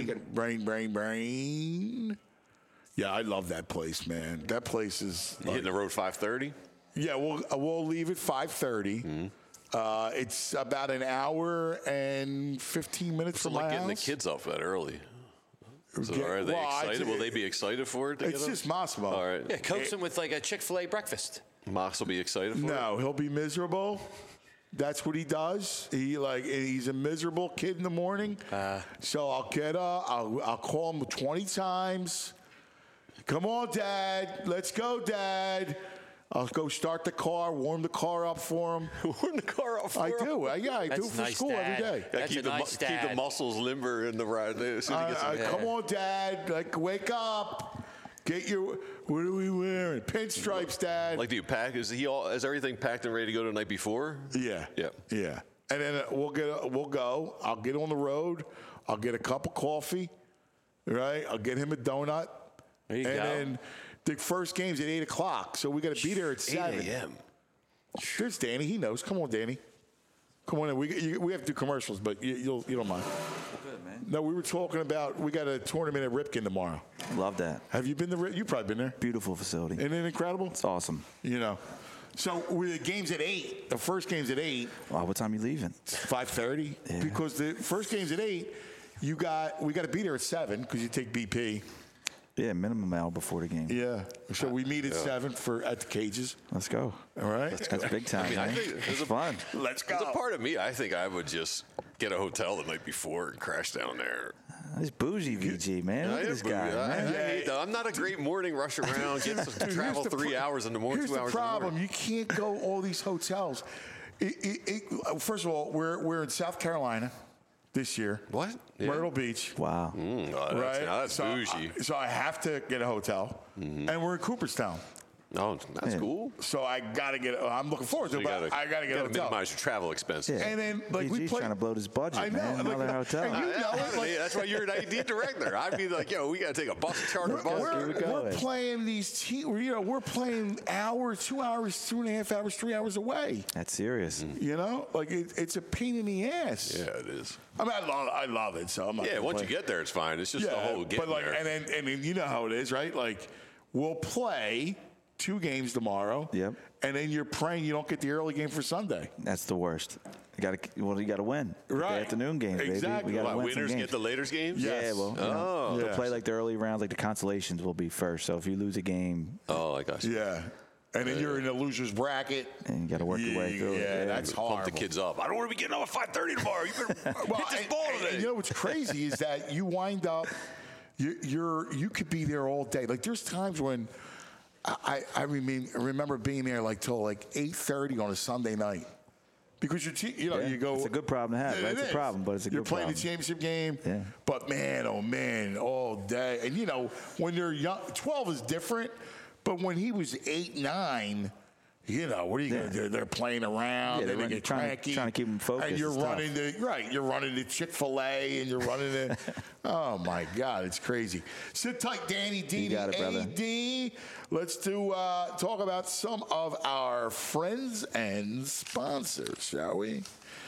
Brain. Yeah, I love that place, man. That place is. You hitting the road 5:30? Yeah, we'll leave at 5:30. Mm-hmm. It's about an hour and 15 minutes from my house. Getting the kids off that early. So are they excited? Will they be excited for it? It's just Massimo. All right. Yeah, coax him with like a Chick-fil-A breakfast. Mox will be excited for it? No, he'll be miserable. That's what he does. He's a miserable kid in the morning. So I'll call him 20 times. Come on, Dad. Let's go, Dad. I'll go start the car, warm the car up for him. Warm the car up for him? I do. I do it for school every day. Keep the muscles limber in the ride. Come on, Dad. Wake up. Get your. What are we wearing? Pinstripes, Dad. Do you pack? Is everything packed and ready to go the night before? Yeah. And then we'll go. I'll get on the road. I'll get a cup of coffee. Right. I'll get him a donut. There you go. Then the first game's at 8 o'clock, so we got to be there at 7 a.m. There's Danny. He knows. Come on, Danny. Come on in. We have to do commercials, but you don't mind. Good, man. No, we were talking about we got a tournament at Ripken tomorrow. Love that. Have you been to Ripken? You've probably been there. Beautiful facility. Isn't it incredible? It's awesome. So the game's at 8. The first game's at 8. Wow, what time are you leaving? 5:30. Yeah. Because the first game's at 8. We got to be there at 7 because you take BP. Yeah, minimum hour before the game. Yeah. So we meet at 7 at the cages. Let's go. All right. That's big time. I think it's fun. Let's go. There's a part of me, I think I would just get a hotel the night before and crash down there. This bougie VG, man. Look at this guy, man. I hate that. I'm not a great morning rush around. Get to travel 3 hours in the morning, 2 hours Here's the problem. in the morning. You can't go all these hotels. First of all, we're in South Carolina this year. What? Yeah. Myrtle Beach. Wow. Right? That's bougie. So I have to get a hotel. And we're in Cooperstown. Oh, that's cool. So I got to get I'm looking forward to it, but I got to get a gotta hotel. minimize your travel expenses. Yeah. And then, like, we VG's play. trying to blow his budget, I know. man. Another hotel. And you know it. Like, That's why you're an ID director. I'd be like, yo, we got to take a bus charter bus. we're playing these we're playing hours, 2 hours, 2.5 hours, 3 hours away. That's serious. You know, like it's a pain in the ass. Yeah, it is. I mean, I love it. So I'm not. Yeah, once you get there, it's fine. It's just the whole getting but like, there. and then you know how it is, right? Like, we'll play 2 games tomorrow. Yep. And then you're praying you don't get the early game for Sunday. That's the worst. You got to win. Right. The afternoon games, baby. Exactly. We got to win some Winners games. get the later games? Yes. Yeah, well, Oh. they'll play like the early rounds, like the consolations will be first. So if you lose a game, Oh, I got you. Yeah. And then you're in the loser's bracket. and you got to work your way through it. Yeah, that's Pump horrible. the kids up. I don't want to be getting up at 5:30 tomorrow. You better hit this ball today. You know what's crazy is that you wind up, you could be there all day. Like, there's times when I remember being there like till like 8:30 on a Sunday night. Because you go. It's a good problem to have. Right? It's a problem, but it's a good You're playing problem. the championship game. Yeah. But man, oh man, all day. And when they're young, 12 is different. But when he was 8, 9. What are you going to do? They're playing around. Yeah, Then they get cranky. trying to keep them focused. And you're It's tough. running you're running to Chick-fil-A and you're running to, oh my God, it's crazy. Sit tight, Danny D. You got it, brother. AD. Let's talk about some of our friends and sponsors, shall we?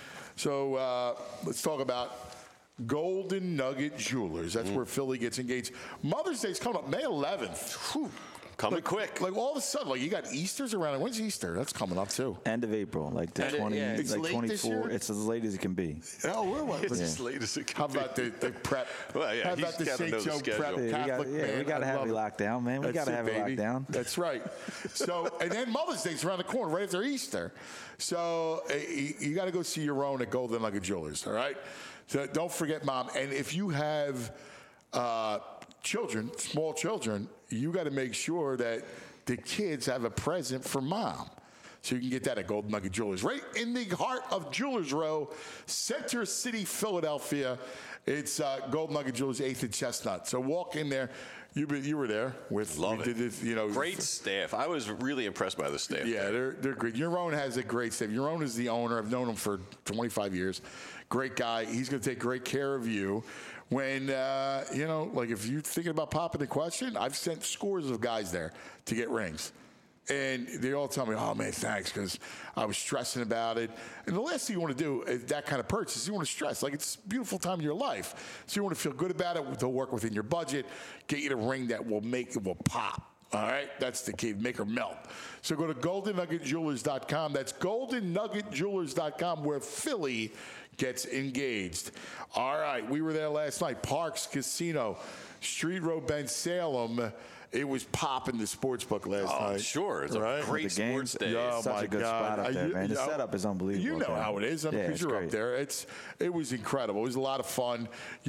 So let's talk about Golden Nugget Jewelers. That's where Philly gets engaged. Mother's Day's coming up May 11th. Whew. Coming quick. Like all of a sudden, like you got Easter's around. When's Easter? That's coming up too. End of April, like the 20, yeah. It's like late 24. this year? It's as late as it can be. Oh, what? It's as late as it can How be. about the prep? Well, yeah, How he's about the gotta St. know the Joe schedule. prep Catholic man? we got to I have love it locked down, man. We got to have it locked down. That's right. So, and then Mother's Day's around the corner, right after Easter. So you got to go see your own at Golden Nugget Jewelers. All right. So don't forget, Mom. And if you have children, small children, you got to make sure that the kids have a present for Mom. So you can get that at Golden Nugget Jewelers. Right in the heart of Jewelers Row, Center City, Philadelphia. It's Golden Nugget Jewelers, 8th and Chestnut. So walk in there. You were there with. Love we it. did this, Great staff. I was really impressed by the staff. Yeah, they're great. Yaron has a great staff. Yaron is the owner. I've known him for 25 years. Great guy. He's going to take great care of you. When, like if you're thinking about popping the question, I've sent scores of guys there to get rings. And they all tell me, oh, man, thanks, because I was stressing about it. And the last thing you want to do is that kind of purchase. You want to stress. Like, it's a beautiful time in your life. So you want to feel good about it. They'll work within your budget, get you the ring that will pop. All right? That's the key. Make her melt. So go to GoldenNuggetJewelers.com. That's GoldenNuggetJewelers.com, where Philly gets engaged. All right. We were there last night. Parks Casino, Street Road, Ben Salem. It was popping the sports book last night. Sure. It's a great The games, sports day. Oh, such my a good God. spot up there, man. The setup is unbelievable. You know up there. how it is. Yeah, Because it's you're great. up there. It was incredible. It was a lot of fun.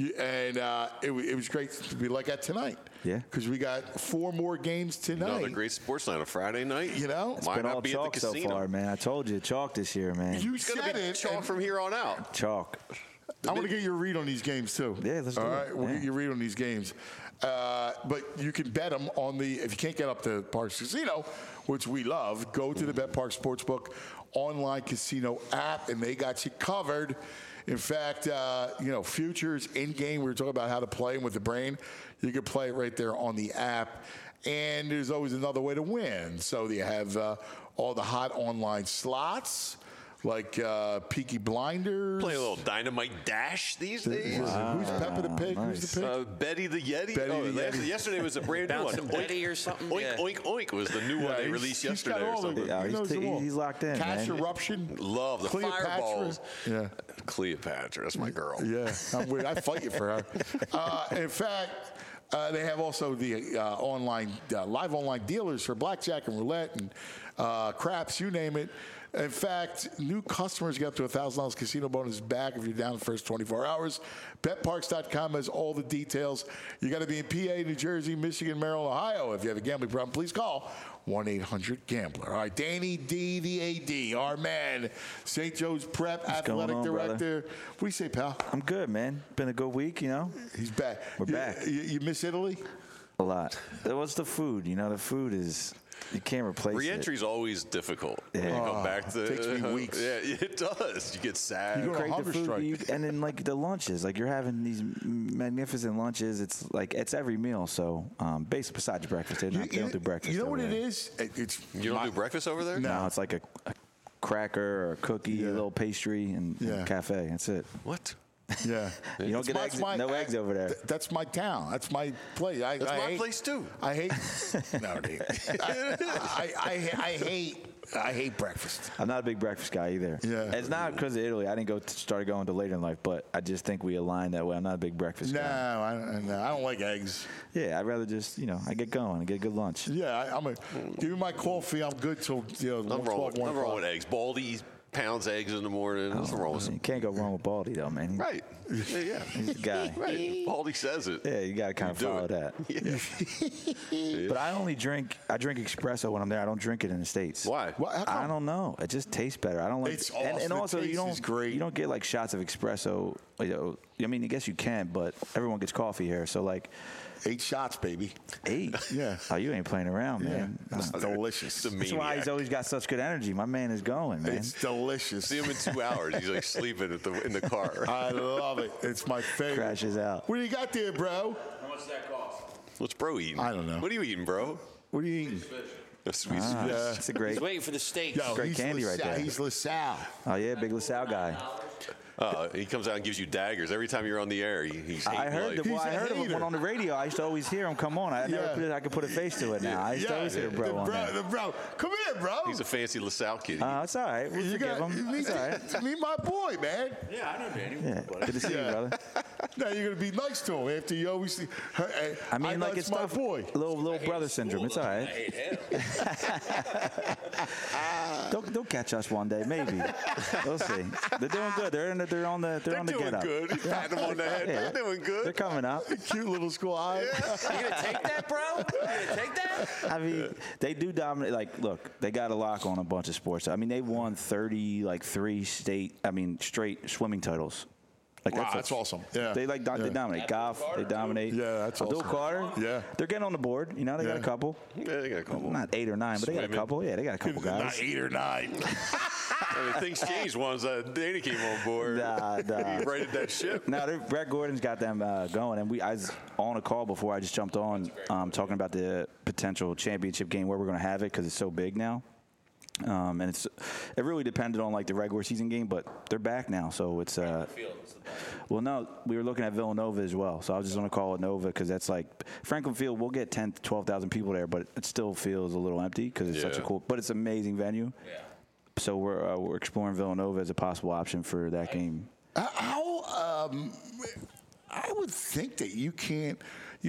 It was great to be like that tonight. Yeah. Because we got 4 more games tonight. Another great sports night on a Friday night. It's Why Been not all be at the chalk so casino? far, man. I told you, chalk this year, man. You It's going said to be it. chalk and from here on out. Chalk. I want to get your read on these games, too. Yeah, let's do All it. right, we'll Yeah. get your read on these games. But you can bet them on if you can't get up to Parks Casino, which we love, go to the BetPark Sportsbook online casino app, and they got you covered. In fact, futures in-game, we were talking about how to play them with the brain. You can play it right there on the app. And there's always another way to win. So you have all the hot online slots, like Peaky Blinders. Play a little Dynamite Dash these days. Who's Peppa the Pig? Nice. Who's the pig? Betty the Yeti. Betty the Yeti. Yesterday was a brand new one. Bouncing Betty or something? Oink, Yeah. oink, oink was the new one they he's- released he's got yesterday or all of something. it. Yeah, He knows them all. he's locked in, Cash man. Eruption. Love the Cleopatra. fireballs. Yeah. Cleopatra, that's my girl. Yeah, I fight you for her. In fact, they have also the live online dealers for blackjack and roulette and craps, you name it. In fact, new customers get up to $1,000 casino bonus back if you're down the first 24 hours. BetParks.com has all the details. You got to be in PA, New Jersey, Michigan, Maryland, Ohio. If you have a gambling problem, please call 1-800-GAMBLER. All right, Danny D, the AD, our man, St. Joe's Prep Athletic Director. Brother? What do you say, pal? I'm good, man. Been a good week, you know. He's back. We're back. You miss Italy? A lot. What's the food? You know, the food is, you can't replace Re-entry it. is always difficult. Yeah. You come back to takes me weeks. Yeah, it does. You get sad. You go to Crave hunger the food, strike. and then like the lunches, like you're having these magnificent lunches. It's like it's every meal. So basically, besides breakfast, they don't do breakfast. You know what over it there. is? It's You don't do breakfast over there? No, it's like a cracker or a cookie, a little pastry, and cafe. That's it. What? Yeah. You don't get eggs, no eggs over there. That's my town. That's my place. That's my place too. I hate. No, dude. I hate breakfast. I'm not a big breakfast guy either. Yeah. It's not because of Italy. I didn't started going to later in life, but I just think we align that way. I'm not a big breakfast No, guy. I don't like eggs. Yeah, I'd rather just, I get going and get a good lunch. Yeah, give me my coffee. I'm good till Nothing wrong with eggs. Baldy pounds eggs in the morning. Nothing wrong with You can't go wrong with Baldy, though, man. Right. Yeah. He's the guy. Right. Baldy says it. Yeah, you got to kind of do follow it. that. Yeah. But I drink espresso when I'm there. I don't drink it in the States. Why? How come? I don't know. It just tastes better. I don't like It's awesome. And The also taste you is great. don't get like shots of espresso. I mean, I guess you can, but everyone gets coffee here. So like 8 shots, baby. 8. Yeah. Oh, you ain't playing around, man. It's delicious. That's why he's always got such good energy. My man is going, man. It's delicious. See him in 2 hours. He's like sleeping in the car. I love it. It's my favorite. Crashes out. What do you got there, bro? How much does that cost? What's bro eating? I don't know. What are you eating, bro? What are you eating? A sweet Yeah. It's a great. He's waiting for the steak. Yo, Great he's candy right LaSalle. there. He's LaSalle. Oh yeah, big LaSalle guy. He comes out and gives you daggers every time you're on the air. He's I heard like, I heard of him on the radio. I used to always hear him come on. I could put a face to it now. I used to always hear bro on there. The bro. Come here, bro. he's a fancy LaSalle kid. It's all right. We'll forgive him. Meet, It's all right. meet my boy, man. Yeah, I know Danny. Yeah. Good to see you, brother. Now you're gonna be nice to him after you always. I mean, like that's it's my tough. boy. Little brother syndrome. It's all I right. hate him. They'll catch us one day, maybe. We'll see. They're doing good. They're on the They're get doing up. good. He's patting him on the head. Yeah. They're doing They're good. coming up. Cute little squad. You gonna take that, bro? You gonna take that? I mean, they do dominate. Like, look, they got a lock on a bunch of sports. I mean, they won 3 straight swimming titles. Like Wow, that's awesome. Yeah. They they dominate golf. They dominate. Yeah, that's Abdul awesome. Carter. Yeah. They're getting on the board. They got a couple. Yeah, they got a couple. Not 8 or 9, but they got a Swimming. couple. Yeah, they got a couple Not guys. 8 or 9. I mean, things changed once Danny came on board. Nah. He righted that ship. Now, Brett Gordon's got them going, and I was on a call before I just jumped on talking about the potential championship game where we're going to have it because it's so big now. And it really depended on like the regular season game, but they're back now, so it's well, no, we were looking at Villanova as well, so I was just going to call it Nova because that's like Franklin Field. We'll get 10,000 to 12,000 people there, but it still feels a little empty because it's such a cool, but it's an amazing venue. Yeah. So we're exploring Villanova as a possible option for that game. I would think that you can't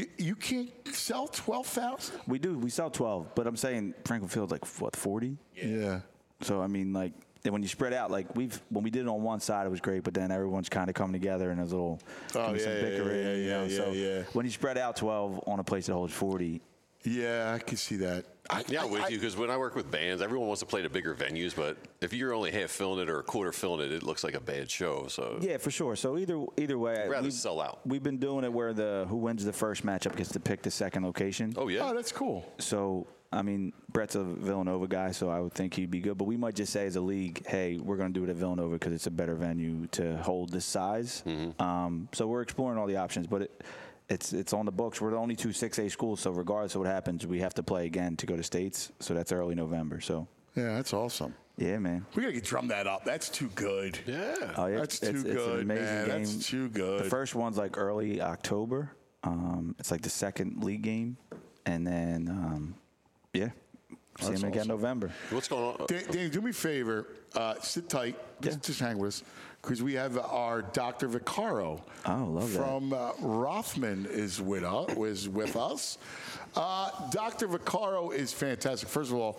sell 12,000. We do. We sell 12, but I'm saying Franklin Field's like what 40. Yeah. So I mean, like, and when you spread out, like when we did it on one side, it was great, but then everyone's kind of coming together and there's a little some bickering. So when you spread out 12 on a place that holds 40. Yeah, I can see that. I'm with you because when I work with bands, everyone wants to play to bigger venues, but if you're only half filling it or a quarter filling it, it looks like a bad show. So yeah, for sure. So either way, I'd rather sell out. We've been doing it where who wins the first matchup gets to pick the second location. Oh yeah, Oh, that's cool. So I mean, Brett's a Villanova guy, so I would think he'd be good. But we might just say as a league, hey, we're going to do it at Villanova because it's a better venue to hold this size. Mm-hmm. So we're exploring all the options, but it's on the books. We're the only 2 6A schools, so regardless of what happens, we have to play again to go to states. So that's early November. So Yeah, that's awesome. yeah, man. We gotta drum that up. That's too good. yeah. Oh, yeah, That's too it's good, an amazing man. game. That's too good. The first one's like early October. It's like the second league game, and then see him That's again awesome. November. What's going on? Dave, do me a favor. Sit tight. Just hang with us. Because we have our Dr. Vaccaro Love that. from Rothman is with us. Dr. Vaccaro is fantastic. First of all,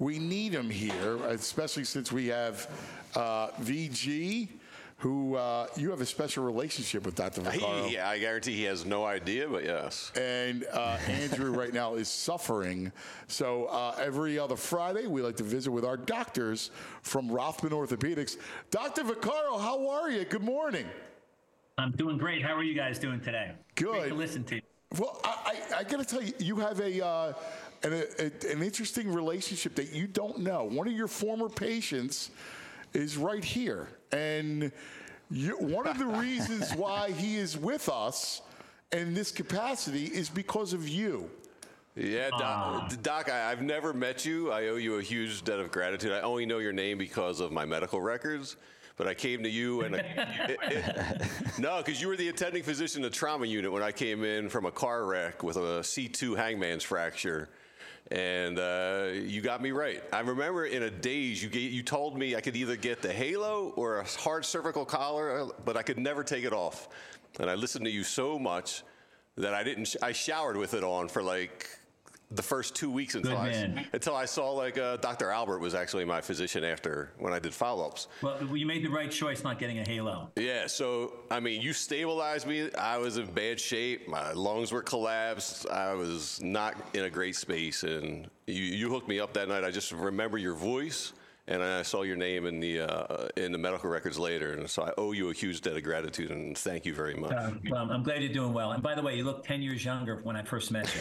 we need him here, especially since we have VG, who you have a special relationship with Dr. Vaccaro. I guarantee he has no idea, but yes. And Andrew right now is suffering. So every other Friday, we like to visit with our doctors from Rothman Orthopedics. Dr. Vaccaro, how are you? Good morning. I'm doing great. How are you guys doing today? Good. Great to listen to you. Well, I got to tell you, you have an interesting relationship that you don't know. One of your former patients is right here. And one of the reasons why he is with us in this capacity is because of you. Yeah, Doc, I've never met you. I owe you a huge debt of gratitude. I only know your name because of my medical records. But I came to you and no, because you were the attending physician in the trauma unit when I came in from a car wreck with a C2 hangman's fracture. And you got me right. I remember in a daze, you told me I could either get the halo or a hard cervical collar, but I could never take it off. And I listened to you so much that I showered with it on for like the first 2 weeks until I saw like Dr. Albert was actually my physician when I did follow-ups. Well, you made the right choice not getting a halo. Yeah, so, I mean, you stabilized me. I was in bad shape. My lungs were collapsed. I was not in a great space, and you hooked me up that night. I just remember your voice, and I saw your name in the medical records later, and so I owe you a huge debt of gratitude, and thank you very much. Well, I'm glad you're doing well. And by the way, you look 10 years younger when I first met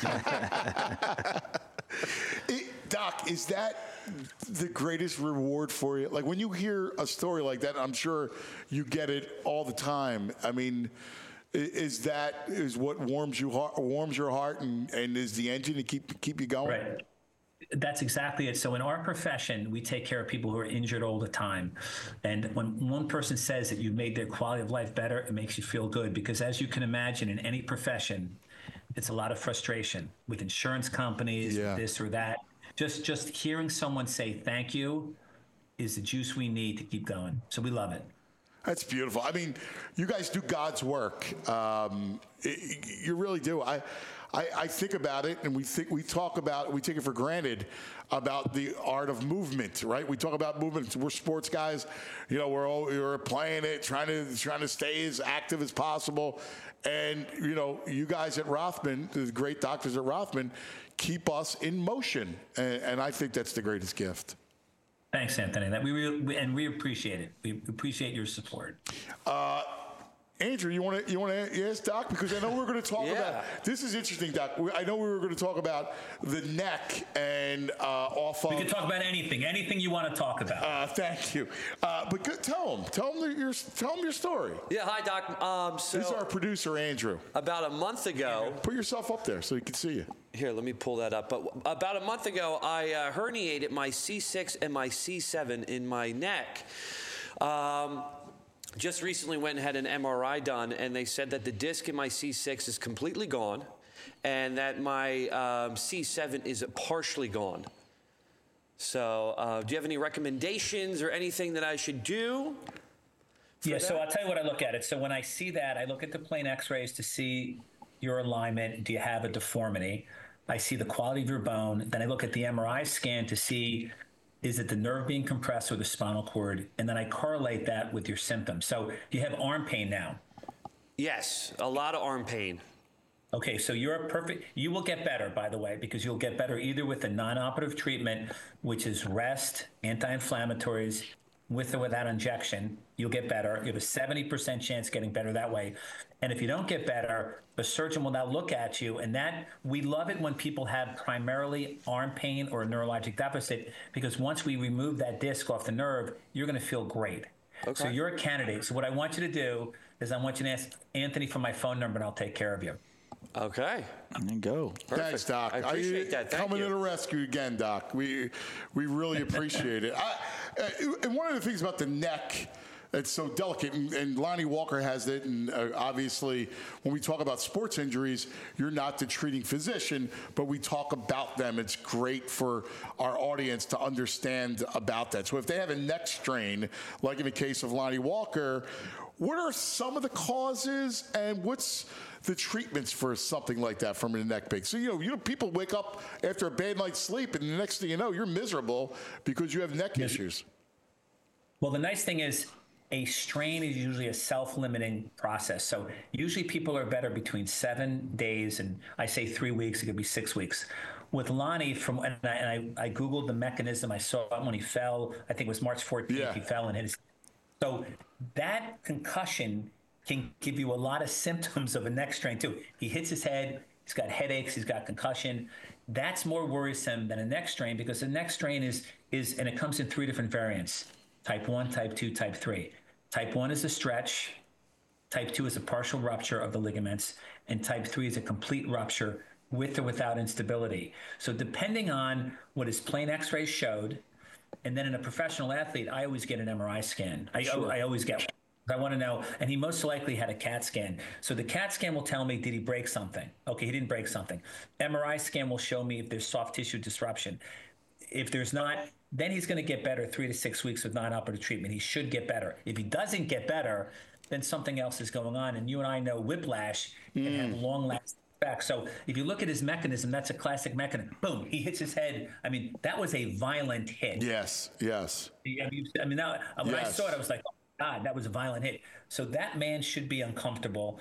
you. Doc, is that the greatest reward for you? Like when you hear a story like that, I'm sure you get it all the time. I mean, is what warms your heart and is the engine to keep you going? Right. That's exactly it. So in our profession, we take care of people who are injured all the time. And when one person says that you've made their quality of life better, it makes you feel good. Because as you can imagine, in any profession, it's a lot of frustration with insurance companies, this or that. Just hearing someone say thank you is the juice we need to keep going. So we love it. That's beautiful. I mean, you guys do God's work. You really do. I think about it, and we take it for granted about the art of movement, right? We talk about movement. We're sports guys. You know, we're playing it, trying to stay as active as possible. And, you know, you guys at Rothman, the great doctors at Rothman, keep us in motion. And I think that's the greatest gift. Thanks, Anthony. We appreciate it. We appreciate your support. Andrew, you want to ask Doc? Because I know we're going to talk about this. Is interesting, Doc. I know we were going to talk about the neck and We can talk about anything you want to talk about. Thank you. But tell him your story. Yeah, hi, Doc. This is our producer, Andrew. About a month ago. Put yourself up there so he can see you. Here, let me pull that up. But about a month ago, I herniated my C6 and my C7 in my neck. Just recently went and had an MRI done, and they said that the disc in my C6 is completely gone and that my C7 is partially gone. So do you have any recommendations or anything that I should do? Yeah, so I'll tell you what I look at it. So when I see that, I look at the plain x-rays to see your alignment. Do you have a deformity? I see the quality of your bone. Then I look at the MRI scan to see, is it the nerve being compressed or the spinal cord? And then I correlate that with your symptoms. So you have arm pain now? Yes, a lot of arm pain. Okay, so you will get better, by the way, because you'll get better either with a non-operative treatment, which is rest, anti-inflammatories, with or without injection. You'll get better. You have a 70% chance getting better that way. And if you don't get better, the surgeon will now look at you. And we love it when people have primarily arm pain or a neurologic deficit, because once we remove that disc off the nerve, you're going to feel great. Okay. So you're a candidate. So what I want you to do is I want you to ask Anthony for my phone number, and I'll take care of you. Okay. And go. Perfect. Thanks, Doc. I appreciate that. Thank coming you. to the rescue again, Doc. We really appreciate it. And one of the things about the neck, it's so delicate. And Lonnie Walker has it. And obviously, when we talk about sports injuries, you're not the treating physician, but we talk about them. It's great for our audience to understand about that. So if they have a neck strain, like in the case of Lonnie Walker, what are some of the causes and what's the treatments for something like that from a neck break? So, you know, people wake up after a bad night's sleep and the next thing you know, you're miserable because you have neck issues. Well, the nice thing is a strain is usually a self-limiting process. So usually people are better between 7 days and I say 3 weeks, it could be 6 weeks. With Lonnie, I Googled the mechanism. I saw it when he fell. I think it was March 14th. He fell and hit his. So that concussion can give you a lot of symptoms of a neck strain too. He hits his head, he's got headaches, he's got concussion. That's more worrisome than a neck strain because a neck strain is and it comes in 3 different variants: type 1, type 2, type 3. Type 1 is a stretch, type 2 is a partial rupture of the ligaments, and type 3 is a complete rupture with or without instability. So depending on what his plain x-rays showed, and then in a professional athlete, I always get an MRI scan. I always get one. I want to know, and he most likely had a CAT scan. So the CAT scan will tell me, did he break something? Okay, he didn't break something. MRI scan will show me if there's soft tissue disruption. If there's not, then he's going to get better 3 to 6 weeks with non-operative treatment. He should get better. If he doesn't get better, then something else is going on. And you and I know whiplash can have long-lasting effects. So if you look at his mechanism, that's a classic mechanism. Boom, he hits his head. I mean, that was a violent hit. Yes. I mean, when I saw it, I was like, God, that was a violent hit. So that man should be uncomfortable.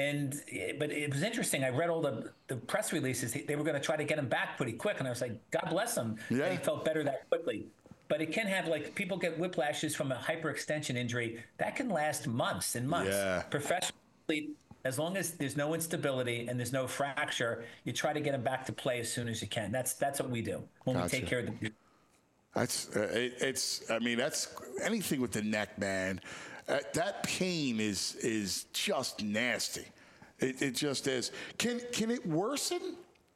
But it was interesting. I read all the press releases. They were going to try to get him back pretty quick. And I was like, God bless him. Yeah. He felt better that quickly. But it can have, like, people get whiplashes from a hyperextension injury. That can last months and months. Yeah. Professionally, as long as there's no instability and there's no fracture, you try to get him back to play as soon as you can. That's what we do when we take care of the. That's that's anything with the neck, man. That pain is just nasty. It just is. Can it worsen?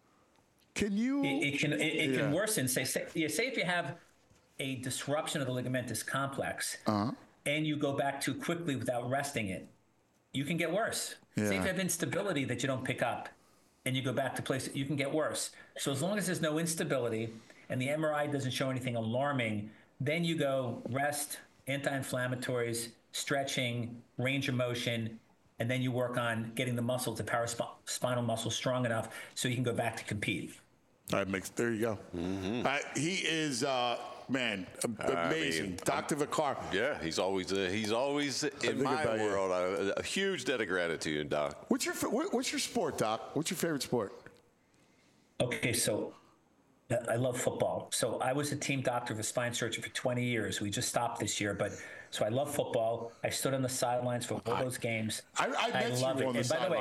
Can you? It can worsen. Say if you have a disruption of the ligamentous complex and you go back too quickly without resting it, you can get worse. Yeah. Say if you have instability that you don't pick up and you go back to place, you can get worse. So as long as there's no instability and the MRI doesn't show anything alarming, then you go rest, anti-inflammatories, stretching, range of motion, and then you work on getting the muscle, the paraspinal muscle, strong enough so you can go back to compete. There you go. Mm-hmm. He is, amazing. Dr. Vaccaro. Yeah, he's always in my world. A huge debt of gratitude, Doc. What's your sport, Doc? What's your favorite sport? Okay, so I love football. So I was a team doctor of a spine surgeon for 20 years. We just stopped this year, so I love football. I stood on the sidelines for all those games. I love it.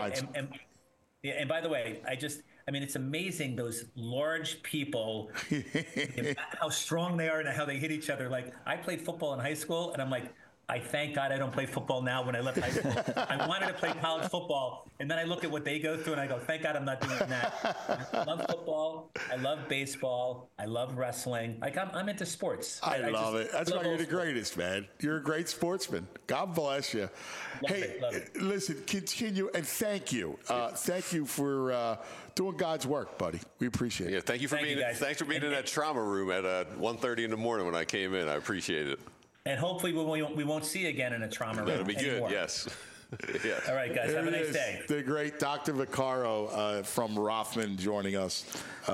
And by the way, it's amazing those large people, how strong they are and how they hit each other. Like, I played football in high school, and I'm like, I thank God I don't play football now. When I left high school, I wanted to play college football, and then I look at what they go through, and I go, thank God I'm not doing that. I love football. I love baseball. I love wrestling. Like, I'm into sports. I love it. That's why you're the greatest, man. You're a great sportsman. God bless you. Love it. Listen, continue, and thank you. Thank you for doing God's work, buddy. We appreciate it. Yeah, thanks for being in that trauma room at 1:30 in the morning when I came in. I appreciate it. And hopefully we won't see you again in a trauma room. That'll be anymore. good, yes. Yes. All right, guys, have a nice day. The great Dr. Vaccaro from Rothman joining us.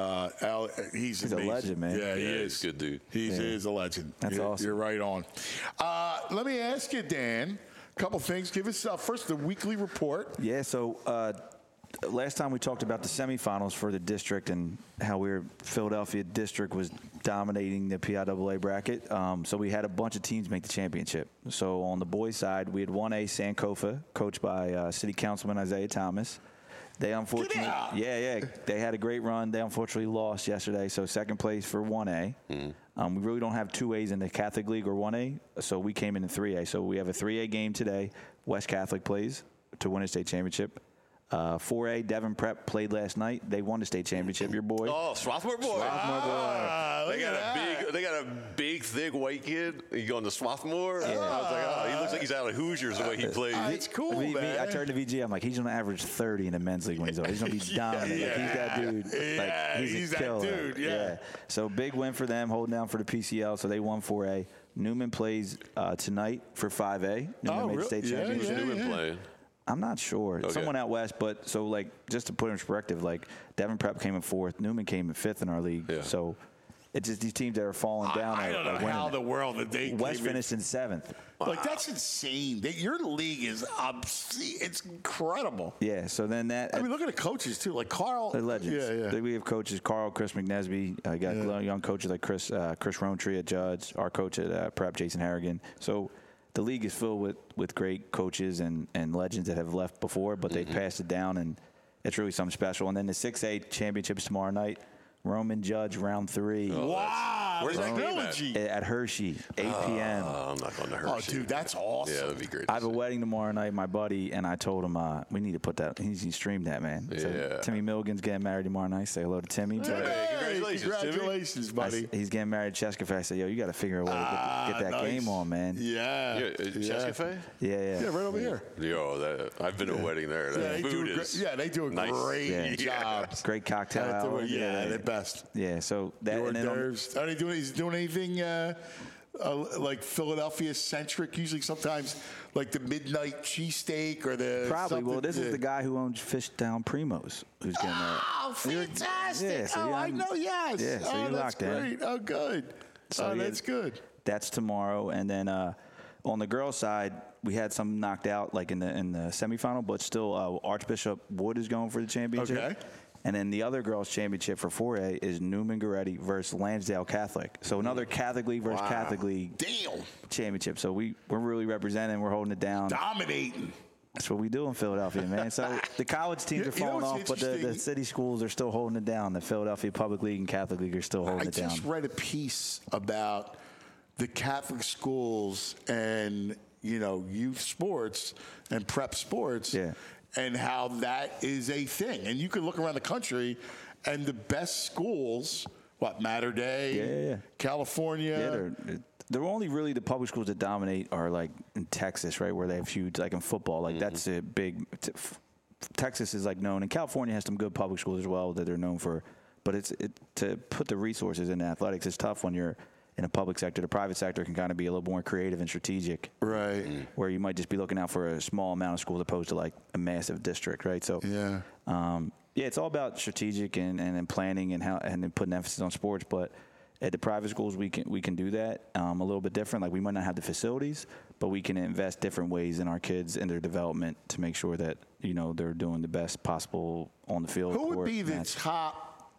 He's a legend, man. Yeah, he is. Good dude. He is a legend. That's awesome. You're right on. Let me ask you, Dan, a couple things. Give us first the weekly report. Yeah, so last time we talked about the semifinals for the district and how Philadelphia district was dominating the PIAA bracket. So we had a bunch of teams make the championship. So on the boys' side, we had 1A Sankofa, coached by City Councilman Isaiah Thomas. They unfortunately, they had a great run. They unfortunately lost yesterday, so second place for 1A. Mm-hmm. We really don't have 2As in the Catholic League or 1A, so we came in 3A. So we have a 3A game today. West Catholic plays to win a state championship. 4A, Devon Prep played last night. They won the state championship. Your boy. Oh, Swarthmore boy. They got a big, thick white kid. He going to Swarthmore. Yeah. I was like, oh, he looks like he's out of Hoosiers the way he plays. It's cool, man. I turned to VG. I'm like, he's going to average 30 in the men's league when he's over. He's going to be dominant. Like, he's that dude. He's a killer. That dude. Yeah. So big win for them, holding down for the PCL. So they won 4A. Newman plays tonight for 5A. Newman made the state championship. Who's Newman playing? I'm not sure. Okay. Someone out west, but so like just to put it in perspective, like Devon Prep came in 4th, Newman came in 5th in our league. Yeah. So it's just these teams that are falling down. I don't know how the world that they West finished in 7th. Like that's insane. Your league is it's incredible. Yeah. So then that. I mean, look at the coaches too, like Carl. The legends. Yeah. We have coaches Chris McNesby. I got young coaches like Chris Rowntree at Judge. Our coach at Prep, Jason Harrigan. So. The league is filled with great coaches and legends that have left before, but they passed it down, and it's really something special. And then the 6A championships tomorrow night, Roman Judge round 3. Oh, wow! Where's that game at Hershey, 8 p.m. I'm not going to Hershey. Oh, dude, that's awesome. Yeah, that'd be great. I have a wedding tomorrow night, my buddy, and I told him we need to put that. He needs to stream that, man. Yeah. So Timmy Milligan's getting married tomorrow night. Say hello to Timmy. Hey, congratulations, buddy. He's getting married to Cheska Faye. I said, yo, you got to figure a way to get that game on, man. Yeah. Cheska Faye? Yeah, right over here. Yo, I've been to a wedding there. They do a nice. great job. Great cocktail hour. Yeah, they're best. Yeah, so that and then are they doing? Is he doing anything like Philadelphia centric? Usually, sometimes like the midnight cheesesteak or the probably. Well, this is the guy who owns Fish Down Primos who's getting that. Oh, fantastic! Yeah, so I know. Yes. Yeah, so you that's locked in. Great. Oh, good. So that's good. That's tomorrow, and then on the girls' side, we had some knocked out like in the semifinal, but still Archbishop Wood is going for the championship. Okay. And then the other girls' championship for 4A is Newman Goretti versus Lansdale Catholic. So another Catholic League versus Catholic League championship. So we're really representing. We're holding it down. Dominating. That's what we do in Philadelphia, man. So the college teams are falling off, but the city schools are still holding it down. The Philadelphia Public League and Catholic League are still holding it down. I just read a piece about the Catholic schools and, youth sports and prep sports. Yeah. And how that is a thing. And you can look around the country and the best schools, Mater Dei, California. Yeah, they're only really the public schools that dominate are like in Texas, right, where they have huge, like in football. Like that's a big Texas is like known, and California has some good public schools as well that they're known for. But to put the resources in athletics is tough when you're in a public sector. The private sector can kind of be a little more creative and strategic. Right. Where you might just be looking out for a small amount of schools opposed to like a massive district, right? So it's all about strategic and planning and then putting emphasis on sports. But at the private schools, we can do that a little bit different. Like we might not have the facilities, but we can invest different ways in our kids and their development to make sure that they're doing the best possible on the field. Who would be the top,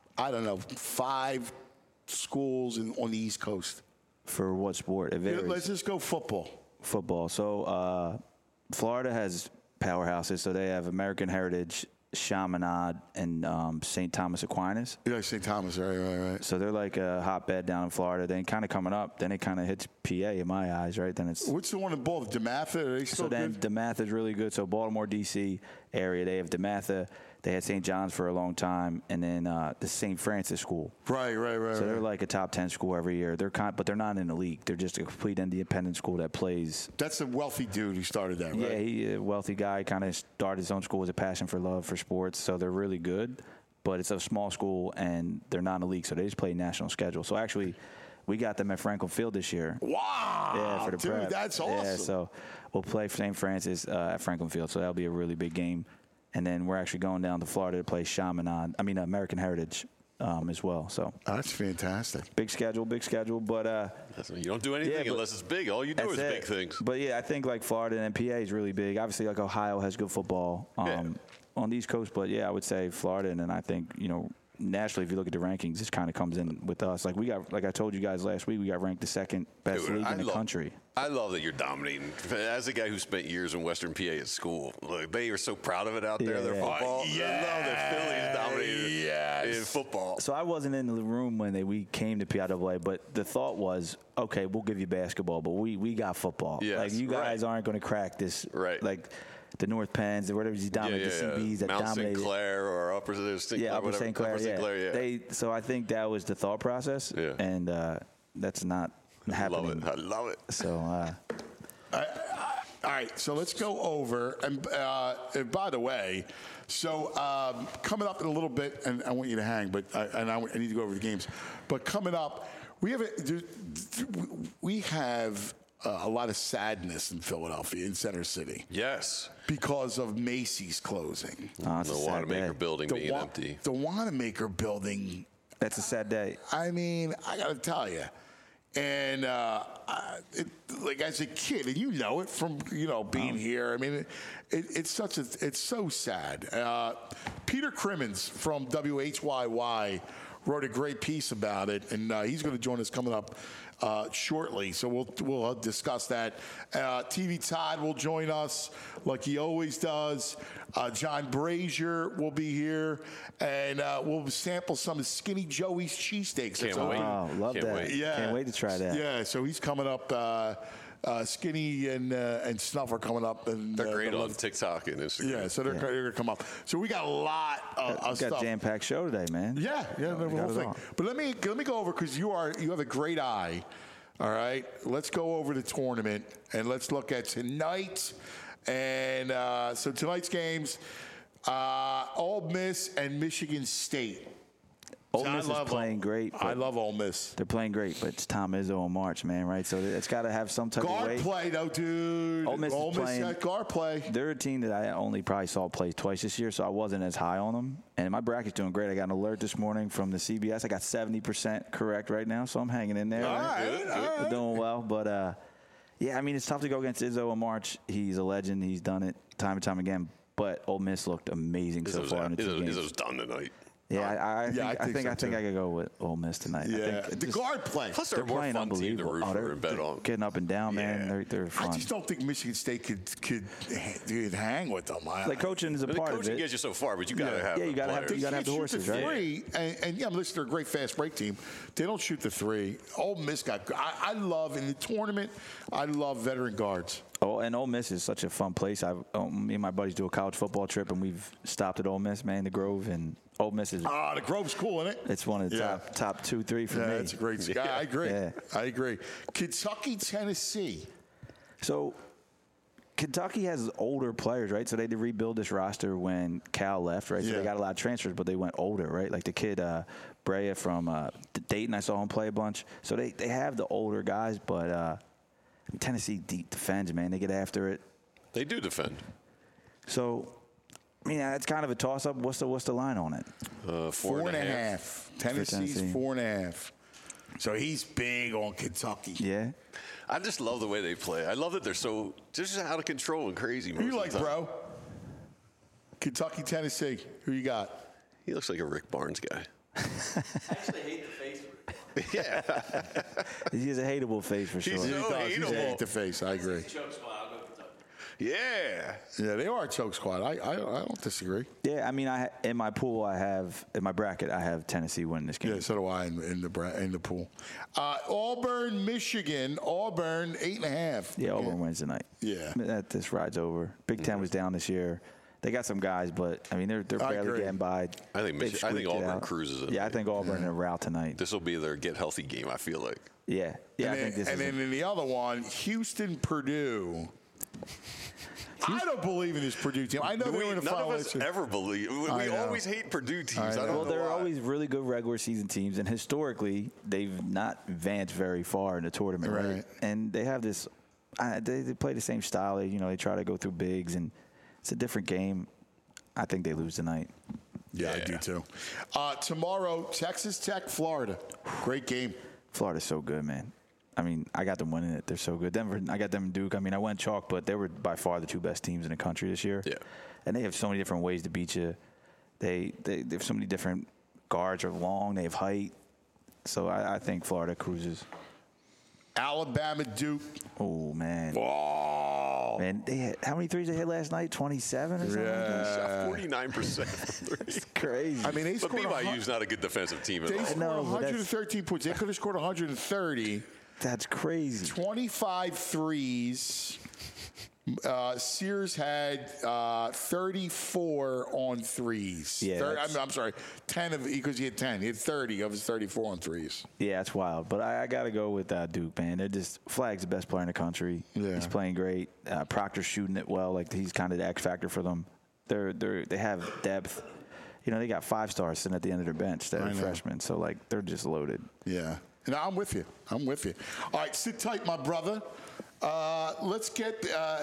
5 schools on the East Coast? For what sport? It varies. Let's just go football. Football. So Florida has powerhouses. So they have American Heritage, Chaminade, and St. Thomas Aquinas. Yeah, St. Thomas, right. So they're like a hotbed down in Florida. Then kind of coming up, then it kind of hits PA in my eyes, right? Then it's. What's the one in Baltimore? DeMatha? Are they still then DeMatha is really good. So Baltimore, D.C. area, they have DeMatha. They had St. John's for a long time, and then the St. Francis School. Right. So they're like a top 10 school every year. But they're not in the league. They're just a complete independent school that plays. That's a wealthy dude who started that, right? Yeah, he's a wealthy guy. Kind of started his own school with a passion for love for sports. So they're really good, but it's a small school, and they're not in the league, so they just play national schedule. So actually, we got them at Franklin Field this year. Wow! Yeah, for the dude, prep. That's awesome. Yeah, so we'll play St. Francis at Franklin Field. So that'll be a really big game. And then we're actually going down to Florida to play American Heritage as well. So that's fantastic. Big schedule. But you don't do anything unless it's big. All you do is big things. But yeah, I think like Florida and PA is really big. Obviously, like Ohio has good football on the East Coast. But yeah, I would say Florida, and then I think nationally, if you look at the rankings, this kind of comes in with us. Like I told you guys last week, we got ranked the second best league in the country. I love that you're dominating. As a guy who spent years in Western PA at school, look, they are so proud of it out there. Their football. I love that Philly's dominated in football. So I wasn't in the room when we came to PIAA, but the thought was, okay, we'll give you basketball, but we got football. Yes, like you guys aren't going to crack this. Right. Like the North Penns, or whatever he dominated, the CBs that Mount dominated. St. Clair or Upper St. Clair. Upper St. Clair. Upper St. Clair, yeah. So I think that was the thought process, and that's not happening. I love it. So. All right, so let's go over. And by the way, so coming up in a little bit, and I want you to hang, but I need to go over the games. But coming up, we have a lot of sadness in Philadelphia, in Center City. Yes. Because of Macy's closing. Oh, The Wanamaker building being empty. The Wanamaker building. That's a sad day. I mean, I got to tell you. And like as a kid, and you know it from being here. I mean, it's so sad. Peter Crimmins from WHYY wrote a great piece about it, and he's going to join us coming up shortly. So we'll discuss that. TV Todd will join us like he always does. John Brazier will be here, and we'll sample some of Skinny Joey's cheesesteaks. Can't wait. Oh, love Can't that. wait. Yeah. Can't wait to try that. Yeah, so he's coming up. Skinny and Snuff are coming up. And They're great on TikTok and Instagram. Yeah, so they're going to come up. So we got a lot of We stuff. got a jam-packed show today, man. Yeah, the whole thing. But let me go over, because you have a great eye. All right, let's go over the tournament and let's look at tonight. And so tonight's games, Ole Miss and Michigan State. Ole Miss is playing great. I love Ole Miss. They're playing great, but it's Tom Izzo and March, man, right? So it's got to have some type of Guard weight. play, though, dude. Ole Miss is playing got guard play. They're a team that I only probably saw play twice this year, so I wasn't as high on them. And my bracket's doing great. I got an alert this morning from the CBS. I got 70% correct right now, so I'm hanging in there. All right. We're doing well, but yeah, I mean, it's tough to go against Izzo and March. He's a legend. He's done it time and time again. But Ole Miss looked amazing so far in the two games. Izzo's done tonight. Yeah, I think I could go with Ole Miss tonight. Yeah, I think the guard play. Plus, they're a they're more playing fun team to unbelievable. root for and bet on. Getting up and down, man. They're fun. I just don't think Michigan State could hang with them. Like coaching is a part of Coaching it. gets you so far, but you got to have you gotta have players. you gotta have the horses, right? Three, and yeah, listen, they're a great fast break team. They don't shoot the three. Ole Miss I love in the tournament. I love veteran guards. Oh, and Ole Miss is such a fun place. Me and my buddies do a college football trip, and we've stopped at Ole Miss, man, the Grove, and Ole Miss is. The Grove's cool, isn't it? It's one of the top 2, 3 for me. Yeah, it's a great. Yeah, I agree. Yeah. I agree. Kentucky, Tennessee. So Kentucky has older players, right? So they did rebuild this roster when Cal left, right? So they got a lot of transfers, but they went older, right? Like the kid Brea from Dayton, I saw him play a bunch. So they have the older guys, but Tennessee defends, man. They get after it. They do defend. So, I mean, it's kind of a toss-up. What's the line on it? 4.5. Tennessee's 4.5. So he's big on Kentucky. Yeah. I just love the way they play. I love that they're just out of control and crazy. Who you like, bro? Kentucky, Tennessee. Who you got? He looks like a Rick Barnes guy. I actually hate the face. Yeah. He has a hateable face for sure. He's so He's hateable. hate the face. I agree. Yeah. Yeah, they are a choke squad. I don't disagree. Yeah, I mean, in my pool, in my bracket, I have Tennessee winning this game. Yeah, so do I in the pool. Auburn, Michigan. Auburn 8.5. Yeah, Auburn wins tonight. Yeah. This ride's over. Big Ten was down this year. They got some guys, but I mean, they're barely agree. getting by. I think They've Auburn squeaked it out. cruises it. Yeah, I think Auburn in a rout tonight. This will be their get healthy game, I feel like. Yeah, I think this and is. then in the other one, Houston, Purdue. I don't believe in this Purdue team. I know they were in the None final. of us ever believe. We always hate Purdue teams. I don't Well, know they're why. always really good regular season teams, and historically, they've not advanced very far in the tournament, right? And they have this. They play the same style. They try to go through bigs, and it's a different game. I think they lose tonight. Yeah, I do too. Tomorrow, Texas Tech, Florida. Great game. Florida's so good, man. I mean, I got them winning it. They're so good. Denver, I got them in Duke. I mean, I went chalk, but they were by far the two best teams in the country this year. Yeah. And they have so many different ways to beat you. They have so many different guards are long. They have height. So I think Florida cruises. Alabama, Duke. Oh, man. Oh. Man, how many threes they hit last night? 27 or something? Yeah. 49%. It's crazy. I mean, they But scored. BYU's not a good defensive team at They all. scored know, but 113 points. They could have scored 130. That's crazy. 25 threes. Sears had 34 on threes. Yeah, I'm sorry, 10 of because he had 10. He had 30 of his 34 on threes. Yeah, that's wild. But I got to go with Duke, man. They're just Flagg's the best player in the country. Yeah. He's playing great. Proctor's shooting it well. Like he's kind of the X factor for them. They have depth. You know, they got 5 stars sitting at the end of their bench that are freshmen. So like they're just loaded. Yeah. And I'm with you. All right, sit tight, my brother. Let's get.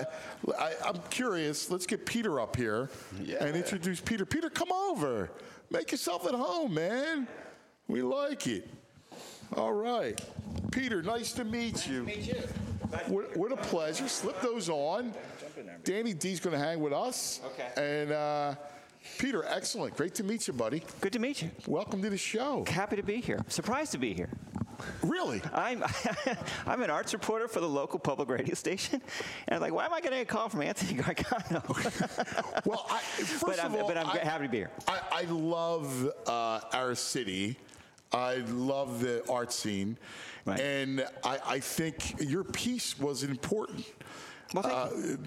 I'm curious. Let's get Peter up here and introduce Peter. Peter, come over. Make yourself at home, man. We like it. All right, Peter. Nice to meet you. Nice to meet you. What a pleasure. Slip those on. Danny D's going to hang with us. Okay. And Peter, excellent. Great to meet you, buddy. Good to meet you. Welcome to the show. Happy to be here. Surprised to be here. Really? I'm an arts reporter for the local public radio station, and I'm like, why am I getting a call from Anthony Gargano? Well, first of all, I'm happy to be here. I love our city. I love the art scene, Right. and I think your piece was important. Well, thank you.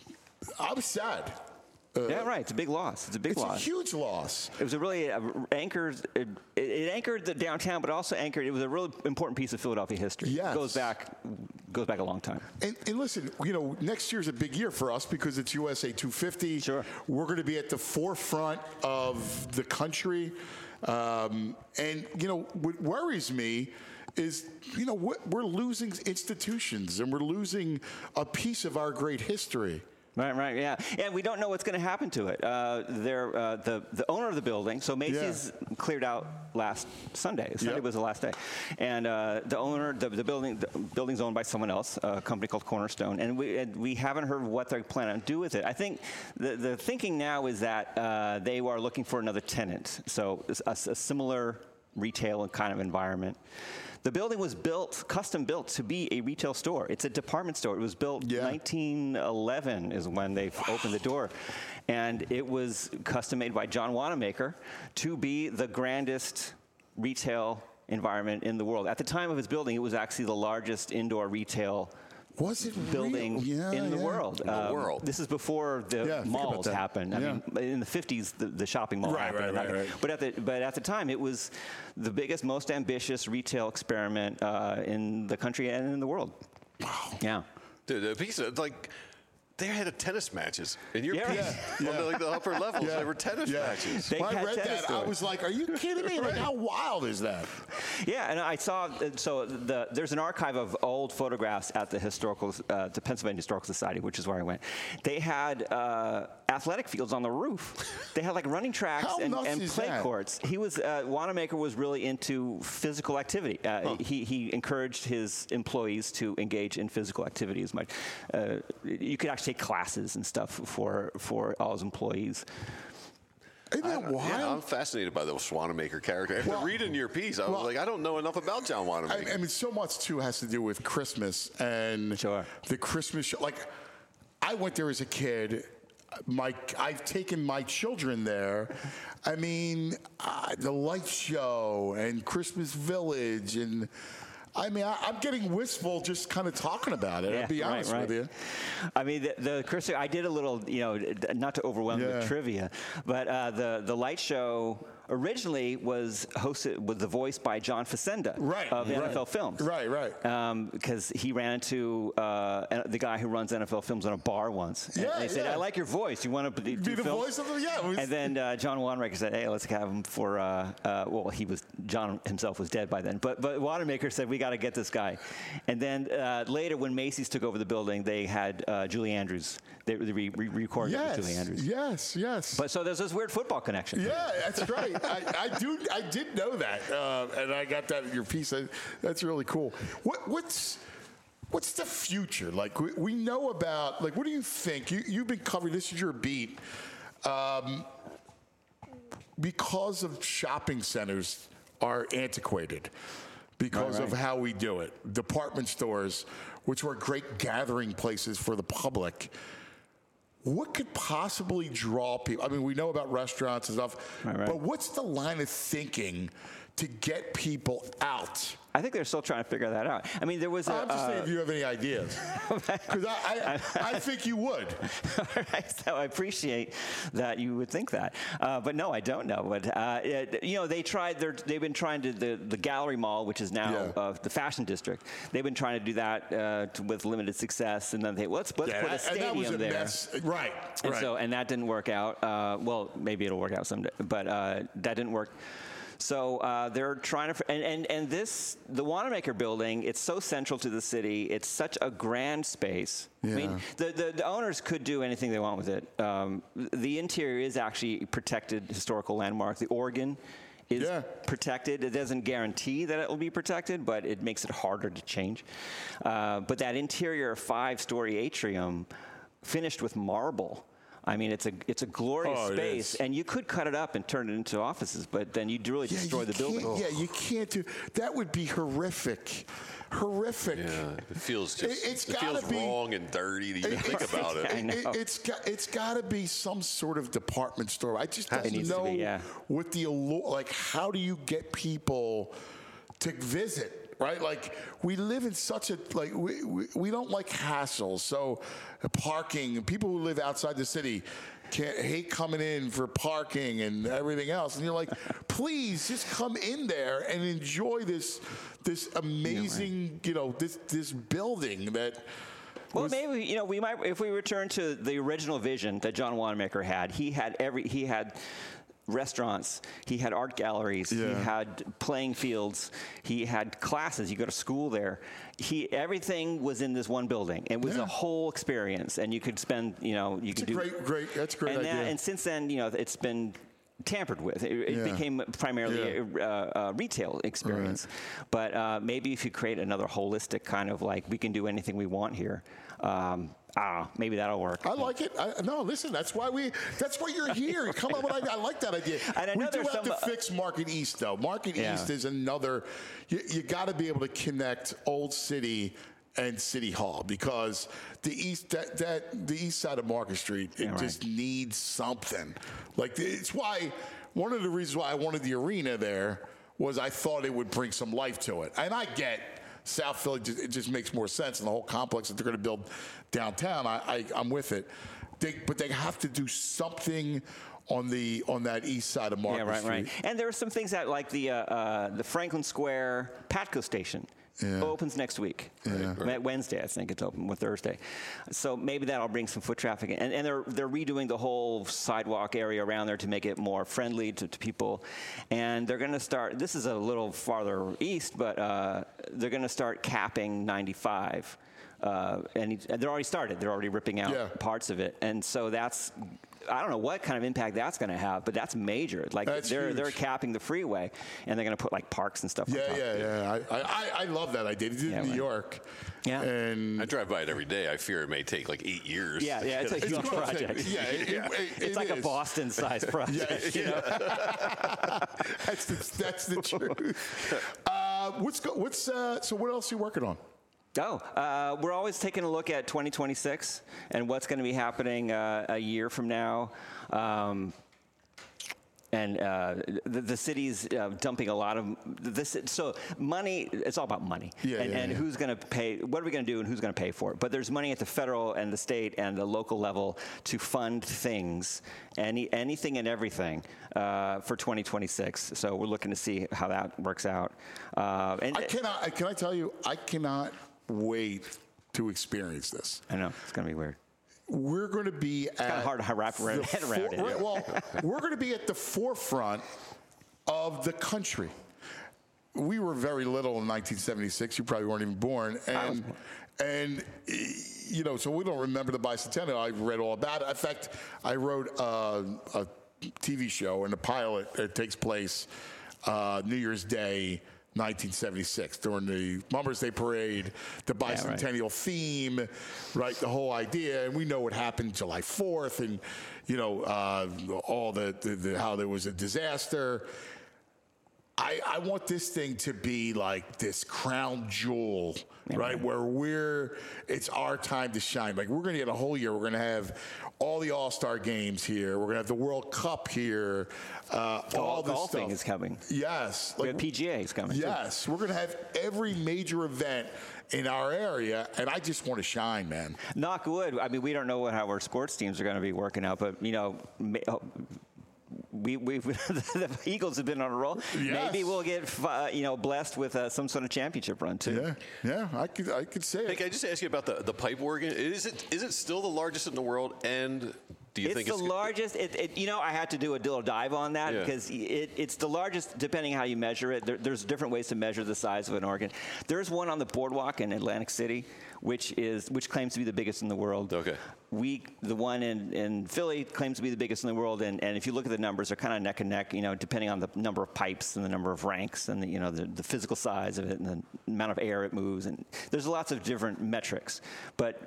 I was sad. Yeah, right. It's a big loss. It's a big loss. It's a huge loss. It was a really anchored. It anchored the downtown, but also anchored. It was a really important piece of Philadelphia history. Yes. It goes back a long time. And listen, you know, next year's a big year for us because it's USA 250. Sure. We're going to be at the forefront of the country. And, you know, what worries me is, you know, we're losing institutions and we're losing a piece of our great history. Right, yeah. And we don't know what's going to happen to it. The owner of the building, so Macy's cleared out last Sunday. Sunday was the last day. And the owner, the building's owned by someone else, a company called Cornerstone. And we haven't heard what they're planning to do with it. I think the thinking now is that they are looking for another tenant. So a similar retail kind of environment. The building was custom built to be a retail store. It's a department store. It was built 1911 is when they opened the door. And it was custom made by John Wanamaker to be the grandest retail environment in the world. At the time of its building, it was actually the largest indoor retail building in the world. This is before the malls happened. I mean, in the 50s, the shopping mall happened. Right. But at the time, it was the biggest, most ambitious retail experiment in the country and in the world. Wow. Yeah. Dude, the piece of, like, they had tennis matches in your piece. On the upper levels. There were tennis matches. When I read that, I was like, are you kidding me? Like, how wild is that? Yeah, and I saw, there's an archive of old photographs at the Pennsylvania Historical Society, which is where I went. They had athletic fields on the roof. They had like running tracks and play courts. Wanamaker was really into physical activity. He encouraged his employees to engage in physical activity as much. You could actually take classes and stuff for all his employees. Isn't that wild? Yeah, I'm fascinated by the Wanamaker character. After reading your piece, I was like, I don't know enough about John Wanamaker. I mean, so much, too, has to do with Christmas and the Christmas show. Like, I went there as a kid. I've taken my children there. I mean, the light show and Christmas Village and... I mean, I'm getting wistful just kind of talking about it. I'll be honest with you. I mean, the Christmas, I did a little, not to overwhelm the trivia, but the light show originally was hosted with the voice by John Facenda of NFL Films. Right. Because he ran into the guy who runs NFL Films in a bar once. And they said, I like your voice. You want to do the films? Voice of them? Yeah. And then John Wanamaker said, hey, let's have him for, John himself was dead by then. But Wanamaker said, we got to get this guy. And then later, when Macy's took over the building, they had Julie Andrews. They recorded it with Julie Andrews. Yes. But so there's this weird football connection. Yeah, that's right. I did know that, and I got that in your piece. That's really cool. What's the future? Like, we know about, like, what do you think? You've been covering, this is your beat. Because of shopping centers are antiquated, because of how we do it. Department stores, which were great gathering places for the public. What could possibly draw people? I mean, we know about restaurants and stuff, but what's the line of thinking to get people out I think they're still trying to figure that out. I mean, there was I'm just saying if you have any ideas. Because I think you would. All right, so I appreciate that you would think that. But no, I don't know. But, they've been trying to, the Gallery Mall, which is now the fashion district, they've been trying to do that with limited success. And then let's put a stadium and that was a there. Mess. Right. And that didn't work out. Well, maybe it'll work out someday. But that didn't work. So they're trying to, and the Wanamaker building, it's so central to the city. It's such a grand space. Yeah. I mean, the owners could do anything they want with it. The interior is actually a protected historical landmark. The organ is protected. It doesn't guarantee that it will be protected, but it makes it harder to change. But that interior 5-story atrium, finished with marble. I mean, it's a glorious space, and you could cut it up and turn it into offices, but then you'd really destroy the building. Yeah, you can't do that. Would be horrific. Horrific. Yeah, it feels wrong and dirty to even think about it. It's got to be some sort of department store. I just don't know what the allure. Like, how do you get people to visit? Right, like we live in such a we don't like hassles. So parking, people who live outside the city hate coming in for parking and everything else. And you're like, please just come in there and enjoy this amazing, this building that. Well, maybe we might, if we return to the original vision that John Wanamaker had. He had restaurants, he had art galleries, he had playing fields, he had classes. You go to school there. Everything was in this one building. It was a whole experience, and you could spend, That's a great idea. And since then, it's been tampered with. It became primarily a retail experience. Right. But maybe if you create another holistic kind of we can do anything we want here. Maybe that'll work. I like it. No, listen, that's why you're here. Come on, I like that idea. And we do have to fix Market East, though. Market East is another. You got to be able to connect Old City and City Hall, because the east side of Market Street just needs something. It's why one of the reasons why I wanted the arena there was I thought it would bring some life to it, and I get. South Philly, it just makes more sense, and the whole complex that they're going to build downtown, I'm with it. But they have to do something on that east side of Market Street. Right. And there are some things that, like the Franklin Square Patco station. Opens next week. Wednesday, I think it's open, or Thursday. So maybe that'll bring some foot traffic in. And they're redoing the whole sidewalk area around there to make it more friendly to people. And they're going to start, this is a little farther east, but they're going to start capping 95. And they're already started. They're already ripping out parts of it. And so I don't know what kind of impact that's going to have, but that's major. They're capping the freeway, and they're going to put parks and stuff. I love that idea. They did in New York. Yeah, and I drive by it every day. I fear it may take 8 years. Yeah, it's a huge project. It's like a Boston-sized project. That's the truth. So what else are you working on? We're always taking a look at 2026 and what's going to be happening a year from now. And the city's dumping a lot of this. So money, it's all about money. And who's going to pay, what are we going to do and who's going to pay for it? But there's money at the federal and the state and the local level to fund things, anything and everything for 2026. So we're looking to see how that works out. Can I tell you, I cannot wait to experience this. I know, it's going to be weird. We're going to be it's kind of hard to wrap your head around it. Well, we're going to be at the forefront of the country. We were very little in 1976. You probably weren't even born. And so we don't remember the bicentennial. I read all about it. In fact, I wrote a TV show, and the pilot that takes place New Year's Day, 1976, during the Mummers Day Parade, the bicentennial theme, right? The whole idea, and we know what happened July 4th, and all the how there was a disaster. I want this thing to be like this crown jewel, right? Where it's our time to shine. Like we're going to get a whole year. We're going to have all the All-Star games here. We're going to have the World Cup here. All this golfing stuff is coming. Yes. We have PGA is coming. Yes. We're going to have every major event in our area, and I just want to shine, man. Knock wood. I mean, we don't know how our sports teams are going to be working out, but, you know, the Eagles have been on a roll. Yes. Maybe we'll get blessed with some sort of championship run too. Yeah, I could say Hey, it. can I just ask you about the pipe organ? Is it still the largest in the world? And do you think it's the largest? I had to do a little dive on that because it's the largest depending how you measure it. There's different ways to measure the size of an organ. There's one on the boardwalk in Atlantic City, which claims to be the biggest in the world. Okay. The one in Philly claims to be the biggest in the world, and if you look at the numbers, they're kind of neck and neck. Depending on the number of pipes and the number of ranks and the physical size of it and the amount of air it moves, and there's lots of different metrics. But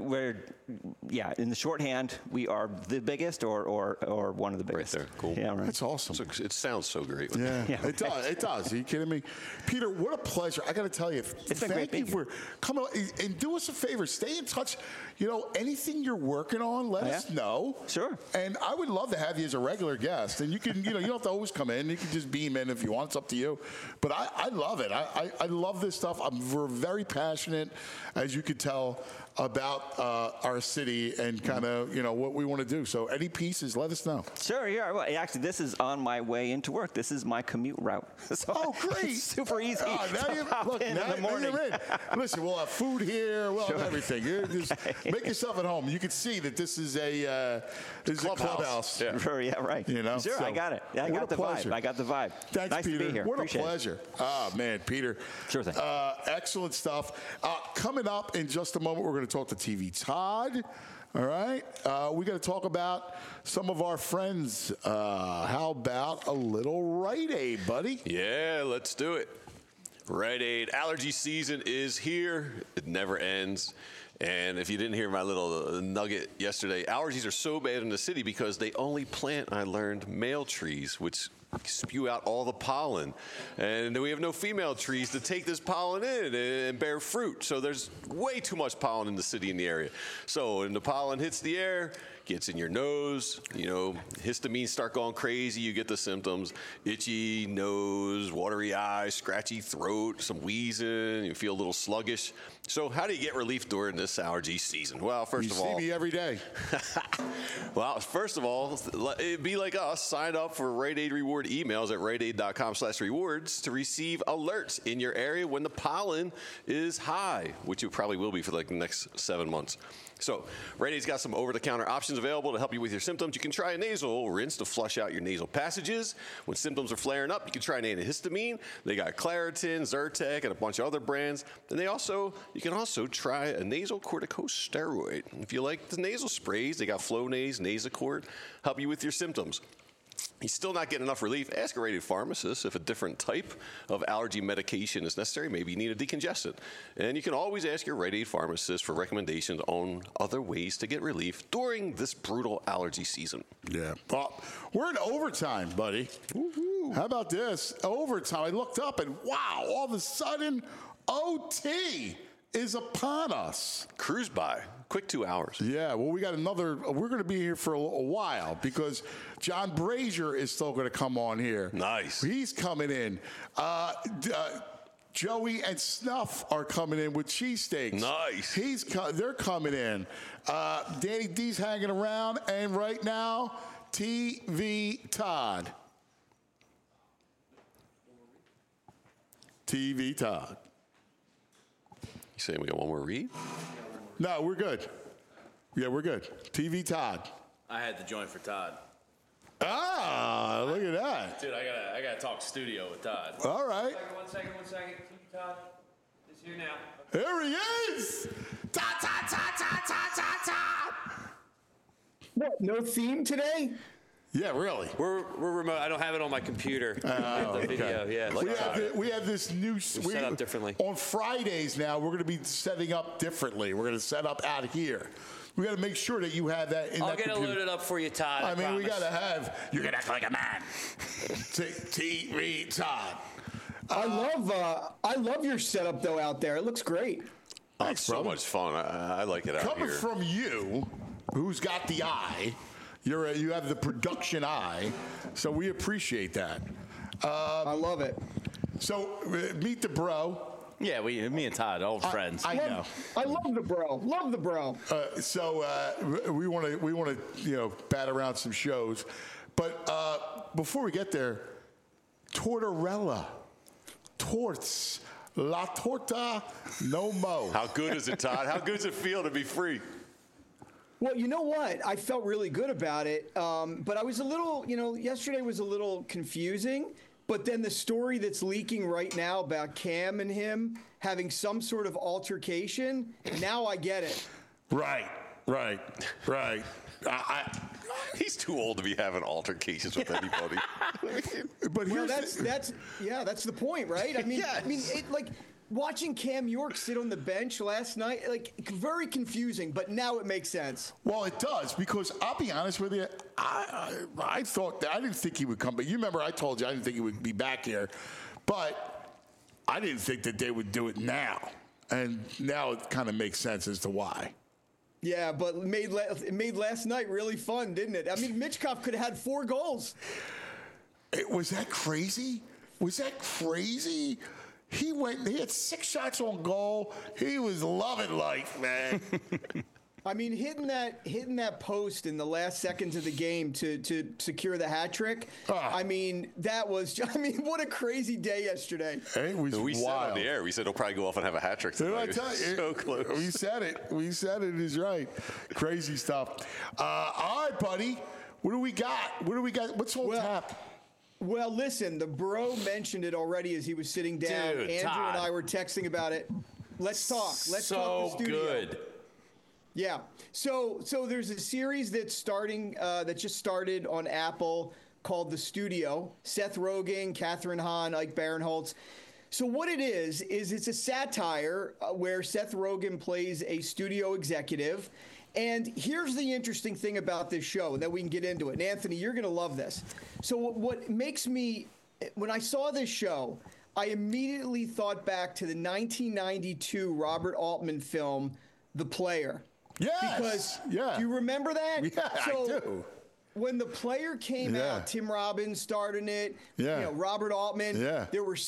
in the shorthand, we are the biggest or one of the biggest. Right there, cool. Yeah, right. That's awesome. So it sounds so great. Yeah, it does. It does. Are you kidding me? Peter, what a pleasure. I got to tell you, It's been great thank you for coming and do us a favor. Stay in touch. Anything you're working on, let us know. Sure. And I would love to have you as a regular guest. And you can, you don't have to always come in. You can just beam in if you want. It's up to you. But I love it. I love this stuff. We're very passionate, as you could tell, about our city and kind of, what we want to do. So any pieces, let us know. Sure, yeah. Well, actually, this is on my way into work. This is my commute route. So great. It's super easy. Now in the morning. you're in. Listen, we'll have food here. We'll have everything. Just make yourself at home. You can see that this is a clubhouse. Yeah. Sure, yeah, right. Sure, so, I got it. I got the vibe. I got the vibe. Thanks, nice Peter. to be here. What Appreciate a pleasure. Man, Peter. Sure thing. Excellent stuff. Coming up in just a moment, we're going to talk to TV Todd. All right. We got to talk about some of our friends. How about a little Rite Aid, buddy? Yeah, let's do it. Rite Aid allergy season is here. It never ends. And if you didn't hear my little nugget yesterday, allergies are so bad in the city because they only plant, I learned, male trees, which spew out all the pollen. And we have no female trees to take this pollen in and bear fruit. So there's way too much pollen in the city and the area. So when the pollen hits the air, gets in your nose, histamines start going crazy, you get the symptoms, itchy nose, watery eyes, scratchy throat, some wheezing, you feel a little sluggish. So how do you get relief during this allergy season? Well, first of all... You see me every day. Well, first of all, be like us, sign up for Rite Aid Reward emails at riteaid.com/rewards to receive alerts in your area when the pollen is high, which it probably will be for like the next 7 months. So, Rite Aid's got some over-the-counter options available to help you with your symptoms. You can try a nasal rinse to flush out your nasal passages. When symptoms are flaring up, you can try an antihistamine. They got Claritin, Zyrtec, and a bunch of other brands. And you can also try a nasal corticosteroid. If you like the nasal sprays, they got Flonase, Nasacort, help you with your symptoms. You're still not getting enough relief, ask a Rite Aid pharmacist if a different type of allergy medication is necessary. Maybe you need a decongestant. And you can always ask your Rite Aid pharmacist for recommendations on other ways to get relief during this brutal allergy season. Yeah. Well, we're in overtime, buddy. Woo-hoo. How about this? Overtime. I looked up and wow, all of a sudden, OT is upon us. Cruise by. Quick 2 hours. Yeah, well, we're going to be here for a while because John Brazier is still going to come on here. Nice. He's coming in. Joey and Snuff are coming in with cheesesteaks. Nice. They're coming in. Danny D's hanging around, and right now, TV Todd. TV Todd. You saying we got one more read? No, we're good. Yeah, we're good. TV Todd. I had to join for Todd. Ah, look at that. Dude, I gotta talk studio with Todd. All right. One second. TV Todd is here now. There he is. Todd. What, no theme today? Yeah, really. We're remote. I don't have it on my computer. The video, yeah. We have this new... set up differently. On Fridays now, we're going to be setting up differently. We're going to set up out here. We got to make sure that you have that in I'll that get computer. it loaded up for you, Todd. I mean, promise. we got to have... You're going to act like a man. TV Todd. I love your setup though out there. It looks great. It's so much fun. I like it out Coming here. from you, who's got the eye, you have the production eye, so we appreciate that. I love it. So meet the bro. Yeah, me and Todd, old friends. I know. I love the bro. Love the bro. So we want to bat around some shows, but before we get there, Tortorella, torts. La torta, no mo. How good is it, Todd? How good does it feel to be free? Well, you know what? I felt really good about it, but I was a little, yesterday was a little confusing. But then the story that's leaking right now about Cam and him having some sort of altercation, now I get it. Right. He's too old to be having altercations with anybody. But that's the point, right? I mean, Yes. watching Cam York sit on the bench last night, very confusing, but now it makes sense. Well, it does, because I'll be honest with you, I thought I didn't think he would come. But you remember I told you I didn't think he would be back here, but I didn't think that they would do it now, and now it kind of makes sense as to why. Yeah, but it made last night really fun, didn't it? I mean, Mitchkov could have had 4 goals. Was that crazy? He had 6 shots on goal. He was loving life, man. I mean, hitting that post in the last seconds of the game to secure the hat trick. I mean, what a crazy day yesterday. It was we wild. said on the air, we said he'll probably go off and have a hat trick Did I tonight. tell you? So close. We said it is right. Crazy stuff. All right, buddy. What do we got? What's on tap? Well, listen, the bro mentioned it already as he was sitting down. Dude, Andrew Todd. and I were texting about it. Let's talk. Let's talk the studio. Good. Yeah. So there's a series that's starting that just started on Apple called The Studio. Seth Rogen, Catherine Hahn, Ike Barinholtz. So what it is it's a satire where Seth Rogen plays a studio executive. And here's the interesting thing about this show, and then we can get into it. And Anthony, you're going to love this. So what makes me, when I saw this show, I immediately thought back to the 1992 Robert Altman film, The Player. Yes. Do you remember that? Yeah, I do. When The Player came out, Tim Robbins starred in it. Yeah. Robert Altman. Yeah. There were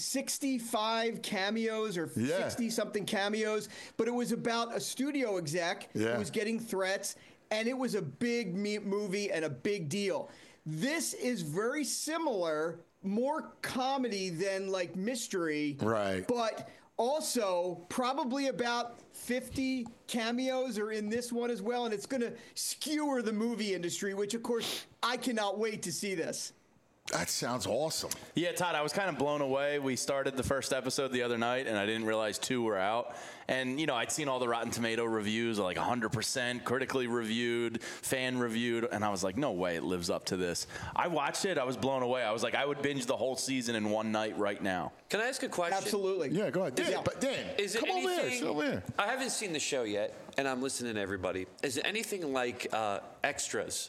65 cameos or 60-something cameos, but it was about a studio exec who was getting threats, and it was a big movie and a big deal. This is very similar, more comedy than mystery. Right. But also probably about 50 cameos are in this one as well, and it's going to skewer the movie industry, which, of course, I cannot wait to see this. That sounds awesome. Yeah, Todd, I was kind of blown away. We started the first episode the other night, and I didn't realize 2 were out. And, I'd seen all the Rotten Tomato reviews, 100%, critically reviewed, fan reviewed, and I was like, no way it lives up to this. I watched it. I was blown away. I was like, I would binge the whole season in one night right now. Can I ask a question? Absolutely. Yeah, go ahead. Dan, Is it come over anything? here. Sit over here. I haven't seen the show yet, and I'm listening to everybody. Is it anything like Extras?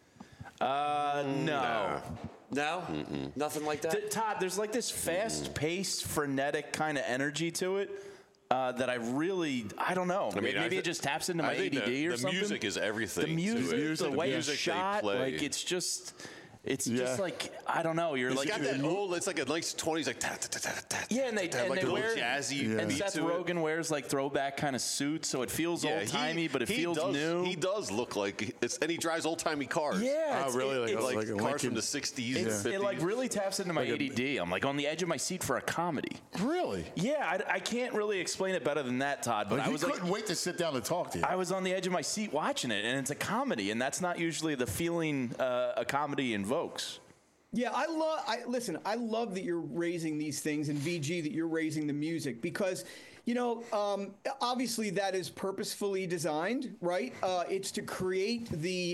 No. No? Mm-mm. Nothing like that? Todd, there's this fast-paced, frenetic kind of energy to it that I don't know. Maybe it just taps into my ADD or something. The music is everything. The music, the way it's shot, it's just I don't know. It's got that old. It's like a nice 20s, and they wear jazzy. And Seth Rogen wears throwback kind of suits, so it feels old timey, but it feels new. He does look like and he drives old timey cars. Yeah, really like a cars from the 60s and 50s. It really taps into my ADD. I'm on the edge of my seat for a comedy. Really? Yeah, I can't really explain it better than that, Todd. But I was couldn't wait to sit down and talk to you. I was on the edge of my seat watching it, and it's a comedy, and that's not usually the feeling a comedy invokes. Yeah, I love that you're raising these things, and VG, that you're raising the music, because, obviously that is purposefully designed, right? It's to create the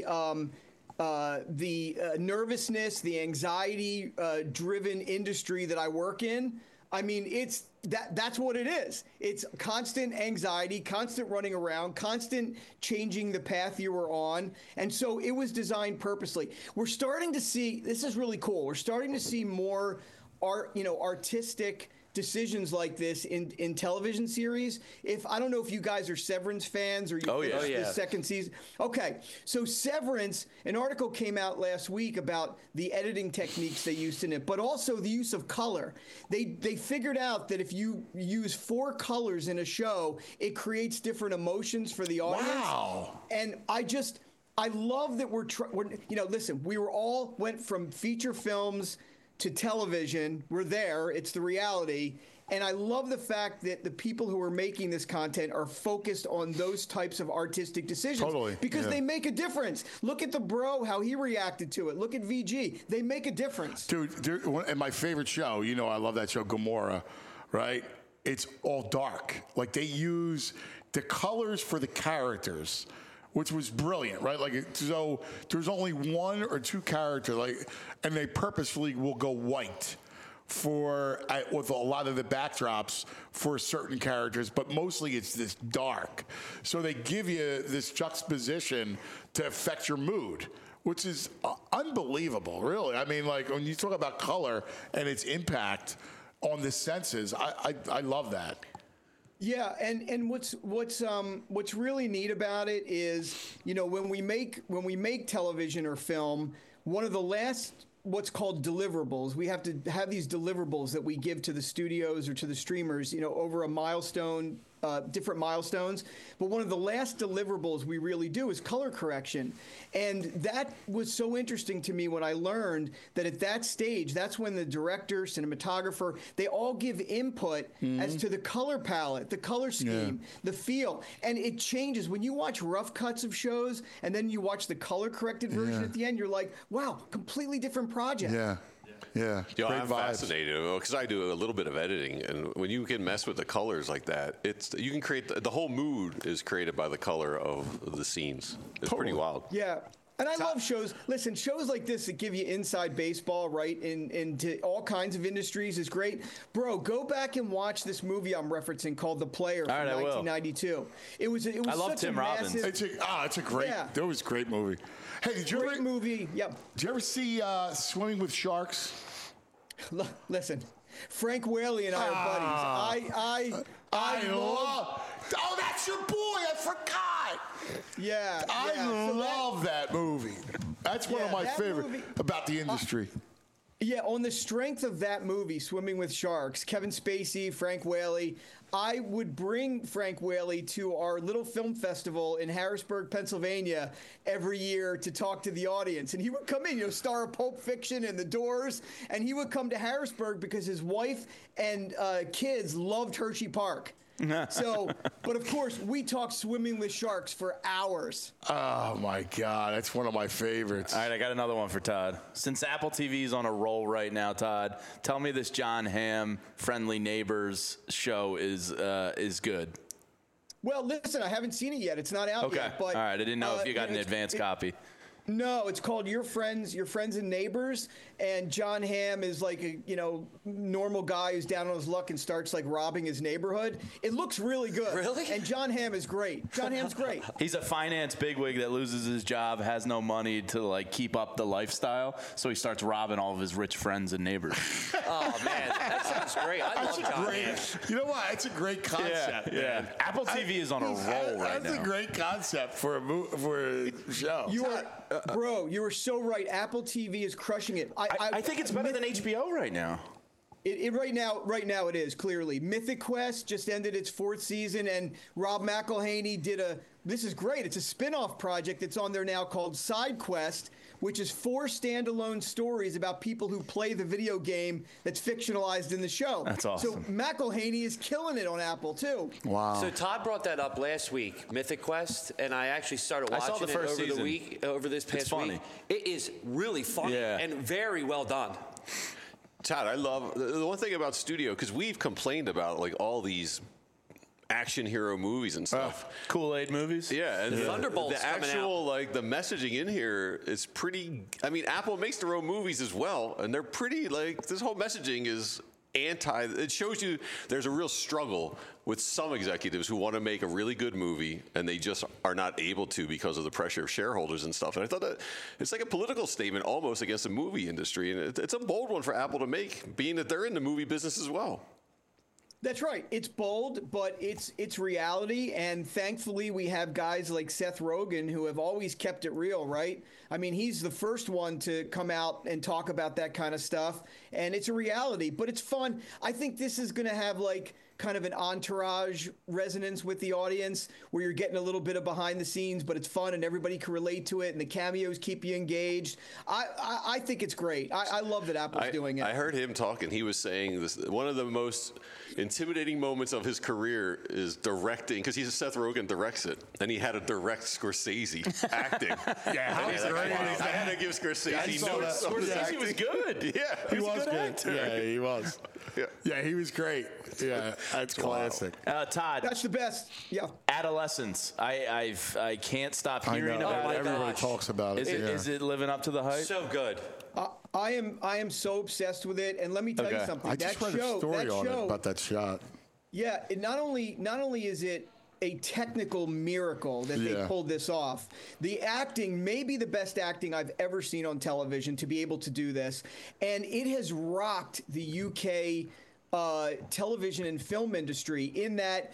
nervousness, the anxiety driven industry that I work in. I mean, that's what it is. It's constant anxiety, constant running around, constant changing the path you were on. And so it was designed purposely. We're starting to see, this is really cool, we're starting to see more artistic decisions like this in television series. I don't know if you guys are Severance fans or you finished the second season. Okay, so Severance, an article came out last week about the editing techniques they used in it, but also the use of color. They figured out that if you use 4 colors in a show, it creates different emotions for the audience. Wow. And I love that we're listen, we went from feature films to television. We're there. It's the reality. And I love the fact that the people who are making this content are focused on those types of artistic decisions. Totally. Because they make a difference. Look at the Bro, how he reacted to it. Look at VG. They make a difference. Dude, and my favorite show, I love that show, Gomorrah, right? It's all dark. Like, they use the colors for the characters, which was brilliant, right? Like, so there's only 1 or 2 characters, and they purposefully will go white with a lot of the backdrops for certain characters, but mostly it's this dark. So they give you this juxtaposition to affect your mood, which is unbelievable, really. I mean, like, when you talk about color and its impact on the senses, I love that. Yeah, and what's really neat about it is, when we make television or film, one of the last what's called deliverables, we have to have these deliverables that we give to the studios or to the streamers, over a milestone, different milestones. But one of the last deliverables we really do is color correction. And that was so interesting to me when I learned that at that stage, that's when the director, cinematographer, they all give input as to the color palette, the color scheme, the feel. And it changes. When you watch rough cuts of shows and then you watch the color corrected version at the end, you're like, wow, completely different project. Yeah. I'm fascinated because I do a little bit of editing, and when you can mess with the colors like that, you can create the whole mood is created by the color of the scenes. It's pretty wild. Yeah. And I love shows. Listen, shows like this that give you inside baseball, right, into all kinds of industries is great. Bro, go back and watch this movie I'm referencing called The Player from 1992. It was I love such Tim a Robbins. massive. It's a great. That was a great movie. Hey, did you great movie? Yep. Did you ever see Swimming with Sharks? Listen, Frank Whaley and I are buddies. I love. Oh, that's your boy. I forgot. Yeah. I love that movie. That's one of my favorite about the industry. Yeah, on the strength of that movie, Swimming with Sharks, Kevin Spacey, Frank Whaley, I would bring Frank Whaley to our little film festival in Harrisburg, Pennsylvania every year to talk to the audience. And he would come in, star of Pulp Fiction and The Doors, and he would come to Harrisburg because his wife and kids loved Hershey Park. So, but of course, we talk Swimming with Sharks for hours. Oh, my God. That's one of my favorites. All right, I got another one for Todd. Since Apple TV is on a roll right now, Todd, tell me this Jon Hamm Friendly Neighbors show is good. Well, listen, I haven't seen it yet. It's not out yet. But, all right, I didn't know if you got an advance copy. No, it's called Your Friends and Neighbors, and Jon Hamm is like a normal guy who's down on his luck and starts like robbing his neighborhood. It looks really good. Really? And Jon Hamm is great. Jon Hamm's great. He's a finance bigwig that loses his job, has no money to like keep up the lifestyle, so he starts robbing all of his rich friends and neighbors. Oh man, that sounds great. I love Jon Hamm. You know what? It's a great concept. Yeah. Apple TV is on a roll right now. That's a great concept for a show. You are. Bro, you were so right. Apple TV is crushing it. I think it's better than HBO right now. Right now it is, clearly. Mythic Quest just ended its 4th season, and Rob McElhaney did this is great. It's a spin-off project that's on there now called Side Quest, which is 4 standalone stories about people who play the video game that's fictionalized in the show. That's awesome. So McElhaney is killing it on Apple, too. Wow. So Todd brought that up last week, Mythic Quest, and I actually started watching I saw the first it season. over this past week. It is really funny and very well done. Todd, I love the one thing about studio, because we've complained about like all these action hero movies and stuff. Kool-Aid movies? Yeah, and Thunderbolt's the actual like the messaging in here is pretty. I mean, Apple makes their own movies as well, and they're pretty like this whole messaging is it shows you there's a real struggle with some executives who want to make a really good movie and they just are not able to because of the pressure of shareholders and stuff. And I thought that it's like a political statement almost against the movie industry. And it's a bold one for Apple to make, being that they're in the movie business as well. That's right. It's bold, but it's reality. And thankfully, we have guys like Seth Rogen who have always kept it real, right? I mean, he's the first one to come out and talk about that kind of stuff. And it's a reality, but it's fun. I think this is going to have like kind of an entourage resonance with the audience where you're getting a little bit of behind the scenes, but it's fun and everybody can relate to it and the cameos keep you engaged. I think it's great. I love that Apple's doing it. I heard him talking. He was saying this, one of the most intimidating moments of his career is directing, because he's a Seth Rogen directs it, and he had to direct Scorsese acting. Yeah, how is I had to give Scorsese notes. Scorsese was good. Yeah, he was good. Actor. Yeah, he was. Yeah, he was great. Yeah, that's classic. Todd, that's the best. Yeah. Adolescence. I can't stop hearing about it. Everybody talks about it. Is it living up to the hype? So good. I am so obsessed with it, and let me tell you something. I just read a story on it about that shot. Yeah, it not only is it a technical miracle that they pulled this off. The acting may be the best acting I've ever seen on television to be able to do this, and it has rocked the UK television and film industry in that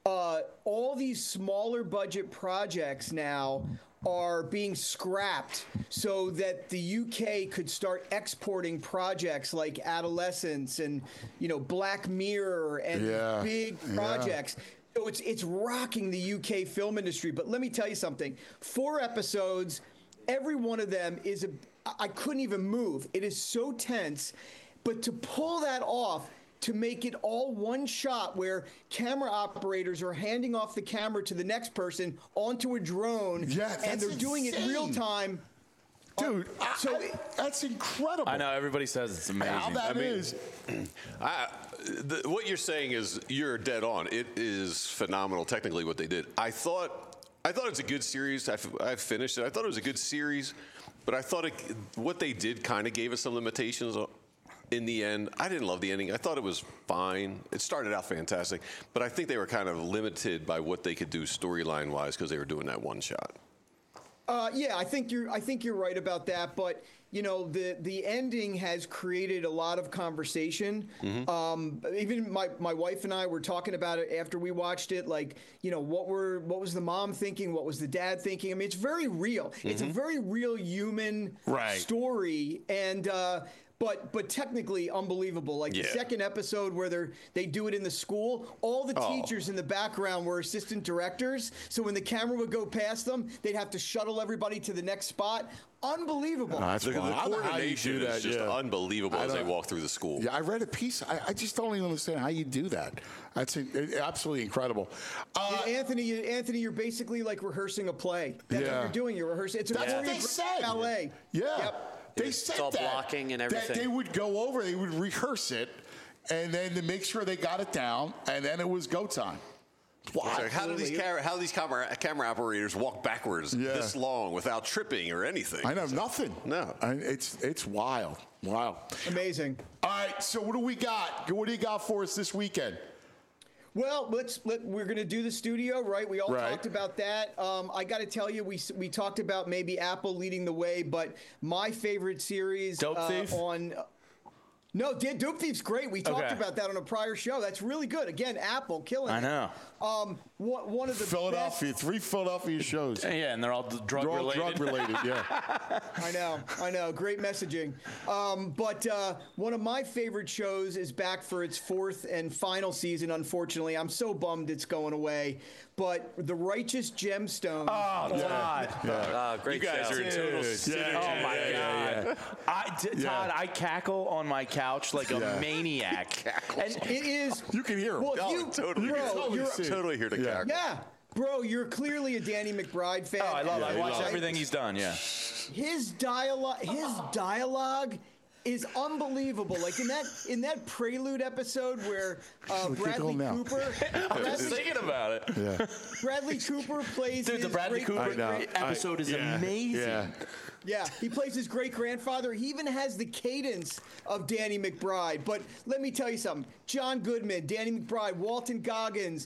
all these smaller budget projects now are being scrapped so that the UK could start exporting projects like Adolescence and, Black Mirror and big projects. So it's rocking the UK film industry. But let me tell you something. 4 episodes, every one of them is I couldn't even move. It is so tense. But to pull that off, to make it all one shot where camera operators are handing off the camera to the next person onto a drone, and they're doing it real time. Dude, that's incredible. I know, everybody says it's amazing. How that is. What you're saying is you're dead on. It is phenomenal technically what they did. I thought it's a good series. I finished it. I thought it was a good series, but I thought what they did kind of gave us some limitations in the end. I didn't love the ending. I thought it was fine. It started out fantastic, but I think they were kind of limited by what they could do storyline-wise because they were doing that one shot. Yeah, I think you're right about that. But the ending has created a lot of conversation. Mm-hmm. Even my wife and I were talking about it after we watched it. Like, what was the mom thinking? What was the dad thinking? I mean, it's very real. Mm-hmm. It's a very real human story, and. But technically unbelievable. Like the second episode where they do it in the school, all the teachers in the background were assistant directors. So when the camera would go past them, they'd have to shuttle everybody to the next spot. Unbelievable. The coordination is just unbelievable as they walk through the school. Yeah, I read a piece. I just don't even understand how you do that. That's absolutely incredible. Anthony, you're basically like rehearsing a play. That's what you're doing. You're rehearsing. It's a choreographed ballet. Yeah. Yep. They said it's all blocking and everything. That they would go over, they would rehearse it, and then to make sure they got it down, and then it was go time. Wow. Like, how do these camera operators walk backwards this long without tripping or anything? I know, nothing. No. It's wild. Wow. Amazing. All right, so what do we got? What do you got for us this weekend? Well, we're going to do the studio, right? We all talked about that. I got to tell you, we talked about maybe Apple leading the way, but my favorite series Dope Thief? No, Dope Thief's great. We talked about that on a prior show. That's really good. Again, Apple killing it. I know. One of the Philadelphia, 3 Philadelphia shows. Yeah, and they're all drug related. Yeah. I know. Great messaging. But one of my favorite shows is back for its 4th and final season, unfortunately. I'm so bummed it's going away. But The Righteous Gemstone. Oh, God. Great you guys show. are in total synergy. Oh, my God. Todd, I cackle on my couch like a maniac. And it is. You can hear him. Well, totally here to cackle. Yeah. Bro, you're clearly a Danny McBride fan. Oh, I watch everything he's done, His dialogue is unbelievable. Like in that Prelude episode where Bradley Cooper. I was thinking about it. Yeah. Bradley Cooper plays. Dude, the Bradley Cooper episode is amazing. Yeah, he plays his great-grandfather. He even has the cadence of Danny McBride. But let me tell you something. John Goodman, Danny McBride, Walton Goggins,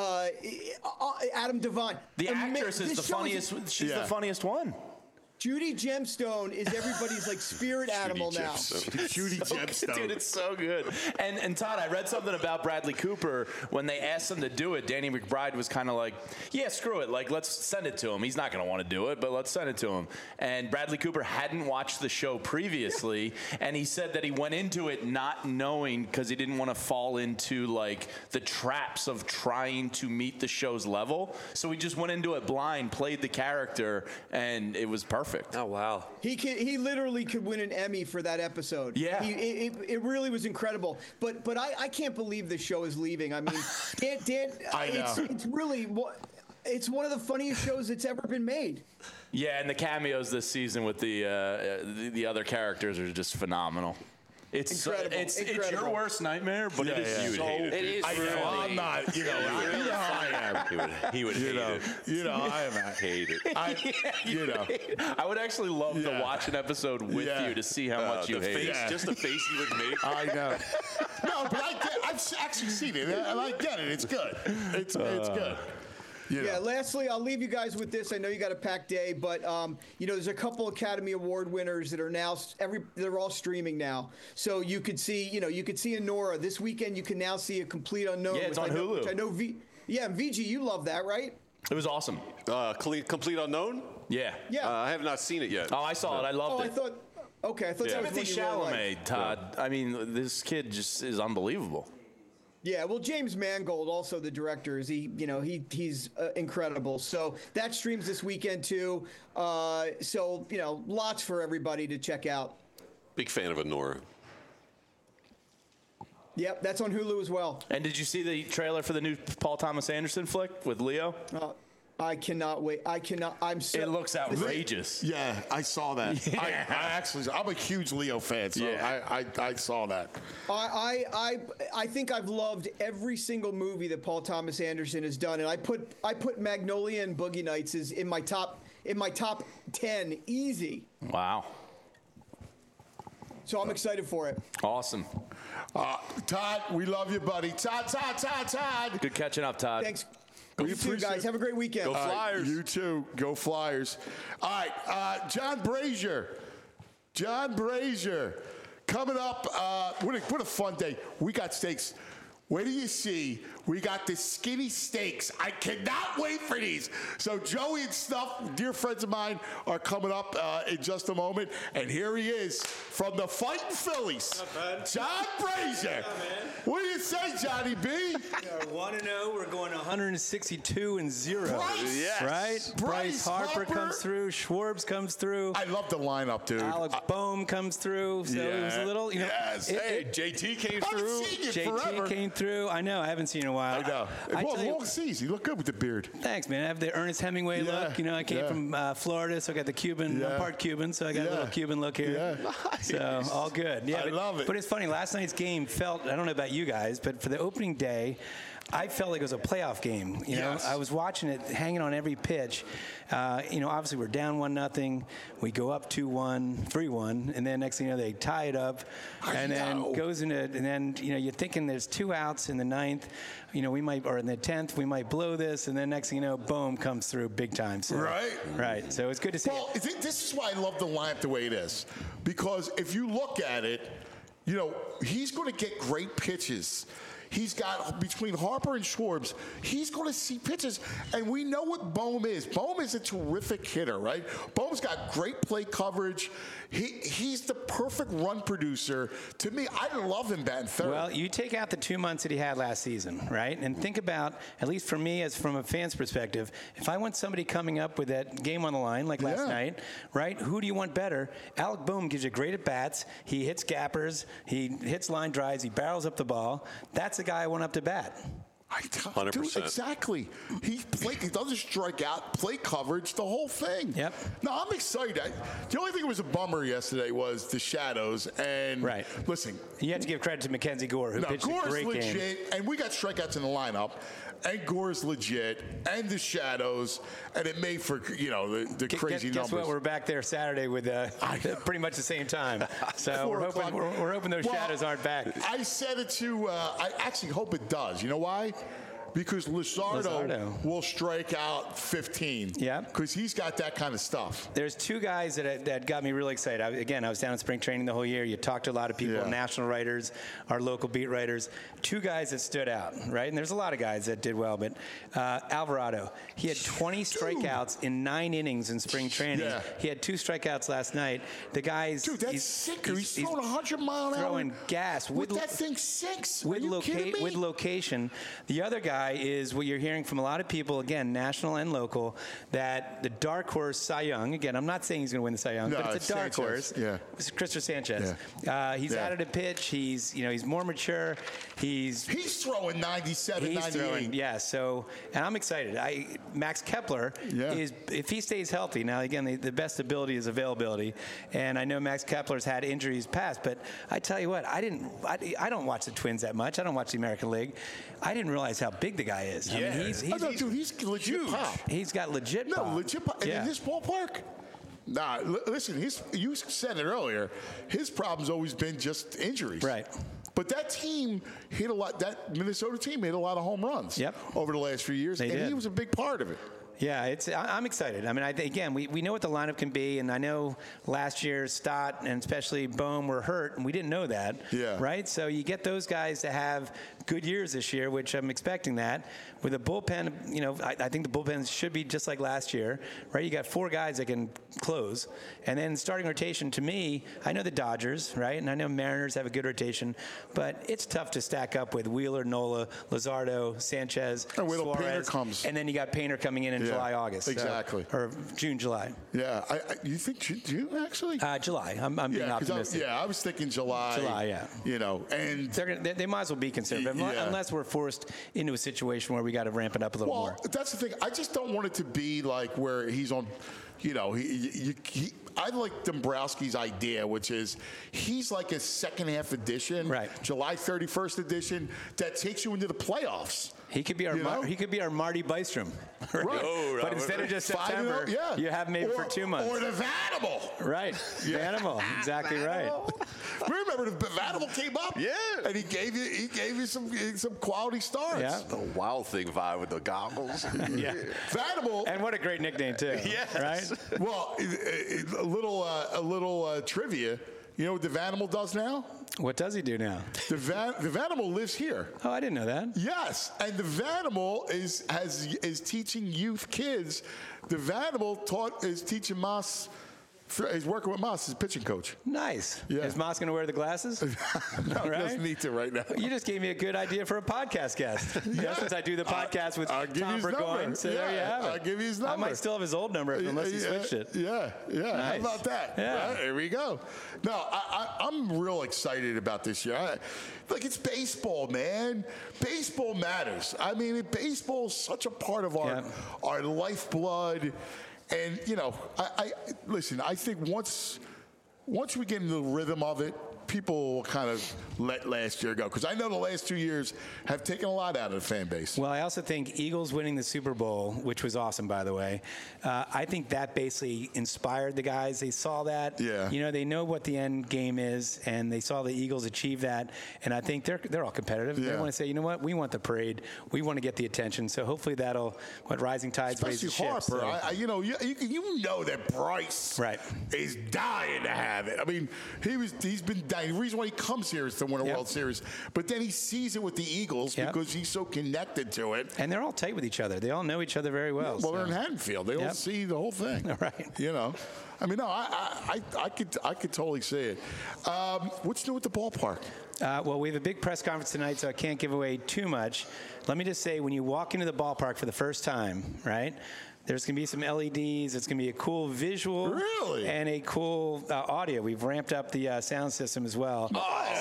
Adam Devine. The actress is the funniest. She's the funniest one. Judy Gemstone is everybody's like spirit animal now. Judy Gemstone. Dude, it's so good. And Todd, I read something about Bradley Cooper. When they asked him to do it, Danny McBride was kind of like, yeah, screw it. Like, let's send it to him. He's not going to want to do it, but let's send it to him. And Bradley Cooper hadn't watched the show previously, and he said that he went into it not knowing because he didn't want to fall into, like, the traps of trying to meet the show's level. So he just went into it blind, played the character, and it was perfect. Oh, wow. He literally could win an Emmy for that episode. Yeah. It really was incredible. But I can't believe the show is leaving. I mean, Dan I know. It's really it's one of the funniest shows that's ever been made. Yeah, and the cameos this season with the other characters are just phenomenal. It's incredible. It's your worst nightmare, but it is so. It is I know, really. I'm not, you know how I am. He would hate it. You know, I am. Hate it. I would actually love to watch an episode with you to see how much you hate it. Just the face you would make. I know. No, but I've actually seen it, and I get it. It's good. It's good. Yeah, lastly, I'll leave you guys with this. I know you got a packed day, but there's a couple Academy Award winners that are now they're all streaming now. So you could see, Anora this weekend. You can now see A Complete Unknown. Yeah, it's on Hulu. Which I know VG, you love that, right? It was awesome. Complete Unknown? Yeah. Yeah. I have not seen it yet. Oh, I saw it. I loved it. I thought that was Timothy one you really liked. Chalamet, Todd. I mean, this kid just is unbelievable. Yeah, well, James Mangold, also the director, he's incredible. So that streams this weekend too. So lots for everybody to check out. Big fan of Anora. Yep, that's on Hulu as well. And did you see the trailer for the new Paul Thomas Anderson flick with Leo? I cannot wait. It looks outrageous. Yeah, I saw that. Yeah. I'm a huge Leo fan, so I saw that. I think I've loved every single movie that Paul Thomas Anderson has done, and I put Magnolia and Boogie Nights in my top 10 easy. Wow. So I'm excited for it. Awesome. Todd, we love you, buddy. Todd. Good catching up, Todd. Thanks. You too, guys. Have a great weekend. Go Flyers. You too. Go Flyers. All right, John Brazier. Coming up, what a fun day. We got steaks. Where do you see? We got the skinny steaks. I cannot wait for these. So Joey and Stuff, dear friends of mine, are coming up in just a moment. And here he is from the Fighting Phillies, John Brazier. What do you say, Johnny B? We are 1-0. We're going 162-0. Bryce, yes. Right? Bryce Harper comes through. Schwartz comes through. I love the lineup, dude. Alec Boehm comes through. So it was a little, Yes. Hey, JT came through. JT came through. I know. I haven't seen in a while. I know. Long season. You look good with the beard. Thanks, man. I have the Ernest Hemingway look. I came from Florida, so I got the Cuban. I'm part Cuban, so I got a little Cuban look here. Yeah. So all good. Yeah, I love it. But it's funny. Last night's game felt. I don't know about you guys, but for the opening day, I felt like it was a playoff game. Yes. I was watching it, hanging on every pitch. Obviously we're down 1-0. We go up 2-1, 3-1, and then next thing you know they tie it up, then goes into. And then you're thinking there's 2 outs in the 9th. We might, or in the 10th, we might blow this, and then next thing you know, boom, comes through big time. So, right. So it's good to see. Well, this is why I love the lineup the way it is, because if you look at it, he's going to get great pitches. He's got, between Harper and Schwartz, he's going to see pitches. And we know what Boehm is. Boehm is a terrific hitter, right? Boehm's got great plate coverage. He's the perfect run producer. To me, I love him batting third. Well, you take out the 2 months that he had last season, right? And think about, at least for me, as from a fan's perspective, if I want somebody coming up with that game on the line, like last night, right? Who do you want better? Alec Boehm gives you great at-bats. He hits gappers. He hits line drives. He barrels up the ball. That's the guy I want up to bat. Dude, exactly. He doesn't strike out, play coverage, the whole thing. Yep. No, I'm excited. The only thing that was a bummer yesterday was the shadows. And listen, you have to give credit to Mackenzie Gore, who pitched a great legit, game. And we got strikeouts in the lineup. And Gore's legit, and the shadows, and it made for the crazy numbers. Guess what? We're back there Saturday with pretty much the same time. So we're hoping those shadows aren't back. I said it to. I actually hope it does. You know why? Because Luzardo will strike out 15. Yeah. Because he's got that kind of stuff. There's two guys that got me really excited. I was down at spring training the whole year. You talked to a lot of people, national writers, our local beat writers. Two guys that stood out, right? And there's a lot of guys that did well, but Alvarado, he had 20 strikeouts in 9 innings in spring training. Yeah. He had 2 strikeouts last night. The guy's... Dude, that's sick. He's throwing 100-mile-an-hour. Throwing gas. With that thing 6. With location. The other guy is what you're hearing from a lot of people, again, national and local, that the dark horse Cy Young, again, I'm not saying he's going to win the Cy Young, but it's a dark horse. Yeah. It's Christopher Sanchez. Yeah. He's added a pitch. He's more mature. He's throwing 97, 98. So, and I'm excited. Max Kepler is, if he stays healthy, now again, the best ability is availability. And I know Max Kepler's had injuries past, but I tell you what, I don't watch the Twins that much. I don't watch the American League. I didn't realize how big the guy is. Yeah. I mean, he's legit huge. Pop. He's got legit pop. No, legit pop. And in this ballpark, listen, you said it earlier, his problem's always been just injuries. Right. But that team hit a lot. That Minnesota team hit a lot of home runs over the last few years, and he was a big part of it. Yeah, I'm excited. I mean, we know what the lineup can be, and I know last year Stott and especially Bohm were hurt, and we didn't know that. Yeah. Right? So you get those guys to have good years this year, which I'm expecting that. With a bullpen, I think the bullpen should be just like last year, right? You got 4 guys that can close. And then starting rotation, to me, I know the Dodgers, right? And I know Mariners have a good rotation, but it's tough to stack up with Wheeler, Nola, Luzardo, Sanchez, Suarez. Painter comes. And then you got Painter coming in July, August. Exactly. Or June, July. Yeah. You think June, actually? July. I'm being optimistic. I was thinking July. July, yeah. And they might as well be conservative, unless we're forced into a situation where we got to ramp it up a little more. Well, that's the thing. I just don't want it to be like where he's on, I like Dombrowski's idea, which is he's like a second half edition, July 31st edition that takes you into the playoffs. He could be our Marty Bystrom, right? But instead of just September, you have him maybe for 2 months. Or the Vanimal, right? Vanimal, exactly right. Remember the Vanimal came up, and he gave you some quality starts. Yeah, the Wild Thing vibe with the goggles. Vanimal, and what a great nickname too. Right. Well, a little trivia. You know what the Vanimal does now? What does he do now? The Vanimal lives here. Oh, I didn't know that. Yes, and the Vanimal is teaching youth kids. The Vanimal is teaching Moss. He's working with Moss, his pitching coach. Nice. Yeah. Is Moss going to wear the glasses? No, he doesn't need to right now. You just gave me a good idea for a podcast guest. Since I do the podcast with Tom Burgoyne. So there you have it. I'll give you his number. I might still have his old number unless he switched it. Yeah. Nice. How about that? Yeah. Right, here we go. No, I'm real excited about this year. It's baseball, man. Baseball matters. I mean, baseball is such a part of our lifeblood. And, listen, I think once we get into the rhythm of it, people will kind of let last year go. Because I know the last 2 years have taken a lot out of the fan base. Well, I also think Eagles winning the Super Bowl, which was awesome, by the way, I think that basically inspired the guys. They saw that. Yeah. They know what the end game is, and they saw the Eagles achieve that. And I think they're all competitive. Yeah. They want to say, you know what, we want the parade. We want to get the attention. So hopefully rising tides raise the ship. Harper. So. You know that Bryce is dying to have it. I mean, he's been dying. The reason why he comes here is to win a World Series. But then he sees it with the Eagles because he's so connected to it. And they're all tight with each other. They all know each other very well. Well, they're in Haddonfield. They all see the whole thing. Right. I mean, no, I could totally see it. What's new with the ballpark? Well, we have a big press conference tonight, so I can't give away too much. Let me just say, when you walk into the ballpark for the first time, right, there's going to be some LEDs. It's going to be a cool visual. Really? And a cool audio. We've ramped up the sound system as well. Oh, so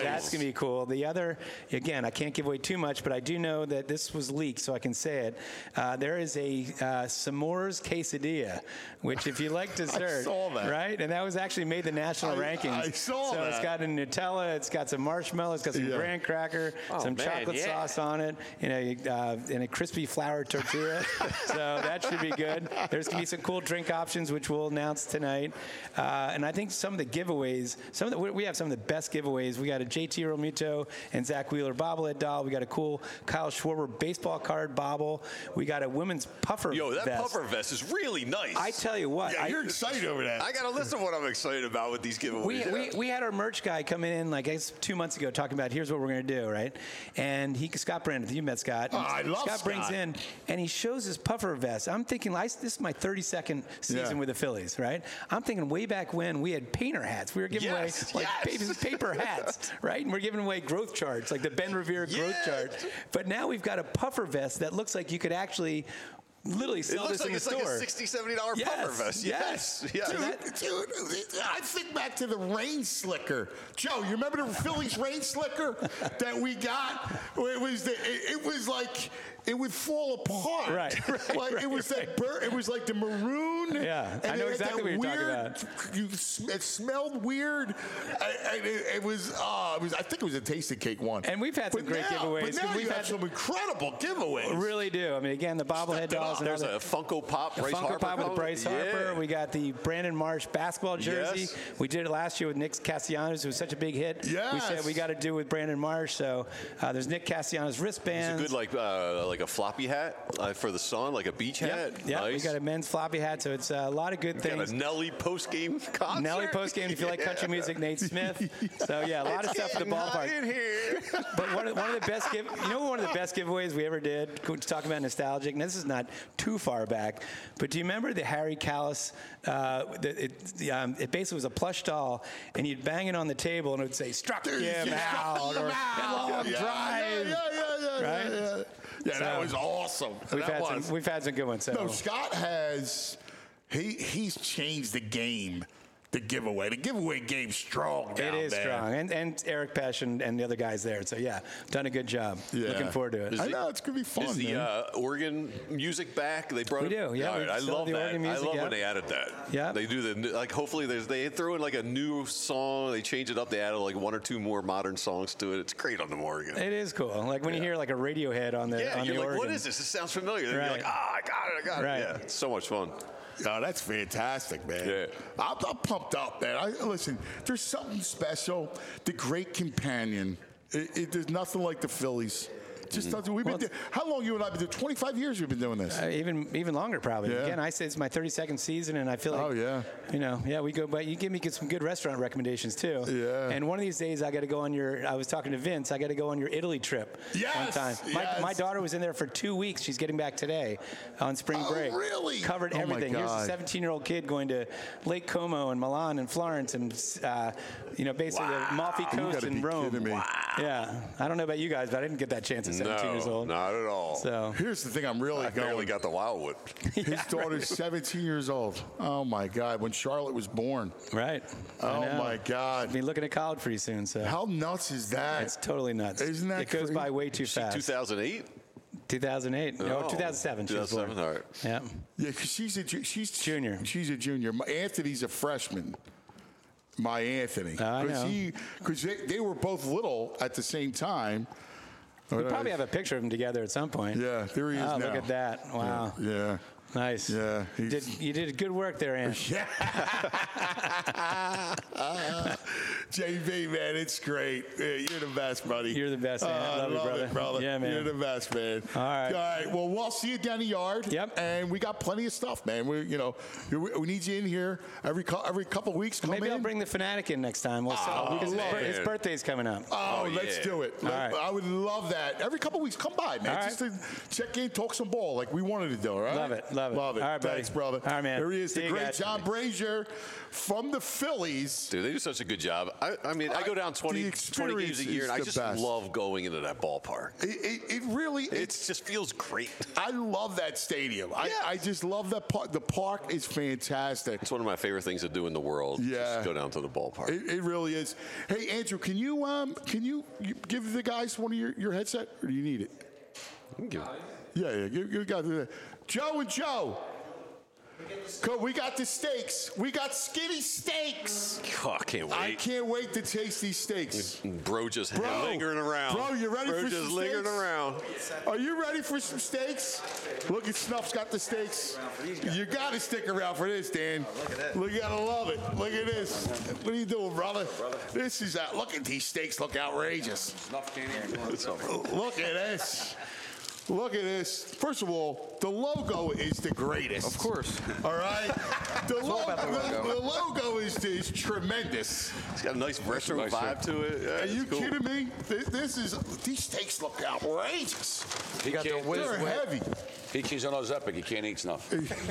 That's going to be cool. The other, again, I can't give away too much, but I do know that this was leaked, so I can say it. There is a s'mores quesadilla, which if you like dessert, I saw that. right? And that was actually made the national rankings. I saw so that. It's got a Nutella, it's got some marshmallow, it's got some graham cracker, some chocolate sauce on it, and a crispy flour tortilla. So that should be good. There's going to be some cool drink options, which we'll announce tonight. And I think some of the giveaways, we have some of the best giveaways. We got a JT Realmuto and Zach Wheeler bobblehead doll. We got a cool Kyle Schwarber baseball card bobble. We got a women's puffer vest. Yo, that puffer vest is really nice. I tell you what. Yeah, you're excited over that. I got a list of what I'm excited about with these giveaways. We had our merch guy come in, like, I guess 2 months ago, talking about here's what we're going to do, right? And Scott Brandon, you met Scott. Oh, I love Scott. brings in, and he shows his puffer vest. I'm thinking, this is my 32nd season with the Phillies, right? I'm thinking way back when we had painter hats. We were giving away paper hats, right? And we're giving away growth charts, like the Ben Revere growth chart. But now we've got a puffer vest that looks like you could actually literally sell this in the store. It looks like a $60, $70 puffer vest. Yes. Dude, I think back to the rain slicker. Joe, you remember the Phillies rain slicker that we got? It was like it would fall apart. Right. Like it was that it was like the maroon. Yeah, and I know exactly what you're talking about. It smelled weird. It was. I think it was a tasty cake one. And we've had some great giveaways. But now we've had some incredible giveaways. Really do. I mean, again, the bobblehead dolls. There's a Funko Pop. Bryce Funko Harper Pop with Bryce Harper. We got the Brandon Marsh basketball jersey. Yes. We did it last year with Nick Castellanos, who was such a big hit. Yes. We said we got to do with Brandon Marsh. So there's Nick Castellanos wristbands. It's a good like a floppy hat for the sun, like a beach hat. Yeah, nice. We got a men's floppy hat. So it's a lot of good things. Got a Nelly post game concert. Nelly post game if you like country music. Nate Smith. So yeah, a lot of stuff at the ballpark. In here. But one of the best one of the best giveaways we ever did. Talking about nostalgic, and this is not too far back, but do you remember the Harry Kalas? It basically was a plush doll, and you'd bang it on the table, and it would say "Struck him out" or "Long drive." Right? Yeah, that was awesome. We've had some good ones. So. No, Scott has he's changed the game. The giveaway game's strong now, It is strong. And Eric Pesh and the other guys there. So, yeah, done a good job. Yeah. Looking forward to it. I know, it's going to be fun, Is the Oregon music back? They brought We do, yeah. All right, I love that. I love when they added that. Yeah. They do hopefully they throw in like a new song. They change it up. They added like one or two more modern songs to it. It's great on the Oregon. It is cool. Like when you hear like a Radiohead on the you're like, Oregon. what is this? This sounds familiar. You're like, I got it. Right. Yeah, it's so much fun. Oh, that's fantastic, man. Yeah. I'm pumped up, man. Listen, there's something special. The Great Companion. There's nothing like the Phillies. Just doesn't. How long you and I been doing? 25 years we've been doing this. Even longer, probably. Yeah. Again, I say it's my 32nd season, and I feel like, we go. But you give me some good restaurant recommendations too. Yeah. And one of these days, I got to go on your. I was talking to Vince. I got to go on your Italy trip. Yes. One time. My daughter was in there for 2 weeks. She's getting back today on spring break. Really? Covered everything. Here's a 17-year-old kid going to Lake Como and Milan and Florence and basically the Amalfi Coast in Rome. Wow. Yeah. I don't know about you guys, but I didn't get that chance at 17 years old. Not at all. So here's the thing: I barely got the Wildwood. His daughter's 17 years old. Oh my God! When Charlotte was born. Right. Oh my God! I'll be looking at college pretty soon. So how nuts is that? It's totally nuts. Isn't that? It goes by way too fast. 2008. 2008. No, 2007. 2007. All right. Yeah. Yeah, because she's junior. She's a junior. Anthony's a freshman. My Anthony. I know. Because they were both little at the same time. We probably have a picture of them together at some point. Yeah, there he is now. Look at that. Wow. Yeah. Nice. Yeah. You did good work there, Ant. Yeah. JB, man, it's great. You're the best, buddy. You're the best, man. I love you, brother. Yeah, man. You're the best, man. All right. Well, we'll see you down the yard. Yep. And we got plenty of stuff, man. We need you in here every couple of weeks. Maybe I'll bring the Fanatic in next time. Because his birthday's coming up. Let's do it. All right. I would love that. Every couple of weeks, come by, man. All right. Just to check in, talk some ball like we wanted to do, all right? Love it. Love it. All right, buddy. Thanks, brother. All right, man. There he is, See the you great guys. John Brazier from the Phillies. Dude, they do such a good job. I mean, I go down 20 games a year, and I just love going into that ballpark. It really it just feels great. I love that stadium. I just love that park. The park is fantastic. It's one of my favorite things to do in the world. Yeah, just go down to the ballpark. It really is. Hey, Andrew, can you give the guys one of your headset, or do you need it? Yeah. You got it. Joe and Joe. We got the steaks. We got skinny steaks. Oh, I can't wait. I can't wait to taste these steaks. Bro just lingering around. Bro, you ready for some steaks? Lingering around. Are you ready for some steaks? Look at Snuff's got the steaks. You got to stick around for this, Dan. Oh, look at that. Look, you got to love it. Look at this. What are you doing, brother? This is look at these steaks. Look outrageous. Snuff candy. Look at this. Look at this. First of all, the logo is the greatest. Of course. All right? The logo. logo is tremendous. It's got a nice retro vibe to it. Yeah, Are you kidding me? These steaks look outrageous. They're heavy. He's on those epic. He can't eat snuff.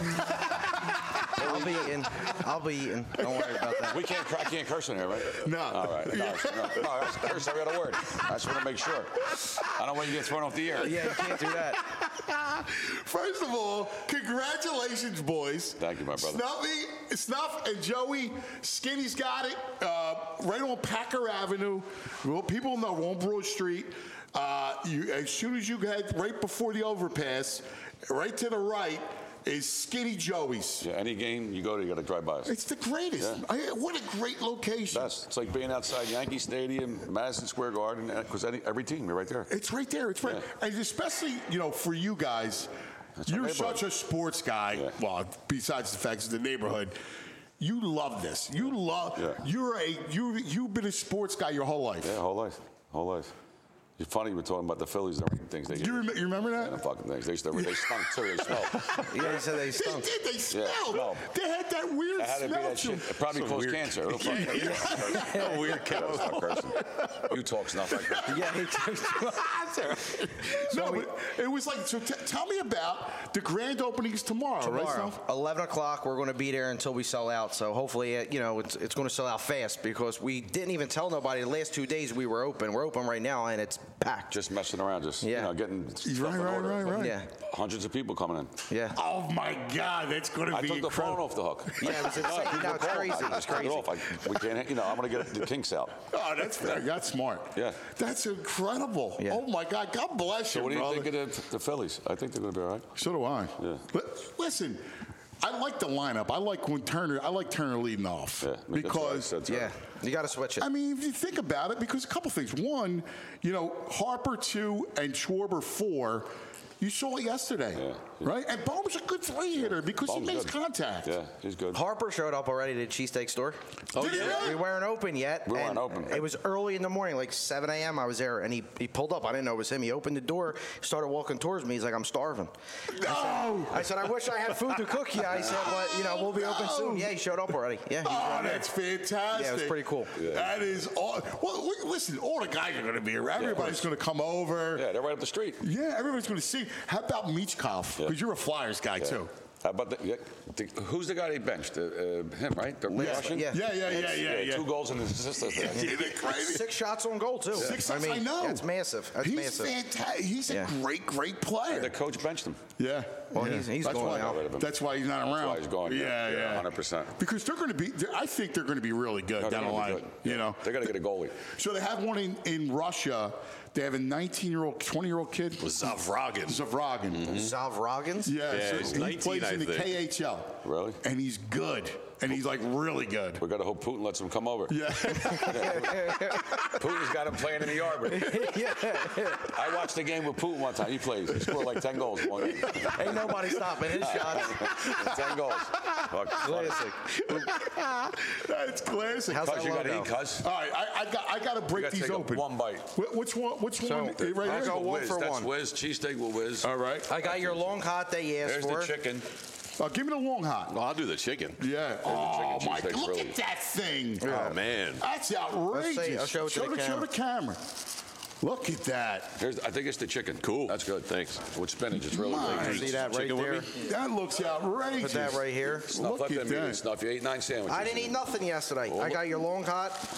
I'll be eating. Don't worry about that. I can't curse in here, right? No. All right. No, that's curse every other word. I just want to make sure. I don't want you to get thrown off the air. Yeah, you can't do that. First of all, congratulations, boys. Thank you, my brother. Snuff and Joey. Skinny's got it. Right on Packer Avenue. Well, people know on Broad Street. As soon as you head right before the overpass, right to the right is Skinny Joey's. Yeah, any game you go to, you got to drive by us. It's the greatest. Yeah. What a great location. It's like being outside Yankee Stadium, Madison Square Garden, because every team, you're right there. It's right there. It's right. Yeah. And especially, for you guys, you're such a sports guy. Yeah. Well, besides the fact it's the neighborhood. You love this. You've been a sports guy your whole life. Yeah, whole life. It's funny you were talking about the Phillies and things. They you remember that? Yeah, fucking things. They stunk too. They smelled. Yeah, he said they stunk. They did. They smelled. Yeah, they had that weird had smell. To be that shit. It probably caused cancer. Yeah. Weird cat. Stop cursing. You talk snuff like that. Yeah, he talks. No, but it was like. So tell me about the grand openings tomorrow. Right, 11 o'clock. We're going to be there until we sell out. So hopefully, it's going to sell out fast because we didn't even tell nobody the last 2 days we were open. We're open right now and it's packed. Just messing around, getting stuff in order. Right. Yeah. Hundreds of people coming in. Yeah. Oh my God, that's going to be incredible. I took the phone off the hook. Yeah, it was insane. No, it's crazy. It's crazy. We can't. I'm going to get the kinks out. Oh, that's smart. Yeah. That's incredible. Yeah. Oh my God, God bless you, So what do you brother. think of the Phillies? I think they're going to be all right. So do I. Yeah. Listen. I like the lineup. I like Turner leading off because you got to switch it. I mean, if you think about it, because a couple things. One, Harper 2 and Schwarber 4. You saw it yesterday, right? And Bohm's a good three-hitter because he makes contact. Yeah, he's good. Harper showed up already to the cheesesteak store. Oh, yeah? We weren't open yet. We weren't open. It was early in the morning, like 7 a.m. I was there, and he pulled up. I didn't know it was him. He opened the door, started walking towards me. He's like, I'm starving. No! I said, I wish I had food to cook you. I said, but, we'll be open soon. Yeah, he showed up already. Yeah. That's fantastic. Yeah, it was pretty cool. Yeah. That is all. Well, listen, all the guys are going to be around. Everybody's going to come over. Yeah, they're right up the street. Yeah, everybody's going to see. How about Michkov? Because you're a Flyers guy, too. How about who's the guy they benched? Him, right? The Russian? Yeah. 2 goals in his assist. Crazy. 6 shots on goal, too. 6 shots, I know. That's massive. He's fantastic. He's a great player. The coach benched him. Yeah. Well, he's going now. That's why he's not around. That's why he's gone. Yeah, 100%. Because they're going to be. I think they're going to be really good down the line. They're going to get a goalie. So they have one in Russia. They have a 19-year-old, 20-year-old kid. Zavragin. Mm-hmm. Zavragins? Yeah, so he's he 19, plays in the KHL. Really? And he's good. And he's like really good. We got to hope Putin lets him come over. Yeah. Putin's got him playing in the Arbor. I watched the game with Putin one time. He plays. He scored like 10 goals in one game. Ain't nobody stopping his shots. 10 goals. Classic. That's classic. How's Cuz, you got to eat, cuz. All right, I got to break these open. One bite. Which one? Right here? I'll go one for That's one. Whiz. Cheesesteak with Whiz. All right. I got your long hot that you asked There's for. the chicken. Give me the long hot. No, I'll do the chicken. Yeah. Oh, my God. Look really. at that thing. Oh, man. That's outrageous. I'll show it to the camera. Show the camera. Look at that. I think it's the chicken. Cool. That's good. Thanks. With spinach, it's really My. good. See that right there? That looks outrageous. Put that right here. Snuff, Look let at them that. eat it. Snuff, you ate 9 sandwiches. I didn't eat nothing yesterday. I got your long hot.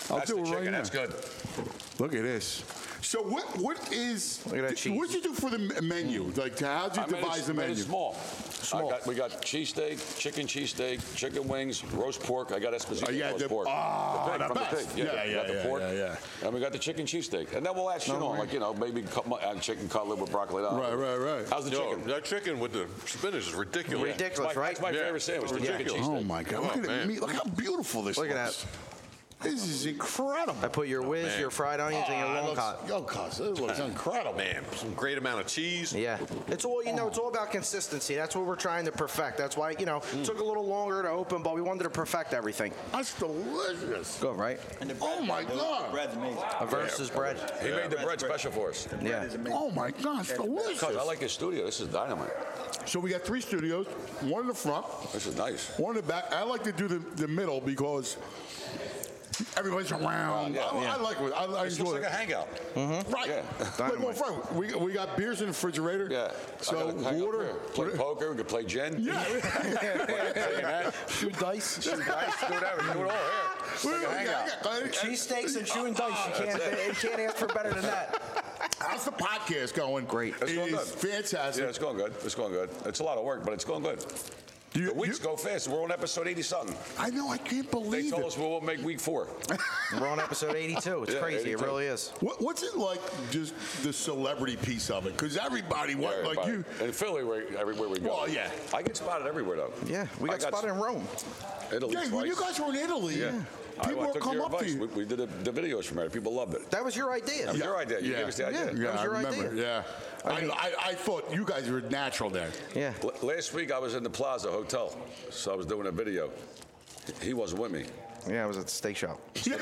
I'll That's do the it right chicken. now. That's good. Look at this. So what is? Look at that cheese. What did you do for the menu? Like, how'd you devise the made menu? it small. We got cheesesteak, chicken cheesesteak, chicken wings, roast pork. I got Esposito roast pork. Oh, the pig, from the pig. Yeah, we got the pork. And we got the chicken cheesesteak. And then we'll add shit on, like, maybe chicken cutlet with broccoli. Right. How's the chicken? That chicken with the spinach is ridiculous. Ridiculous, right? That's my favorite sandwich, the chicken cheesesteak. Oh, my God. Look at the meat. Look how beautiful this Look at looks. that. This is incredible. I put your whiz, your fried onions, and your long cut. This looks incredible. Man, some great amount of cheese. Yeah. It's all, it's all about consistency. That's what we're trying to perfect. That's why, it took a little longer to open, but we wanted to perfect everything. That's delicious. Good, right? Oh, my God. Bread's amazing. A versus bread. He made the bread special for us. Yeah. Oh, my gosh, delicious. I like his studio. This is dynamite. So we got 3 studios, one in the front. This is nice. One in the back. I like to do the middle because everybody's around. I like it. I This enjoy looks like it. a hangout. Right. Yeah. Look, well, Frank, we got beers in the refrigerator. Yeah. So water. Play poker. We could play gin. Yeah. Shoot dice. Do whatever. Do it all here. Like a hangout. Cheesesteaks and chewing dice. You can't ask for better than that. How's the podcast going? Great. It's going good. Fantastic. Yeah, it's going good. It's going good. It's a lot of work, but it's going good. The weeks go fast. We're on episode 80-something. I know. I can't believe They told it. us we won't make week 4. We're on episode 82. It's crazy. 82. It really is. What's it like, just the celebrity piece of it? Because everybody, like you. In Philly, everywhere we go. Well, yeah. I get spotted everywhere, though. Yeah, we got spotted in Rome. Italy Yeah, when you guys were in Italy, people I would took come your up to advice. you. We did the videos from there. People loved it. That was your idea. That was your idea. You gave us the idea. Yeah, That was your I remember. idea. Yeah. I thought you guys were natural there. Yeah. Last week, I was in the Plaza Hotel, so I was doing a video. He wasn't with me. Yeah, I was at the steak shop.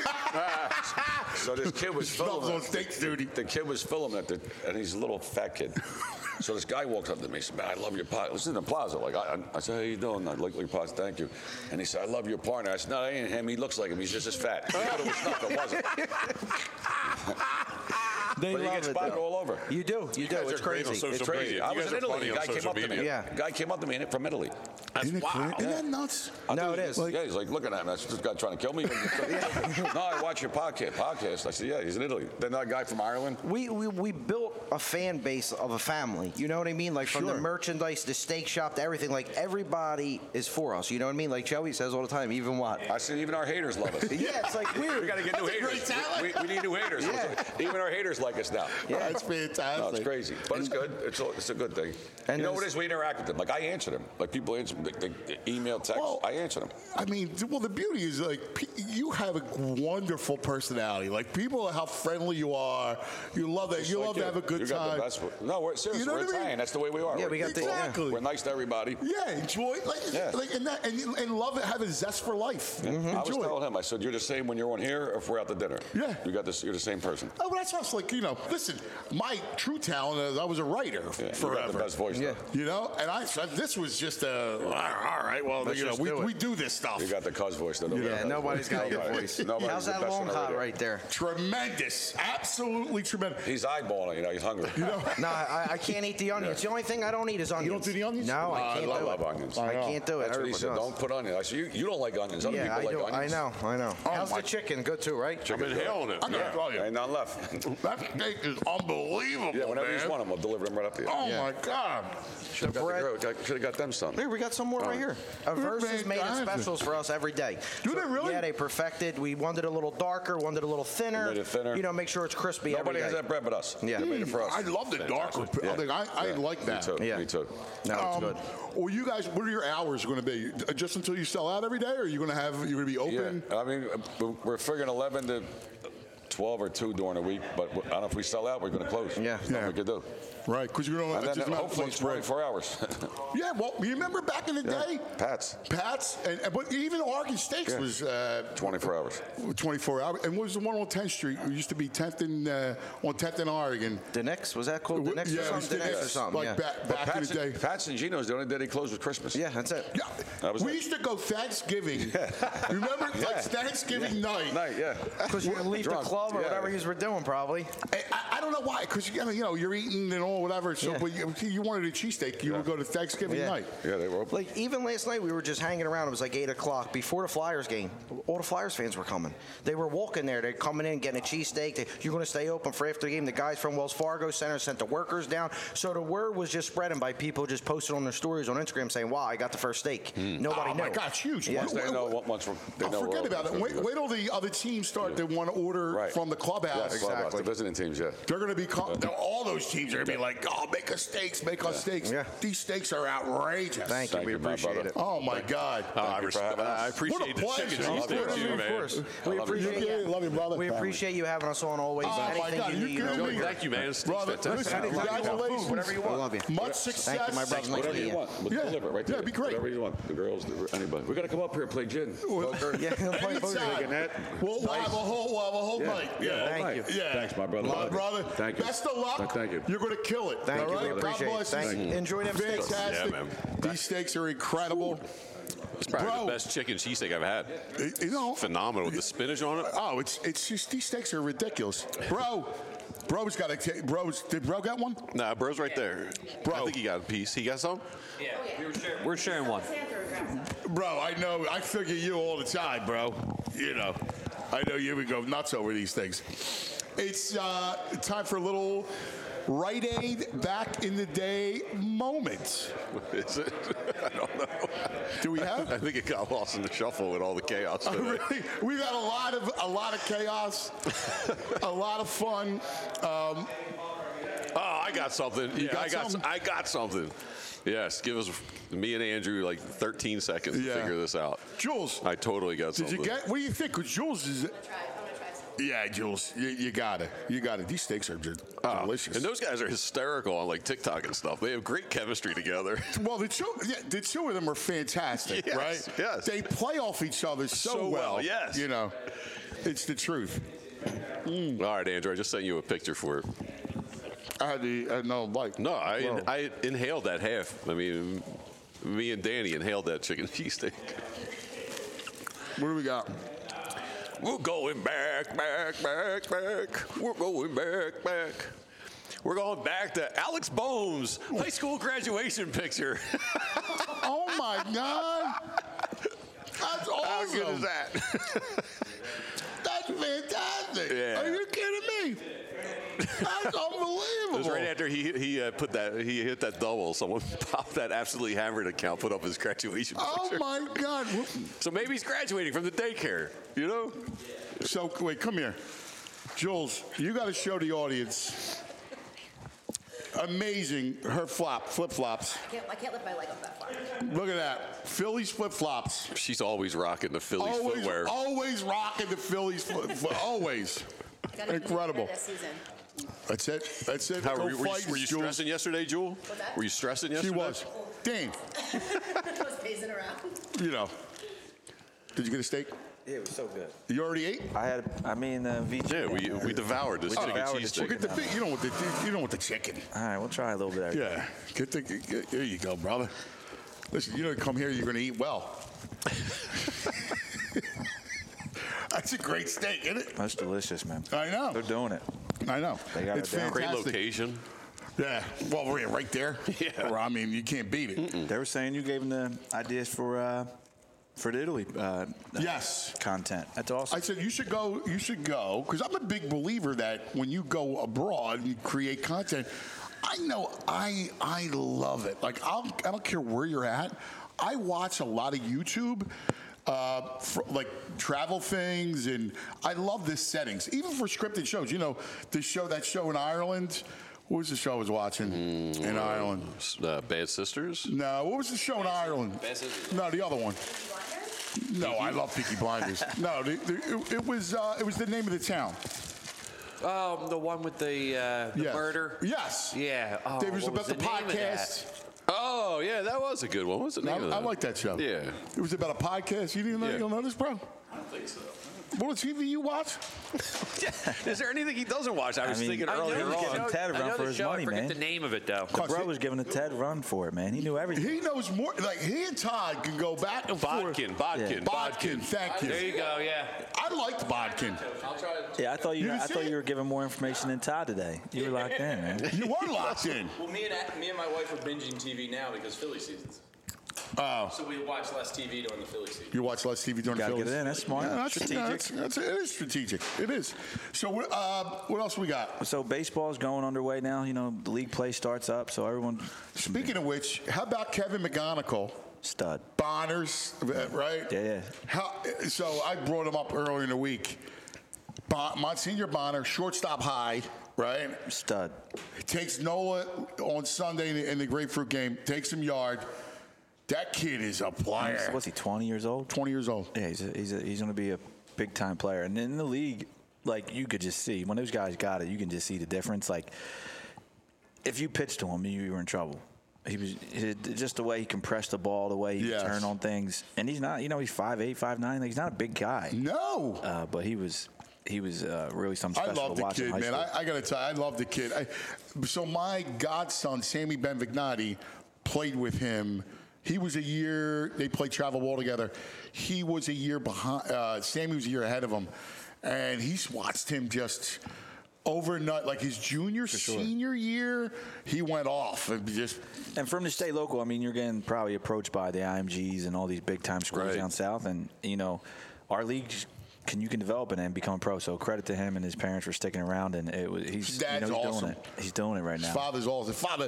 So this kid was Smells filming. on steak duty. The kid was filming it, and he's a little fat kid. So this guy walks up to me. He said, "Man, I love your podcast." This is in the Plaza. I said, "How you doing?" "I like your podcast. Thank you." And he said, "I love your partner." I said, "No, that ain't him. He looks like him. He's just as fat." He thought it was stuff. It wasn't. They But you love get it, spotted though. all over. You do. You do. guys It's are great crazy. on It's social crazy. media. I was in Italy. A guy came up to me. Yeah. Guy came up to me from Italy. Isn't that nuts? No, it is. Yeah, he's like looking at me. That's this guy trying to kill me. No, I watch your podcast. I said, yeah, he's in Italy. Then that guy from Ireland. We built a fan base of a family. You know what I mean? Like from the merchandise, the steak shop, to everything. Like everybody is for us. You know what I mean? Like Joey says all the time. Even what? I said, even our haters love us. Yeah, it's like weird. We got to get new haters. We need new haters. Yeah. Even our haters like us now. Yeah. That's fantastic. No, it's crazy, but it's good. It's a good thing. And you know what it is? We interact with them. Like I answer them. Like people answer them. They email, text. Well, I answer them. I mean, well, the beauty is like you have a wonderful personality. Like people, how friendly you are. You love that. Just You like love to have a good you got time. the best. No, we're seriously. You know We're what I mean? Italian. That's the way we are. Yeah, we got the- Exactly. We're nice to everybody. Yeah, enjoy and love it. Have a zest for life. I was Enjoy it. telling him. I said, you're the same when you're on here or if we're out to dinner. Yeah. You got this. You're the same person. Oh, well, that's what's like. Listen. My true talent is I was a writer Yeah, forever. You got the best voice. Yeah. Though. And I said this was just all right. Well, Let's just do it. we do this stuff. You got the cuz voice. Though. Yeah, nobody's got your voice. How's that long hot right there? Tremendous, absolutely tremendous. He's eyeballing. He's hungry. No, I can't eat the onions. The only thing I don't eat is onions. You don't do the onions? No, I can't do it. love onions. I can't do it. That's what he Everybody said. does. Don't put onions. I said, you don't like onions. Other Yeah, I people do. like onions. I know. How's the chicken? Good too, right? Chicken's I'm good. inhaling it. I'm gonna tell you. Ain't none left. That steak is unbelievable. Yeah, whenever man. you want them, I'll deliver them right up to you. Oh my God. Should have got them some. Here, we got some more right here. Versus made it specials for us every day. Do they really? Yeah, they perfected. We wanted it a little darker, wanted it a little thinner. Made it thinner. Make sure it's crispy Nobody every has day. that bread but us. Yeah. They made it for us. I love the darker. Yeah. I like that. Me too. Yeah. Me too. No, it's good. Well, you guys, what are your hours going to be? Just until you sell out every day, or are you going to be open? Yeah. I mean, we're figuring 11 to 12 or 2 during the week, but I don't know if we sell out, we're going to close. Yeah. There's nothing we could do. Right, because you don't. And It's then just not hopefully much it's bread. 24 hours. Yeah, well, you remember back in the day? Pat's. But even Oregon Steaks was 24 hours. 24 hours. And what was the one on 10th Street? It used to be 10th on 10th in Oregon. The next, was that called the next Yeah, or it was something? The next or something, Like yeah. back in the day. Pat's and Gino's, the only day they closed was Christmas. Yeah, that's it. Yeah. That was We it. used to go Thanksgiving. Remember? Like Thanksgiving night. Night, yeah. Because you leave the Drunk. club club or whatever you were doing, probably. I don't know why, because you're eating and all whatever. So, but you wanted a cheesesteak, you would go to Thanksgiving night. Yeah, they were open. Like even last night, we were just hanging around. It was like 8 o'clock before the Flyers game. All the Flyers fans were coming. They were walking there. They're coming in, getting a cheesesteak. You're going to stay open for after the game. The guys from Wells Fargo Center sent the workers down. So the word was just spreading by people just posting on their stories on Instagram saying, "Wow, I got the first steak." Nobody knew. Oh my God, it's huge. Yeah. Once they know, forget about it. Wait till the other teams start to want to order from the clubhouse. Yeah, exactly. The visiting teams, They're going to be all those teams are going to be like, "Oh, make us steaks, make us steaks." Yeah. These steaks are outrageous. Thank you. We appreciate it. Oh my God. I appreciate the chicken cheesesteak too, man. We appreciate you. Love you, brother. We appreciate you having us on always. Oh my God, you kidding me? Thank you, man. Brother, listen, congratulations. Whatever you want. Love you. Much success. Thank you, my brother. Whatever you want. We'll deliver it right there. Yeah, it'd be great. Whatever you want. The girls, anybody. We're going to come up here and play gin. Poker. Yeah, play poker. We'll have a whole night. Yeah, thank you. Yeah. Thanks, my brother. My brother. Thank you. Best of luck. Thank you. You're going to kill it. Thank you. All We right? appreciate God it. bless Thank you. you. Enjoy them steaks. Fantastic. Yeah, man. These steaks are incredible. It's probably the best chicken cheesesteak I've had. Phenomenal with the spinach on it. Oh, it's just these steaks are ridiculous, Bro's got a did Bro get one? Nah, bro's right there. Bro, I think he got a piece. He got some? Yeah, we're sharing one. Bro, I know. I figure you all the time, bro. I know you would go nuts over these things. It's time for a little Rite Aid back in the day moment. Is it? I don't know. Do we have? I think it got lost in the shuffle with all the chaos. Oh, really? We've had a lot of chaos, a lot of fun. I got something. I got something. Yes, give us me and Andrew like 13 seconds to figure this out. Jules, I totally got something. Did you get? What do you think? Because Jules is. Yeah, Jules, you got it. These steaks are just delicious. And those guys are hysterical on like TikTok and stuff. They have great chemistry together. Well, the two of them are fantastic, yes, right? Yes. They play off each other so well. Yes. It's the truth. All right, Andrew, I just sent you a picture for it. I inhaled that half. I mean, me and Danny inhaled that chicken cheesesteak. What do we got? We're going back. We're going back. We're going back to Alex Bohm's high school graduation picture. Oh, my God. That's awesome. How good is that? That's fantastic. Yeah. Are you kidding me? That's unbelievable. It was right after he hit that double. Someone popped that absolutely hammered account, put up his graduation picture. Oh, my God. So maybe he's graduating from the daycare, So, wait, come here. Jules, you got to show the audience. Amazing. Her flip-flops. I can't lift my leg up that far. Look at that. Phillies flip-flops. She's always rocking the Phillies footwear. Always rocking the Phillies always. Incredible. That's it. How, were you stressing yesterday, Jewel? Were you stressing yesterday? She was. Dane. I was pacing around. Did you get a steak? Yeah, it was so good. You already ate? VJ. Yeah, we devoured this chicken cheesesteak. Get the you don't want the chicken. All right, we'll try a little bit. Yeah, there you go, brother. Listen, you don't come here, you're going to eat well. That's a great steak, isn't it? That's delicious, man. I know. They're doing it. I know. They got it's it down. fantastic. Great location. Yeah. Well, we're right there. Yeah. Well, I mean, you can't beat it. They were saying you gave them the ideas for the Italy yes content. That's awesome. I said you should go because I'm a big believer that when you go abroad and you create content, I know I love it. Like I don't care where you're at. I watch a lot of YouTube. For, like travel things, and I love the settings, even for scripted shows. That show in Ireland. What was the show I was watching in Ireland? Bad Sisters? No, what was the show in Ireland? Bad Sisters? No, the other one. No, I love Peaky Blinders. No, it was the name of the town. The one with the murder? Yes. Yeah. Oh, it was about the podcast. Oh, yeah, that was a good one. What was the name of that? I like that show. Yeah. It was about a podcast. You didn't know this, bro? I don't think so. What TV you watch? Is there anything he doesn't watch? I was thinking I earlier know on. Ted a run for his money, I forget man. the name of it, though. The bro was giving a Ted run for it, man. He knew everything. He knows more. Like, he and Todd can go back and forth. Bodkin. Thank you. There you go, yeah. I liked Bodkin. Yeah, I thought you were giving more information than Todd today. You were locked in, man. You were locked in. Well, me and my wife are binging TV now because Philly seasons. Oh. So we watch less TV during the Philly season. You watch less TV during the Gotta Phillies? get it in. That's smart. Yeah, Strategic. It is strategic. It is. So what else we got? So baseball's going underway now. You know, the league play starts up, so everyone. Speaking of which, how about Kevin McGonigal? Stud. Bonners, right? Yeah. So I brought him up earlier in the week. Monsignor Bonner, shortstop high, right? Stud. He takes Nola on Sunday in the Grapefruit game, takes him yard. That kid is a player. What's he, 20 years old? 20 years old. Yeah, he's going to be a big-time player. And in the league, like, you could just see, when those guys got it, you can just see the difference. Like, if you pitched to him, you were in trouble. He was just the way he compressed the ball, the way he could turn on things. And he's not, he's 5'8", 5'9". Like, he's not a big guy. No. But he was really something special. I love the kid, man. I got to tell you, I love the kid. So my godson, Sammy Benvignotti, played with him. He was a year, they played travel ball together. He was a year behind, Sammy was a year ahead of him. And he's watched him just overnight, like his senior year, he went off. And for him to stay local, I mean, you're getting probably approached by the IMGs and all these big-time schools down south. And, our league, you can develop it and become a pro. So credit to him and his parents for sticking around. And he's awesome. doing it. He's doing it right now. His father's awesome. Father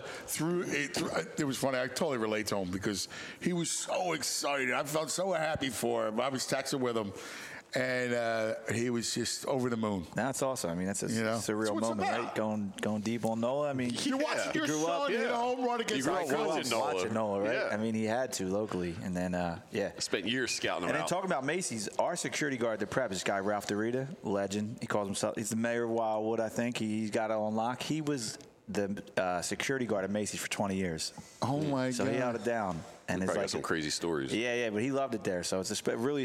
it was funny. I totally relate to him because he was so excited. I felt so happy for him. I was texting with him. And he was just over the moon. That's awesome. I mean, that's a surreal moment, right? Going deep on Nola. I mean, you're watching your son hit a home run against watching Nola, right? Yeah. I mean, he had to locally, and then spent years scouting him and out. then talking about Macy's, our security guard at the prep, this guy Ralph DeRita, legend. He calls himself. He's the mayor of Wildwood, I think. He's got it on lock. He was the security guard at Macy's for 20 years. Oh my God! So he held it down. And it's got some crazy stories. Yeah, but he loved it there. So it's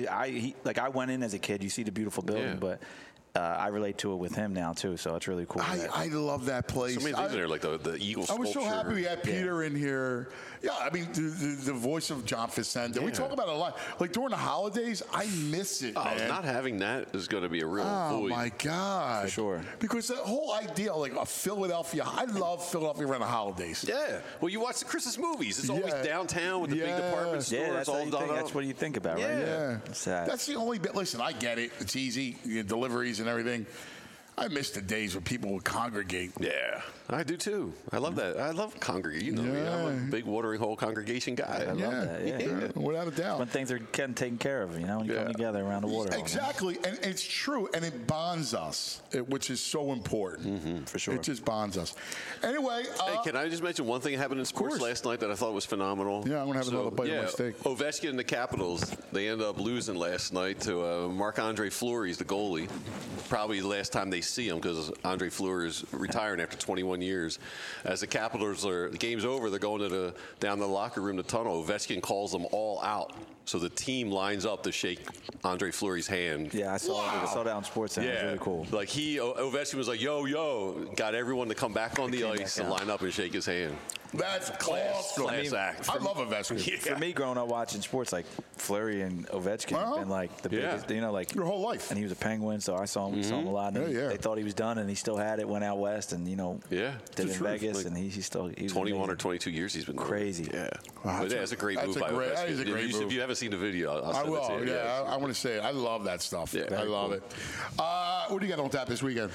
I went in as a kid. You see the beautiful building, but I relate to it with him now too. So it's really cool. I love that place. So many things in there, like the Eagle sculpture. I was so happy we had Peter in here. Yeah, I mean the voice of John Facenda. Yeah. We talk about it a lot. Like during the holidays, I miss it. Man. Not having that is going to be a real void. Oh my God, for sure. Because the whole idea, like a Philadelphia, I love Philadelphia around the holidays. Yeah. Well, you watch the Christmas movies. It's always downtown with the big department store. Yeah, it's all done up. That's what you think about, right? Yeah. That's the only bit. Listen, I get it. It's easy. Deliveries and everything. I miss the days when people would congregate. Yeah, I do too. I love that. I love congregate. Me, I'm a big watering hole congregation guy. I love that. Yeah. Without a doubt. When things are getting taken care of, when you come together around the water hole. Exactly, and it's true, and it bonds us, which is so important. For sure. It just bonds us. Anyway. Hey, can I just mention one thing that happened in sports last night that I thought was phenomenal? Yeah, I'm going to have another bite of my steak. Ovechkin and the Capitals, they ended up losing last night to Marc-Andre Fleury, the goalie. Probably the last time they see him because Andre Fleury is retiring after 21 years. As the Capitals the game's over, they're going down the locker room, the tunnel. Ovechkin calls them all out. So the team lines up to shake Andre Fleury's hand. Yeah, I saw that on SportsCenter. Yeah. It was really cool. Like Ovechkin was like, yo, got everyone to come back on the ice and line up and shake his hand. That's class act. I love Ovechkin. Yeah. For me, growing up watching sports, like Fleury and Ovechkin have been like the biggest, like your whole life. And he was a Penguin, so I saw him a lot. And they thought he was done, and he still had it. Went out west, and did in Vegas, and he was 21 amazing. or 22 years he's been crazy. Yeah, but it's a great move by Ovechkin. That is a great move. If you haven't seen the video, I'll send it to you. Yeah, I want to say it. I love that stuff. Yeah, I love it. What do you got on tap this weekend?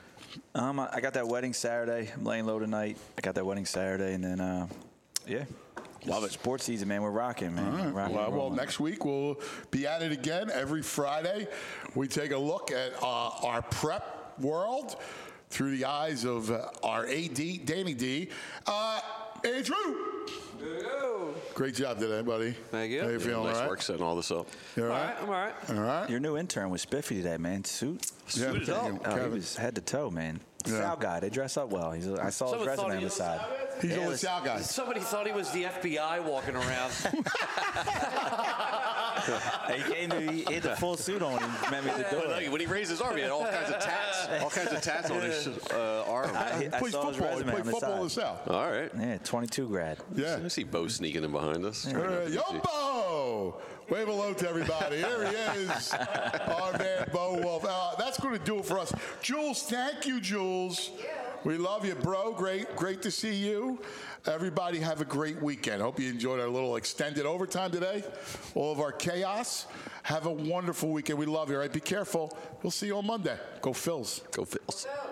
I got that wedding Saturday. I'm laying low tonight. I got that wedding Saturday, and then love it. Sports season, man. We're rocking, man. All right. Well, next week we'll be at it again. Every Friday, we take a look at our prep world through the eyes of our AD, Danny D. Andrew. Great job today, buddy. Thank you. How you feeling? Nice all right? work setting all this up. You all right? I'm all right. All right. Your new intern was spiffy today, man. Suited up. He was head to toe, man. Sal guy. They dress up well. I saw his resume on the side. He's a Sal guy. Somebody thought he was the FBI walking around. He had the full suit on and met me at the door. But, when he raised his arm, he had all kinds of tats on his arm. I saw his resume on the football in the side. South. All right. Yeah, 22 grad. Yeah. I see Bo sneaking in behind us. Yumbo! Wave hello to everybody. Here he is, our man Bo Wolf. That's going to do it for us. Jules, thank you, Jules. We love you, bro. Great to see you. Everybody have a great weekend. Hope you enjoyed our little extended overtime today. All of our chaos. Have a wonderful weekend. We love you, all right? Be careful. We'll see you on Monday. Go Phils. Go Phils.